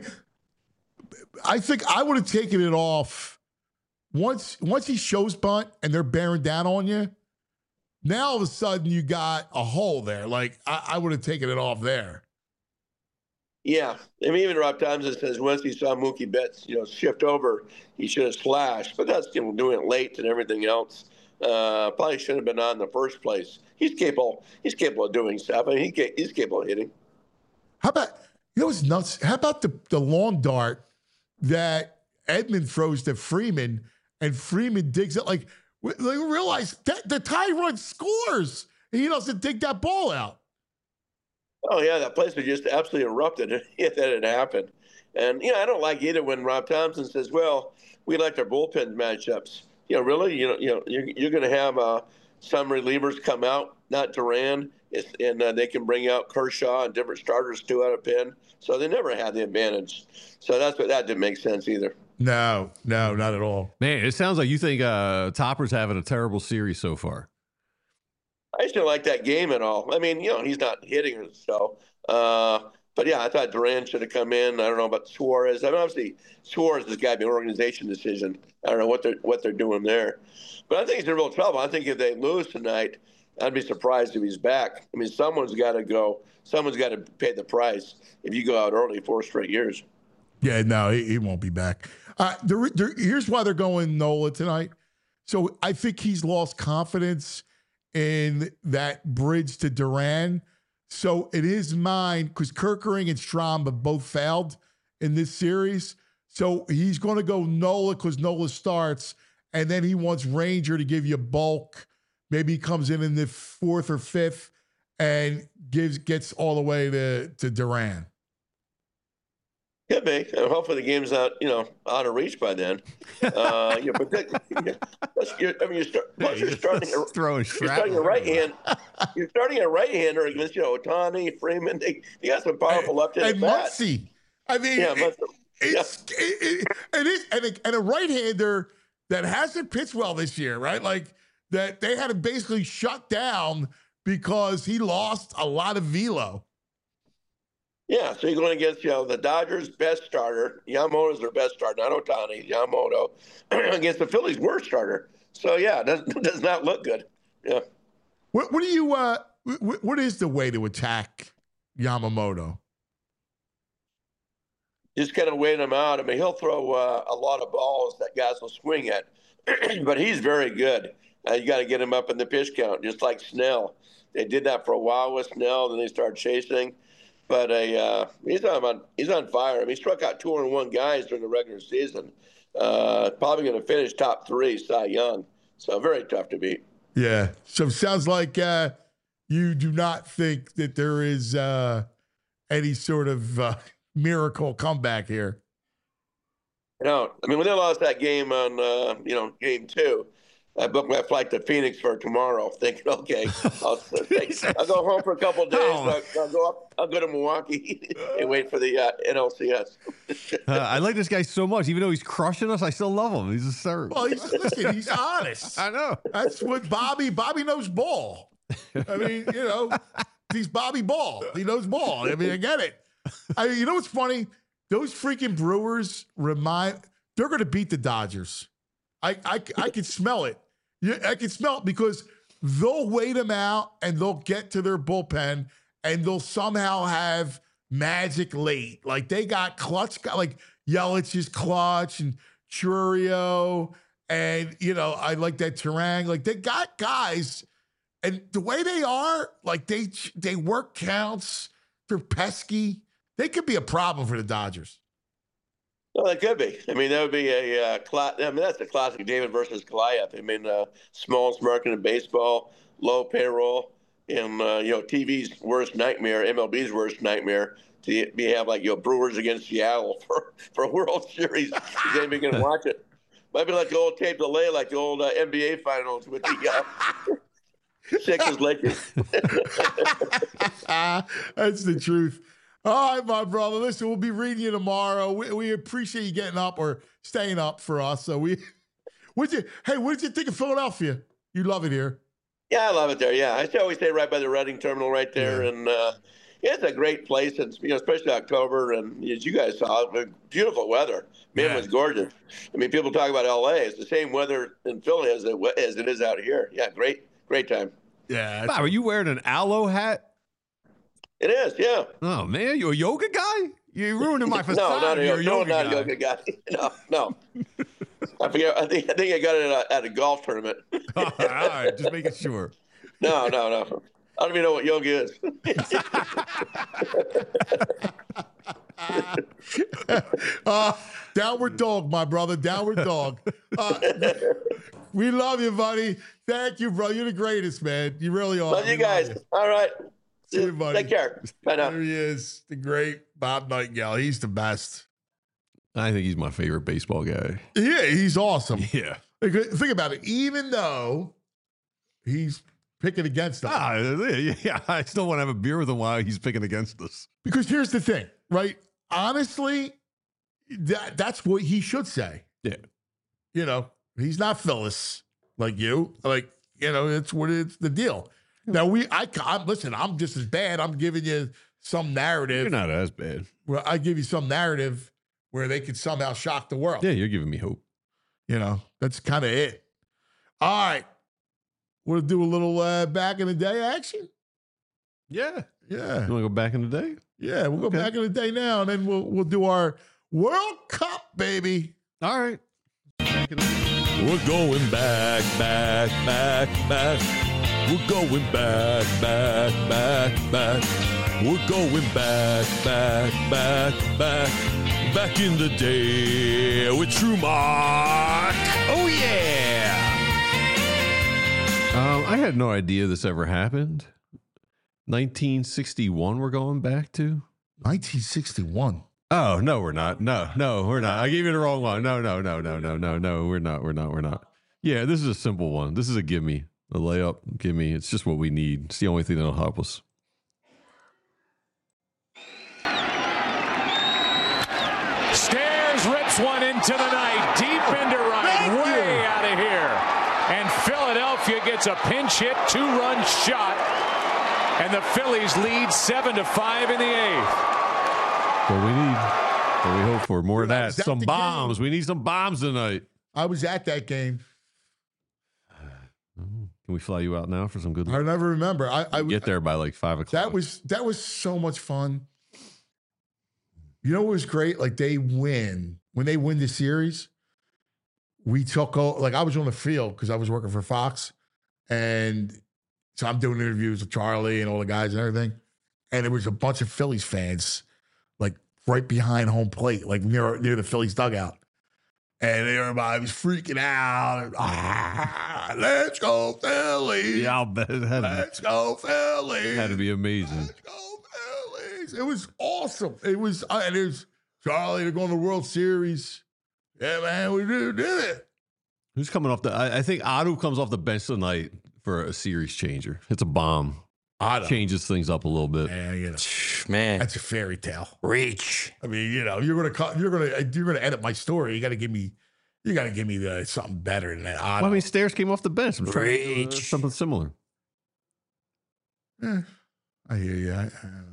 I think I would have taken it off once he shows bunt and they're bearing down on you. Now, all of a sudden, you got a hole there. Like, I would have taken it off there. Yeah. I mean, even Rob Thompson says once he saw Mookie Betts, shift over, he should have slashed. But that's doing it late and everything else. Probably shouldn't have been on in the first place. He's capable of doing stuff. I mean, he's capable of hitting. How about, what's nuts? How about the lawn dart that Edman throws to Freeman, and Freeman digs it? Like realize that the tie run scores, and he doesn't dig that ball out. Oh, yeah, that place was just absolutely erupted if that had happened. And, I don't like either when Rob Thompson says, well, we like our bullpen matchups. Really? You're going to have some relievers come out, not Duran, and they can bring out Kershaw and different starters too out of pen. So they never had the advantage. So that didn't make sense either. No, not at all. Man, it sounds like you think Topper's having a terrible series so far. I just didn't like that game at all. I mean, he's not hitting or so. But, yeah, I thought Duran should have come in. I don't know about Suarez. I mean, obviously, Suarez has got to be an organization decision. I don't know what they're doing there. But I think he's in real trouble. I think if they lose tonight, I'd be surprised if he's back. I mean, someone's got to go. Someone's got to pay the price if you go out early 4 straight years. Yeah, no, he won't be back. Here's why they're going Nola tonight. So I think he's lost confidence in that bridge to Duran. So in his mind, because Kerkering and Strahm have both failed in this series, so he's going to go Nola because Nola starts, and then he wants Ranger to give you bulk. Maybe he comes in the 4th or 5th and gets all the way to Duran. Could be. And hopefully the game's not, out of reach by then. But you're starting a right-hand. You're starting a right-hander against, Ohtani, Freeman. They got some powerful left-handed bats. And Muncy. I mean, it is, and a right-hander that hasn't pitched well this year, right? Like that they had to basically shut down because he lost a lot of velo. Yeah, so you're going against, the Dodgers' best starter. Yamamoto's their best starter, not Ohtani, Yamamoto, against the Phillies' worst starter. So, yeah, it does not look good. Yeah. What is the way to attack Yamamoto? Just kind of weighing him out. I mean, he'll throw a lot of balls that guys will swing at, but he's very good. You got to get him up in the pitch count, just like Snell. They did that for a while with Snell, then they started chasing. But he's on fire. I mean, he struck out 201 guys during the regular season. Probably going to finish top 3, Cy Young. So very tough to beat. Yeah. So it sounds like you do not think that there is any sort of miracle comeback here. I mean, when they lost that game on, game 2, I booked my flight to Phoenix for tomorrow, thinking, okay, I'll go home for a couple of days. I'll go to Milwaukee and wait for the NLCS. I like this guy so much, even though he's crushing us. I still love him. He's a sir. Well, he's honest. I know. That's what Bobby knows ball. I mean, he's Bobby Ball. He knows ball. I mean, I get it. You know what's funny? Those freaking Brewers they're going to beat the Dodgers. I can smell it. I can smell it because they'll wait them out and they'll get to their bullpen and they'll somehow have magic late. Like they got clutch, like Yelich is clutch and Churio and, I like that Terang. Like they got guys and the way they are, like they work counts. They're pesky. They could be a problem for the Dodgers. Well, it could be. I mean, that would be that's a classic David versus Goliath. I mean, smallest market in baseball, low payroll, and TV's worst nightmare, MLB's worst nightmare. To have Brewers against Seattle for a World Series. You ain't even gonna watch it. Might be like the old tape delay, like the old NBA finals with the Sixers Lakers. That's the truth. All right, my brother. Listen, we'll be reading you tomorrow. We appreciate you getting up or staying up for us. So what did you think of Philadelphia? You love it here. Yeah, I love it there. Yeah, I always stay right by the Reading Terminal right there, and it's a great place. And especially October, and as you guys saw, beautiful weather. Man, it was gorgeous. I mean, people talk about LA. It's the same weather in Philly as it is out here. Yeah, great time. Yeah. Bob, are you wearing an aloe hat? It is, yeah. Oh man, you a yoga guy? You're ruining my facade. No, not a yoga guy. No. I forget. I think I got it at a golf tournament. All right, just making sure. No. I don't even know what yoga is. Downward dog, my brother. Downward dog. We love you, buddy. Thank you, bro. You're the greatest, man. You really are. Love you guys. All right. See you, buddy. Take care. Bye now. There he is, the great Bob Nightingale. He's the best. I think he's my favorite baseball guy. Yeah, he's awesome. Yeah. Think about it. Even though he's picking against us. Yeah, I still want to have a beer with him while he's picking against us. Because here's the thing, right? Honestly, that's what he should say. Yeah. He's not Phyllis like you. It's the deal. Now listen, I'm just as bad. I'm giving you some narrative. You're not as bad. Well, I give you some narrative where they could somehow shock the world. Yeah, you're giving me hope. That's kind of it. All right. We'll do a little back in the day action. Yeah. Yeah. You want to go back in the day? Yeah, we'll go back in the day now, and then we'll do our World Cup, baby. All right. We're going back. We're going back. We're going back in the day with True Mark. Oh, yeah. I had no idea this ever happened. 1961 we're going back to? 1961. Oh, no, we're not. No, we're not. I gave you the wrong one. No, we're not. Yeah, this is a simple one. This is a gimme. A layup, gimme. It's just what we need. It's the only thing that'll help us. Stairs rips one into the night. Deep into right. Way out of here. And Philadelphia gets a pinch hit, 2-run shot. And the Phillies lead 7-5 in the 8th. What we need. What we hope for. More of that. Some bombs. Game? We need some bombs tonight. I was at that game. Can we fly you out now for some good luck? I never remember. I get there by like 5 o'clock. That was so much fun. You know what was great? Like when they win the series, we took I was on the field because I was working for Fox, and so I'm doing interviews with Charlie and all the guys and everything, and there was a bunch of Phillies fans like right behind home plate, like near the Phillies dugout. And everybody was freaking out. Let's go, Phillies. Yeah, I'll bet it had Let's go, Phillies. Had to be amazing. Let's go, Phillies. It was awesome. awesome. It was, and there's Charlie, they're going to the World Series. Yeah, man, we did it. Who's coming off I think Otto comes off the bench tonight for a series changer. It's a bomb. Otto changes things up a little bit. Man, that's a fairy tale. Reach. I mean, you're gonna edit my story. You got to give me something better than that. Otto. Well, I mean, Stairs came off the bench. I'm trying to do, something similar. I hear you.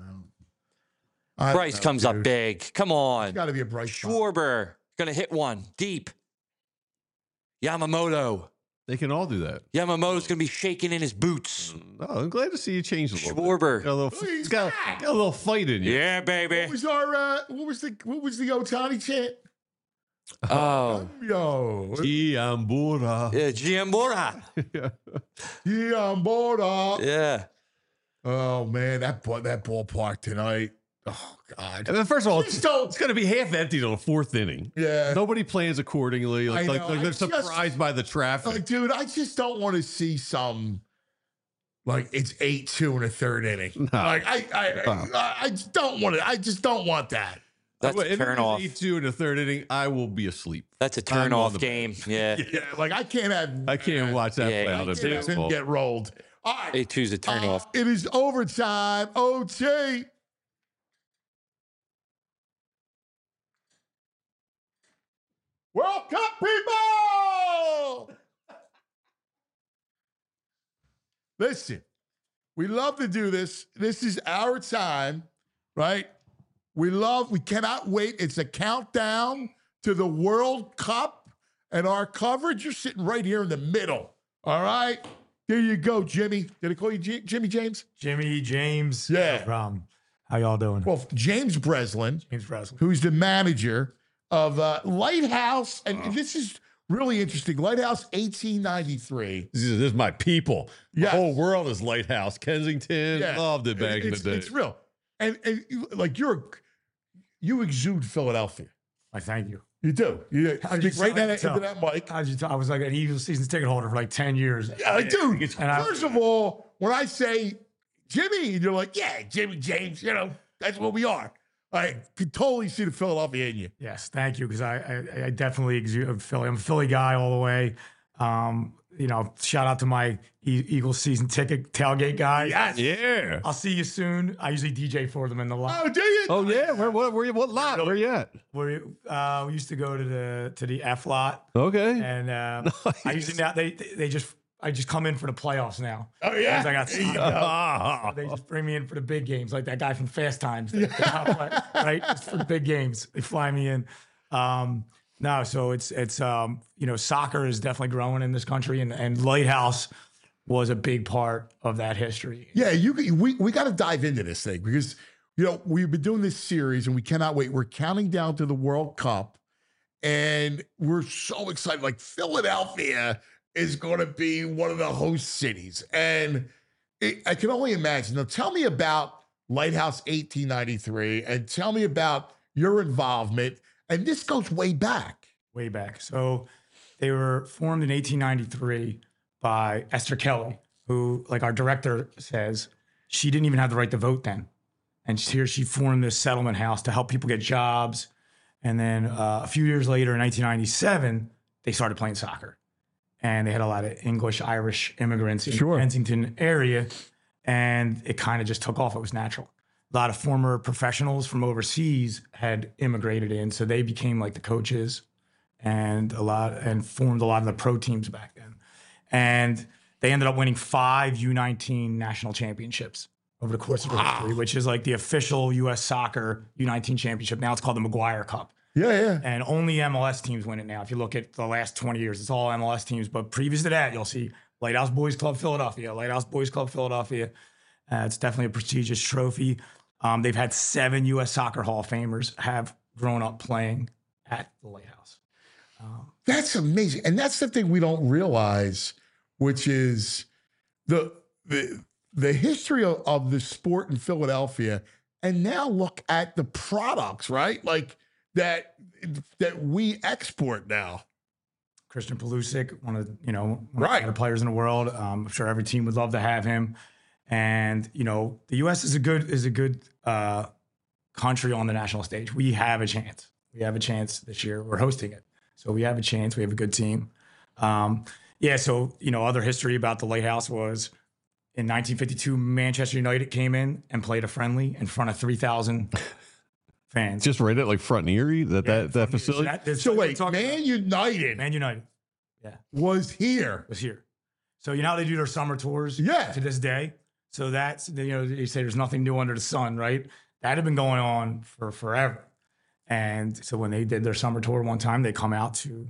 Bryce comes up big. Come on. Got to be a Bryce. Schwarber gonna hit one deep. Yamamoto. They can all do that. Yamamoto's going to be shaking in his boots. Oh, I'm glad to see you change a little Schwarber. bit. He's got a little fight in you. Yeah, baby. What was the Ohtani chant? Oh. Yo. Giambora. Yeah, Giambora. Giambora. Yeah. Oh, man, that ballpark tonight. Oh, God. I mean, first of all, it's going to be half empty till the fourth inning. Yeah. Nobody plans accordingly. Like they're surprised by the traffic. Like, dude, I just don't want to see some, like, it's 8-2 in the third inning. No. Like, I just don't want it. I just don't want that. That's a turn off. 8-2 in the third inning, I will be asleep. That's a turn off game. Yeah. Yeah. Like, I can't watch that play out of baseball. Get rolled. All right. 8-2's a turn off. It is overtime. OT. World Cup, people! Listen, we love to do this. This is our time, right? We cannot wait. It's a countdown to the World Cup, and our coverage, you're sitting right here in the middle, all right? There you go, Jimmy. Did I call you Jimmy James? Jimmy James. Yeah. No problem. How y'all doing? Well, James Breslin, who's the manager of Lighthouse, and this is really interesting. Lighthouse 1893. This is my people. Yes. The whole world is Lighthouse. Kensington, Yeah. loved it back in the day. It's real. And like you exude Philadelphia. I thank you. You do. You speak right into that mic. I was like an Eagles season ticket holder for like 10 years. Yeah, dude. First of all, when I say Jimmy, you're like, yeah, Jimmy James, that's what we are. I could totally see the Philadelphia in you. Yes, thank you, because I definitely exude Philly. I'm a Philly guy all the way. Shout out to my Eagles season ticket tailgate guy. Yes. Yeah. I'll see you soon. I usually DJ for them in the lot. Oh, do you? Oh, yeah. What lot? Where you at? We used to go to the F lot. Okay. And Nice. I usually now I just come in for the playoffs now. Oh, yeah? I got so they just bring me in for the big games, like that guy from Fast Times, the top player, right? It's for the big games. They fly me in. No, so it's soccer is definitely growing in this country, and Lighthouse was a big part of that history. Yeah, we got to dive into this thing because we've been doing this series and we cannot wait. We're counting down to the World Cup, and we're so excited. Like Philadelphia is going to be one of the host cities, and I can only imagine. Now, tell me about Lighthouse 1893, and tell me about your involvement. And this goes way back. Way back. So they were formed in 1893 by Esther Kelly, who, like our director says, she didn't even have the right to vote then. And here she formed this settlement house to help people get jobs. And then a few years later, in 1997, they started playing soccer. And they had a lot of English, Irish immigrants in the Kensington area. And it kind of just took off. It was natural. A lot of former professionals from overseas had immigrated in, so they became like the coaches and formed a lot of the pro teams back then. And they ended up winning 5 U19 national championships over the course of their history, which is like the official U.S. soccer U19 championship. Now it's called the McGuire Cup. Yeah. And only MLS teams win it now. If you look at the last 20 years, it's all MLS teams. But previous to that, you'll see Lighthouse Boys Club Philadelphia, Lighthouse Boys Club Philadelphia. It's definitely a prestigious trophy. They've had 7 U.S. Soccer Hall of Famers have grown up playing at the Lighthouse. That's amazing. And that's the thing we don't realize, which is the history of the sport in Philadelphia. And now look at the products, right? Like that we export now. Christian Pulisic, one of the players in the world. I'm sure every team would love to have him. And the U.S. is a good country on the national stage. We have a chance. We have a chance this year. We're hosting it. So we have a chance. We have a good team. So, other history about the Lighthouse was in 1952, Manchester United came in and played a friendly in front of 3,000 fans. Just right at like Front Erie, that facility. So wait, Man United was here. So you know how they do their summer tours? Yeah. To this day. So that's, they say there's nothing new under the sun, right? That had been going on for forever. And so when they did their summer tour one time, they come out to,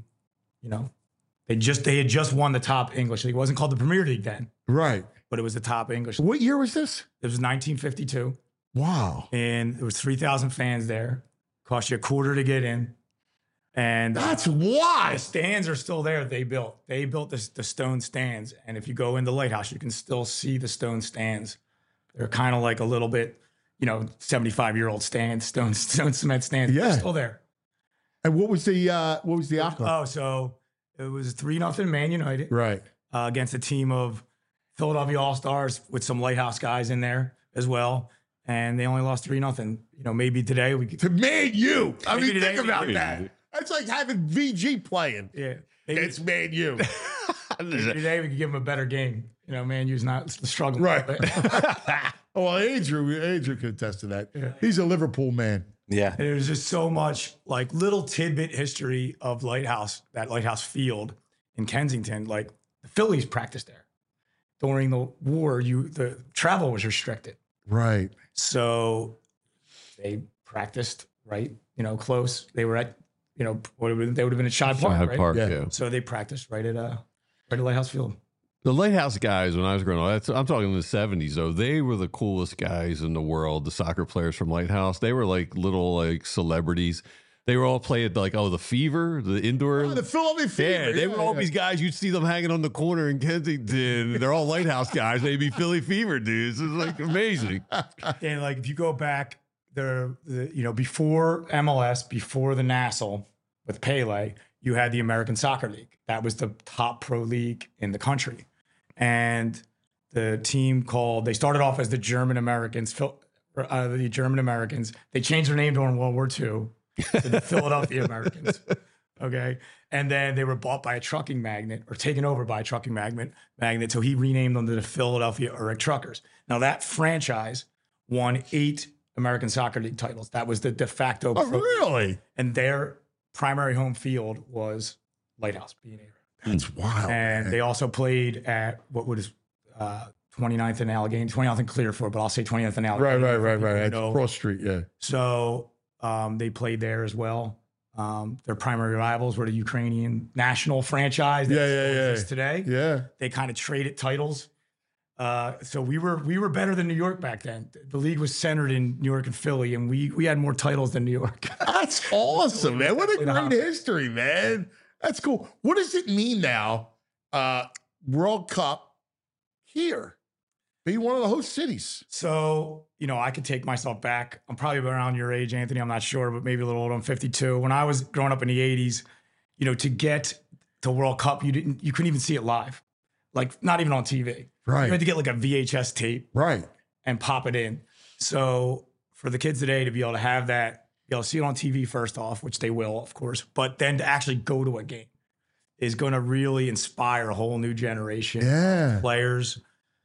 they had just won the top English league. It wasn't called the Premier League then. Right. But it was the top English league. What year was this? It was 1952. Wow. And there was 3,000 fans there. Cost you $0.25 to get in. And that's why the stands are still there. They built the stone stands. And if you go in the Lighthouse, you can still see the stone stands. They're kind of like a little bit, 75-year-old stands, stone cement stands. Yeah. They're still there. And what was the outcome? Oh, so it was 3-0 Man United. Right. Against a team of Philadelphia All-Stars with some Lighthouse guys in there as well. And they only lost 3-0. Maybe today we could. To Man U. I mean, today think about that. That's like having VG playing. Yeah. It's Man U. Today we could give them a better game. Man U's not struggling. Right. Well, Andrew could attest to that. Yeah. He's a Liverpool man. Yeah. And there's just so much like little tidbit history of that Lighthouse field in Kensington. Like the Phillies practiced there. During the war, the travel was restricted. Right. So they practiced right, close. They were at, they would have been at Shibe Park, right? Park, yeah. So they practiced right at Lighthouse Field. The Lighthouse guys, when I was growing up, I'm talking in the 70s, though, they were the coolest guys in the world, the soccer players from Lighthouse. They were like little celebrities. They were all playing the Fever, the indoor. Oh, the Philadelphia Fever. Yeah, they were all these guys. You'd see them hanging on the corner in Kensington. They're all Lighthouse guys. They'd be Philly Fever dudes. It's like amazing. And like if you go back there, before MLS, before the Nassau with Pele, you had the American Soccer League. That was the top pro league in the country. And the team they started off as the German Americans. They changed their name during World War II. To the Philadelphia Americans. Okay. And then they were bought by a trucking magnate or taken over by a trucking magnate. So he renamed them to the Philadelphia Urich Truckers. Now that franchise won 8 American Soccer League titles. That was the de facto. Oh, really? And their primary home field was Lighthouse, B&A. That's wild. And they also played at what was 29th and Allegheny, 29th and Clearfield, but I'll say 29th and Allegheny. Right. That's Cross Street, yeah. So they played there as well. Their primary rivals were the Ukrainian national franchise that exists today. Yeah. They kind of traded titles. So we were better than New York back then. The league was centered in New York and Philly, and we had more titles than New York. That's awesome, man. What a great history, man. That's cool. What does it mean now, World Cup here? Be one of the host cities. So, I could take myself back. I'm probably around your age, Anthony. I'm not sure, but maybe a little older. I'm 52. When I was growing up in the 80s, to get to World Cup, you couldn't even see it live. Like not even on TV. Right. You had to get like a VHS tape. Right. And pop it in. So for the kids today to be able to have that, be able to see it on TV first off, which they will, of course, but then to actually go to a game is going to really inspire a whole new generation of players.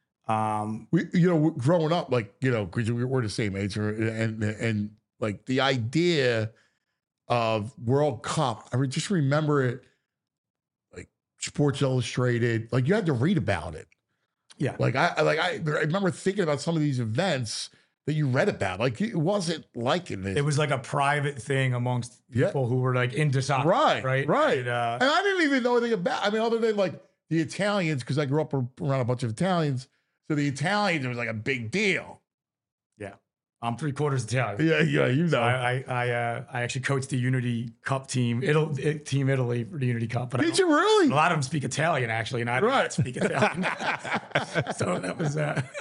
Growing up, because we're the same age, and like the idea of World Cup, I would just remember it, like Sports Illustrated, like you had to read about it. Yeah, I remember thinking about some of these events that you read about. Like it wasn't like it. It was like a private thing amongst people who were like into soccer. Right. And I didn't even know anything about. I mean, other than like the Italians, because I grew up around a bunch of Italians. So the Italians, it was like a big deal. Yeah. I'm 3/4 Italian. Yeah, So I actually coached the Unity Cup team, Team Italy for the Unity Cup. But Did you really? A lot of them speak Italian, actually, and I don't speak Italian. So that was...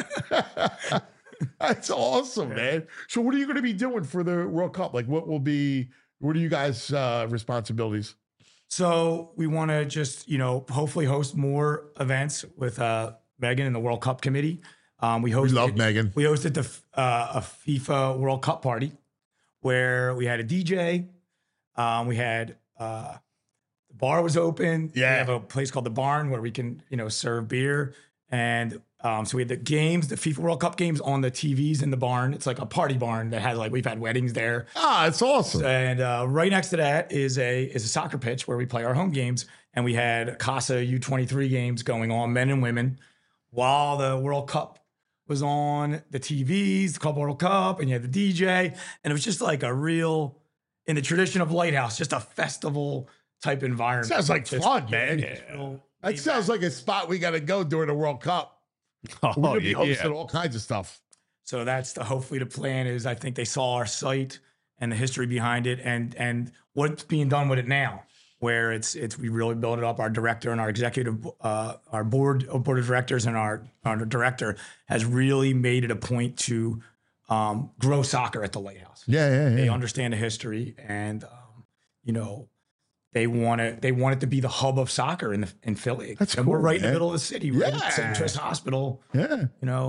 That's awesome, man. So what are you going to be doing for the World Cup? Like what are you guys' responsibilities? So we want to just, hopefully host more events with Megan and the World Cup committee. We love Megan. We hosted a FIFA World Cup party where we had a DJ. We had the bar was open. Yeah. We have a place called the Barn where we can, serve beer. And so we had the games, the FIFA World Cup games on the TVs in the barn. It's like a party barn that has we've had weddings there. Ah, it's awesome. And right next to that is a soccer pitch where we play our home games. And we had CASA U23 games going on, men and women, while the World Cup was on the TVs, the Club World Cup, and you had the DJ. And it was just like a real, in the tradition of Lighthouse, just a festival type environment. Sounds like Just- fun, man. Yeah. That sounds like a spot we got to go during the World Cup. We're going to be hosting all kinds of stuff. So that's hopefully the plan is I think they saw our site and the history behind it and what's being done with it now, where we really built it up. Our director and our executive, our board of directors and our director has really made it a point to grow soccer at the Lighthouse. Yeah. They understand the history and, they want it to be the hub of soccer in Philly. That's and we're cool, right in the man. middle of the city, right Yeah. at St. Tris Hospital. Yeah.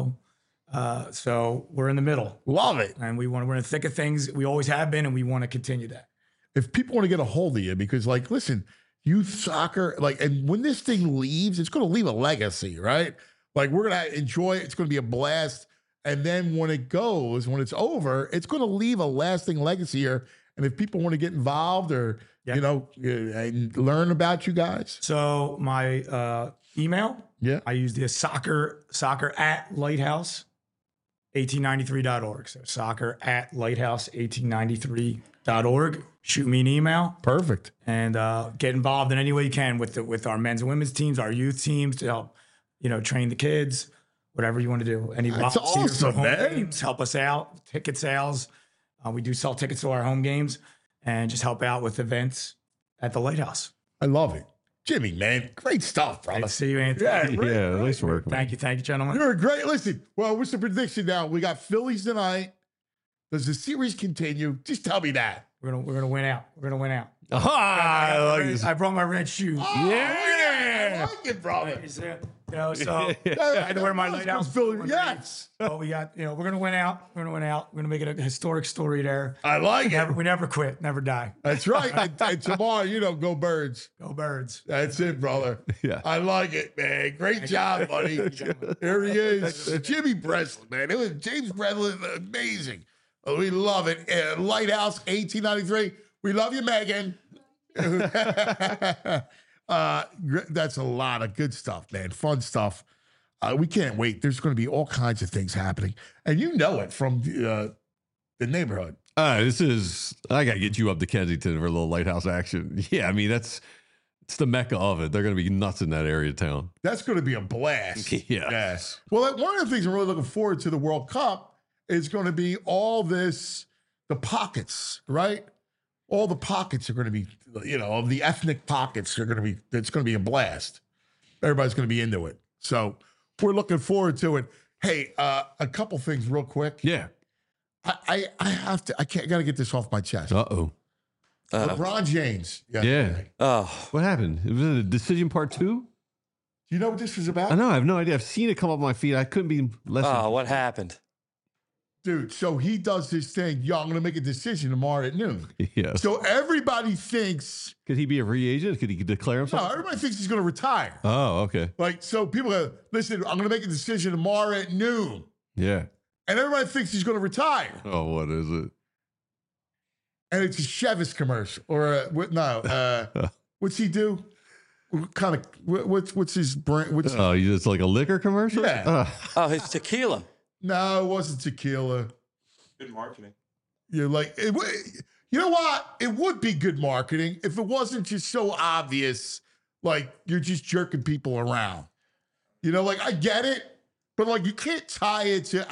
So we're in the middle. Love it. And we're in the thick of things. We always have been, and we want to continue that. If people want to get a hold of you, because listen, youth soccer, and when this thing leaves, it's going to leave a legacy, right? We're going to enjoy it. It's going to be a blast. And then when it's over, it's going to leave a lasting legacy here. And if people want to get involved or, and learn about you guys. So my email, I use the soccer at lighthouse1893.org. So soccer at lighthouse1893.org. Shoot me an email. Perfect. And get involved in any way you can with our men's and women's teams, our youth teams to help, train the kids, whatever you want to do. Any That's volunteers for awesome, home man. games, help us out. Ticket sales. We do sell tickets to our home games and just help out with events at the Lighthouse. I love it. Jimmy, man, great stuff, brother. Nice to see you, Anthony. Yeah, nice work, man. Thank you, gentlemen. You're great. Listen, well, what's the prediction now? We got Phillies tonight. Does the series continue? Just tell me that. We're gonna win out. We're gonna win out. I I brought my red shoes. I like it, brother. So I had to wear my Lighthouse. Yes. Oh, we got. We're gonna win out. We're gonna make it a historic story there. I like it. We never quit. Never die. That's right. And tomorrow, go Birds. Go Birds. That's it, brother. Yeah. I like it, man. Great job, buddy. Here he is. Jimmy Breslin, man. It was James Breslin, amazing. We love it. Lighthouse 1893. We love you, Megan. That's a lot of good stuff, man. Fun stuff. We can't wait. There's going to be all kinds of things happening. And you know it from the neighborhood. I got to get you up to Kensington for a little Lighthouse action. Yeah, I mean, it's the mecca of it. They're going to be nuts in that area of town. That's going to be a blast. Yeah. Yes. Well, one of the things I'm really looking forward to the World Cup is going to be all this, the pockets, right? All the pockets are going to be, of the ethnic pockets are going to be, it's going to be a blast. Everybody's going to be into it. So we're looking forward to it. Hey, a couple things real quick. Yeah. I got to get this off my chest. Uh-oh. LeBron James. Yeah. Oh. What happened? Was it a decision part 2? Do you know what this was about? I know. I have no idea. I've seen it come up on my feed. I couldn't be less. Oh, what happened? Dude, so he does this thing. Yo, I'm going to make a decision tomorrow at noon. Yeah. So everybody thinks. Could he be a free agent? Could he declare himself? No, everybody thinks he's going to retire. Oh, okay. So people go, listen, I'm going to make a decision tomorrow at noon. Yeah. And everybody thinks he's going to retire. Oh, what is it? And it's a Chevis commercial. Or, what's he do? What's his brand? It's like a liquor commercial? Yeah. It's tequila. No, it wasn't tequila. Good marketing. You're like, you know what? It would be good marketing if it wasn't just so obvious, like you're just jerking people around. I get it, but you can't tie it to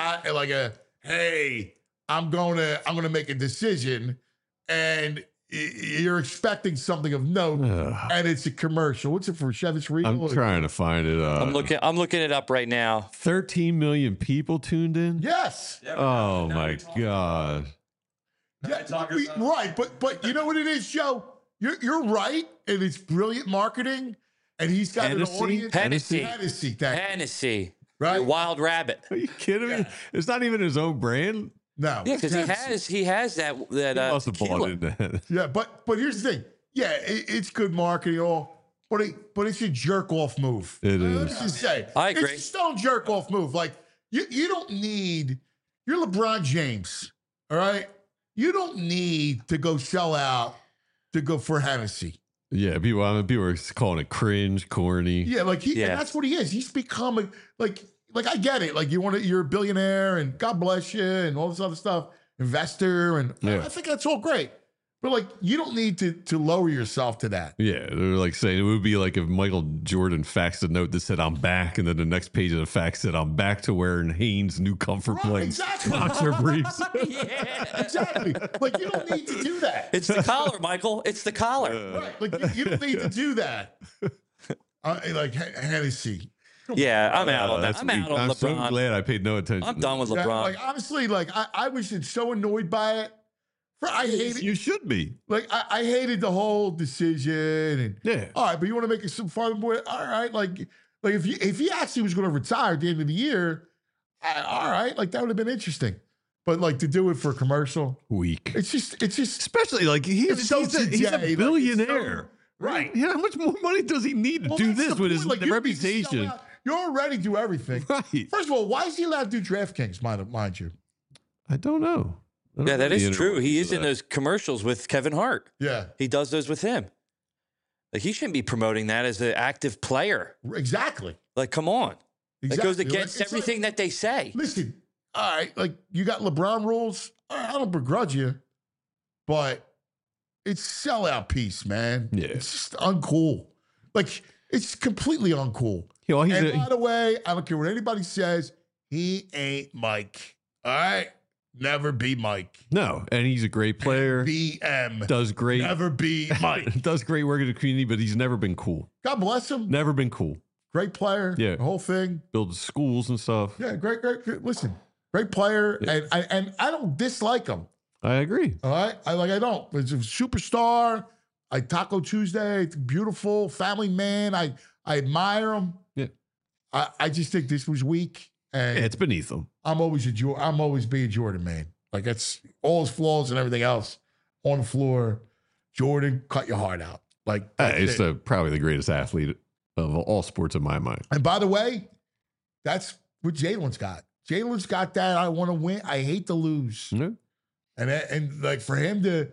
hey, I'm gonna make a decision, and you're expecting something of note, and it's a commercial. What's it for? Chevis Regal? I'm trying to find it. I'm looking it up right now. 13 million people tuned in? Yes. Oh my God. Yeah, right, but you know what it is, Joe? You're right, and it's brilliant marketing, and he's got an audience. Hennessy. Right? Wild Rabbit. Are you kidding me? It's not even his own brand. No. Yeah, because he has that must have bought into that. Yeah, but here's the thing. Yeah, it's good marketing and all, but it's a jerk off move. It is. Let's just say I agree. It's a stone jerk off move. Like you don't need. You're LeBron James, all right. You don't need to go sell out to go for Hennessy. Yeah, people are calling it cringe, corny. Yeah, like and that's what he is. He's become like I get it. Like you're a billionaire and God bless you and all this other stuff, investor, and I think that's all great. But like you don't need to lower yourself to that. Yeah, they're like saying it would be like if Michael Jordan faxed a note that said "I'm back," and then the next page of the fax said "I'm back to wearing Hanes new comfort blades, boxer briefs." Yeah, exactly. Like you don't need to do that. It's the collar, Michael. It's the collar. Right. Like you don't need to do that. Like Hennessy. Yeah, I'm out on that. I'm out on I'm LeBron. so glad I paid no attention. I'm done with LeBron. Yeah, like honestly, like I was so annoyed by it. I hate it. You should be. Like I hated the whole decision. And all right, but you want to make it some fun with it? All right, like if he actually was going to retire at the end of the year, all right, like that would have been interesting. But like to do it for a commercial, weak. It's just especially like he's a billionaire, right? Yeah, how much more money does he need to do this with his reputation? You already do everything. Right. First of all, why is he allowed to do DraftKings? Mind you, I don't know. Yeah, that is true. He is in those commercials with Kevin Hart. Yeah. He does those with him. Like, he shouldn't be promoting that as an active player. Exactly. Like, come on. Exactly. That goes against everything that they say. Listen, all right, like, you got LeBron rules. All right, I don't begrudge you, but it's sellout piece, man. Yeah. It's just uncool. Like, it's completely uncool. You know, and by the way, I don't care what anybody says, he ain't Mike. All right? Never be Mike. No, and he's a great player. BM. Does great. Never be Mike. Does great work in the community, but he's never been cool. God bless him. Never been cool. Great player. Yeah. The whole thing. Builds schools and stuff. Yeah, great. Listen, great player. Yeah. And I don't dislike him. I agree. All right? I don't. He's a superstar. Taco Tuesday. Beautiful. Family man. I admire him. Yeah. I just think this was weak. And it's beneath him. I'm always be a Jordan man. Like that's all his flaws and everything else on the floor. Jordan, cut your heart out. Like he's probably the greatest athlete of all sports in my mind. And by the way, that's what Jalen's got. Jalen's got that. I want to win. I hate to lose. Yeah. And like for him to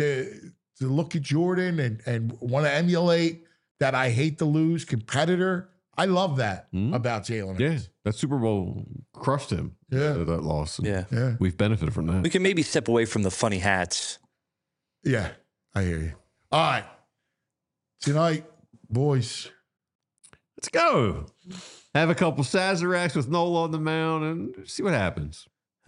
look at Jordan and want to emulate that I hate to lose competitor. I love that about Jalen. Yeah, that Super Bowl crushed him. Yeah. That loss. Yeah. We've benefited from that. We can maybe step away from the funny hats. Yeah, I hear you. All right. Tonight, boys. Let's go. Have a couple Sazeracs with Nola on the mound and see what happens.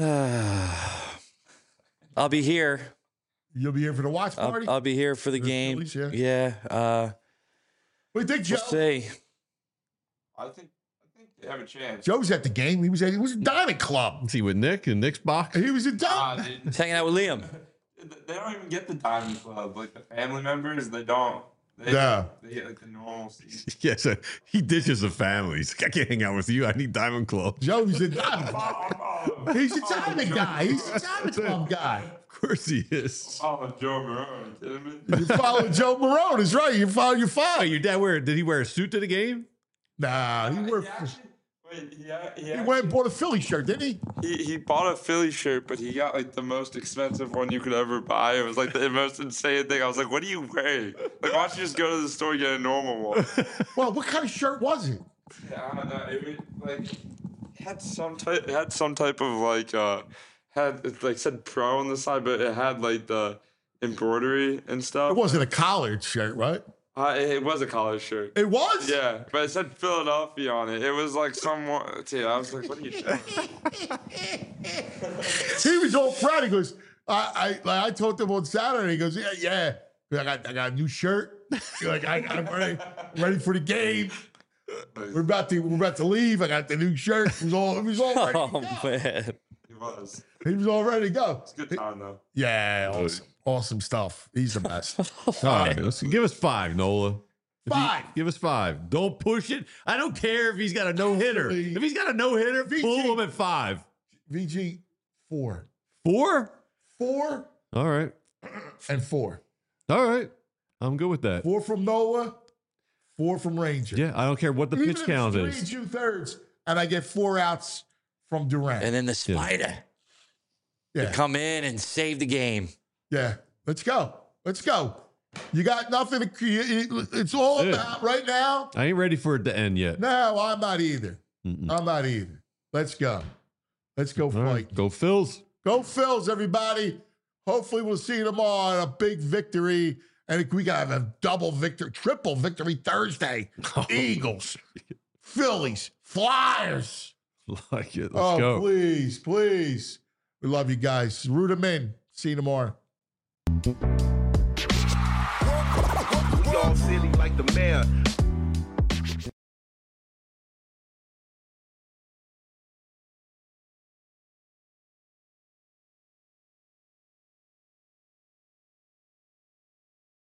I'll be here. You'll be here for the watch party? I'll be here for the game. Phillies, yeah. What do you think, Joe? We'll see. I think they have a chance. Joe's at the game. He was at Diamond Club. Is he with Nick in Nick's box? He was at Diamond. He's hanging out with Liam. They don't even get the Diamond Club. Like the family members, they don't. They get like the normal seats. Yeah, so he ditches the family. He's like, I can't hang out with you. I need Diamond Club. Joe's a Diamond. He's a Diamond guy. He's a Diamond Club guy. Of course he is. Oh, Joe Marone. You kidding me? You follow Joe Marone. Is right. You follow your father. Wait, your dad did he wear a suit to the game? Nah, he wore. He went and bought a Philly shirt, didn't he? He bought a Philly shirt, but he got like the most expensive one you could ever buy. It was like the most insane thing. I was like, "What are you wearing? Like, why don't you just go to the store and get a normal one?" Well, what kind of shirt was it? Yeah, I don't know. It had some type of like it like said pro on the side, but it had like the embroidery and stuff. It wasn't a collared shirt, right? It was a college shirt. It was? Yeah, but it said Philadelphia on it. It was like somewhat. Yeah, I was like, "What are you doing?" He was all proud. He goes, I told him on Saturday. He goes, yeah. I got a new shirt. Like I'm ready for the game. We're about to leave. I got the new shirt. It was all ready to go. Man. He was all ready to go. It's a good time though. Yeah, awesome stuff. He's the best. All right, let's give us 5, Nola. 5. Give us 5. Don't push it. I don't care if he's got a no-hitter. If he's got a no-hitter, pull him at 5. VG, 4. 4? 4. All right. And 4. All right. I'm good with that. 4 from Nola, 4 from Ranger. Yeah, I don't care what the Even pitch if count it's is. 3 2/3, and I get 4 outs from Durant. And then the spider. Yeah. To come in and save the game. Yeah. Let's go. Let's go. You got nothing to create. It's all about right now. I ain't ready for it to end yet. No, I'm not either. I'm not either. Let's go. Let's go fight. Right. Go Phils. Go Phils, everybody. Hopefully we'll see you tomorrow on a big victory. And we got to have a double victory, triple victory Thursday. Eagles, Phillies, Flyers. Like it. Let's go. Please, please. We love you guys. Root them in. See you tomorrow. We all silly like the mayor.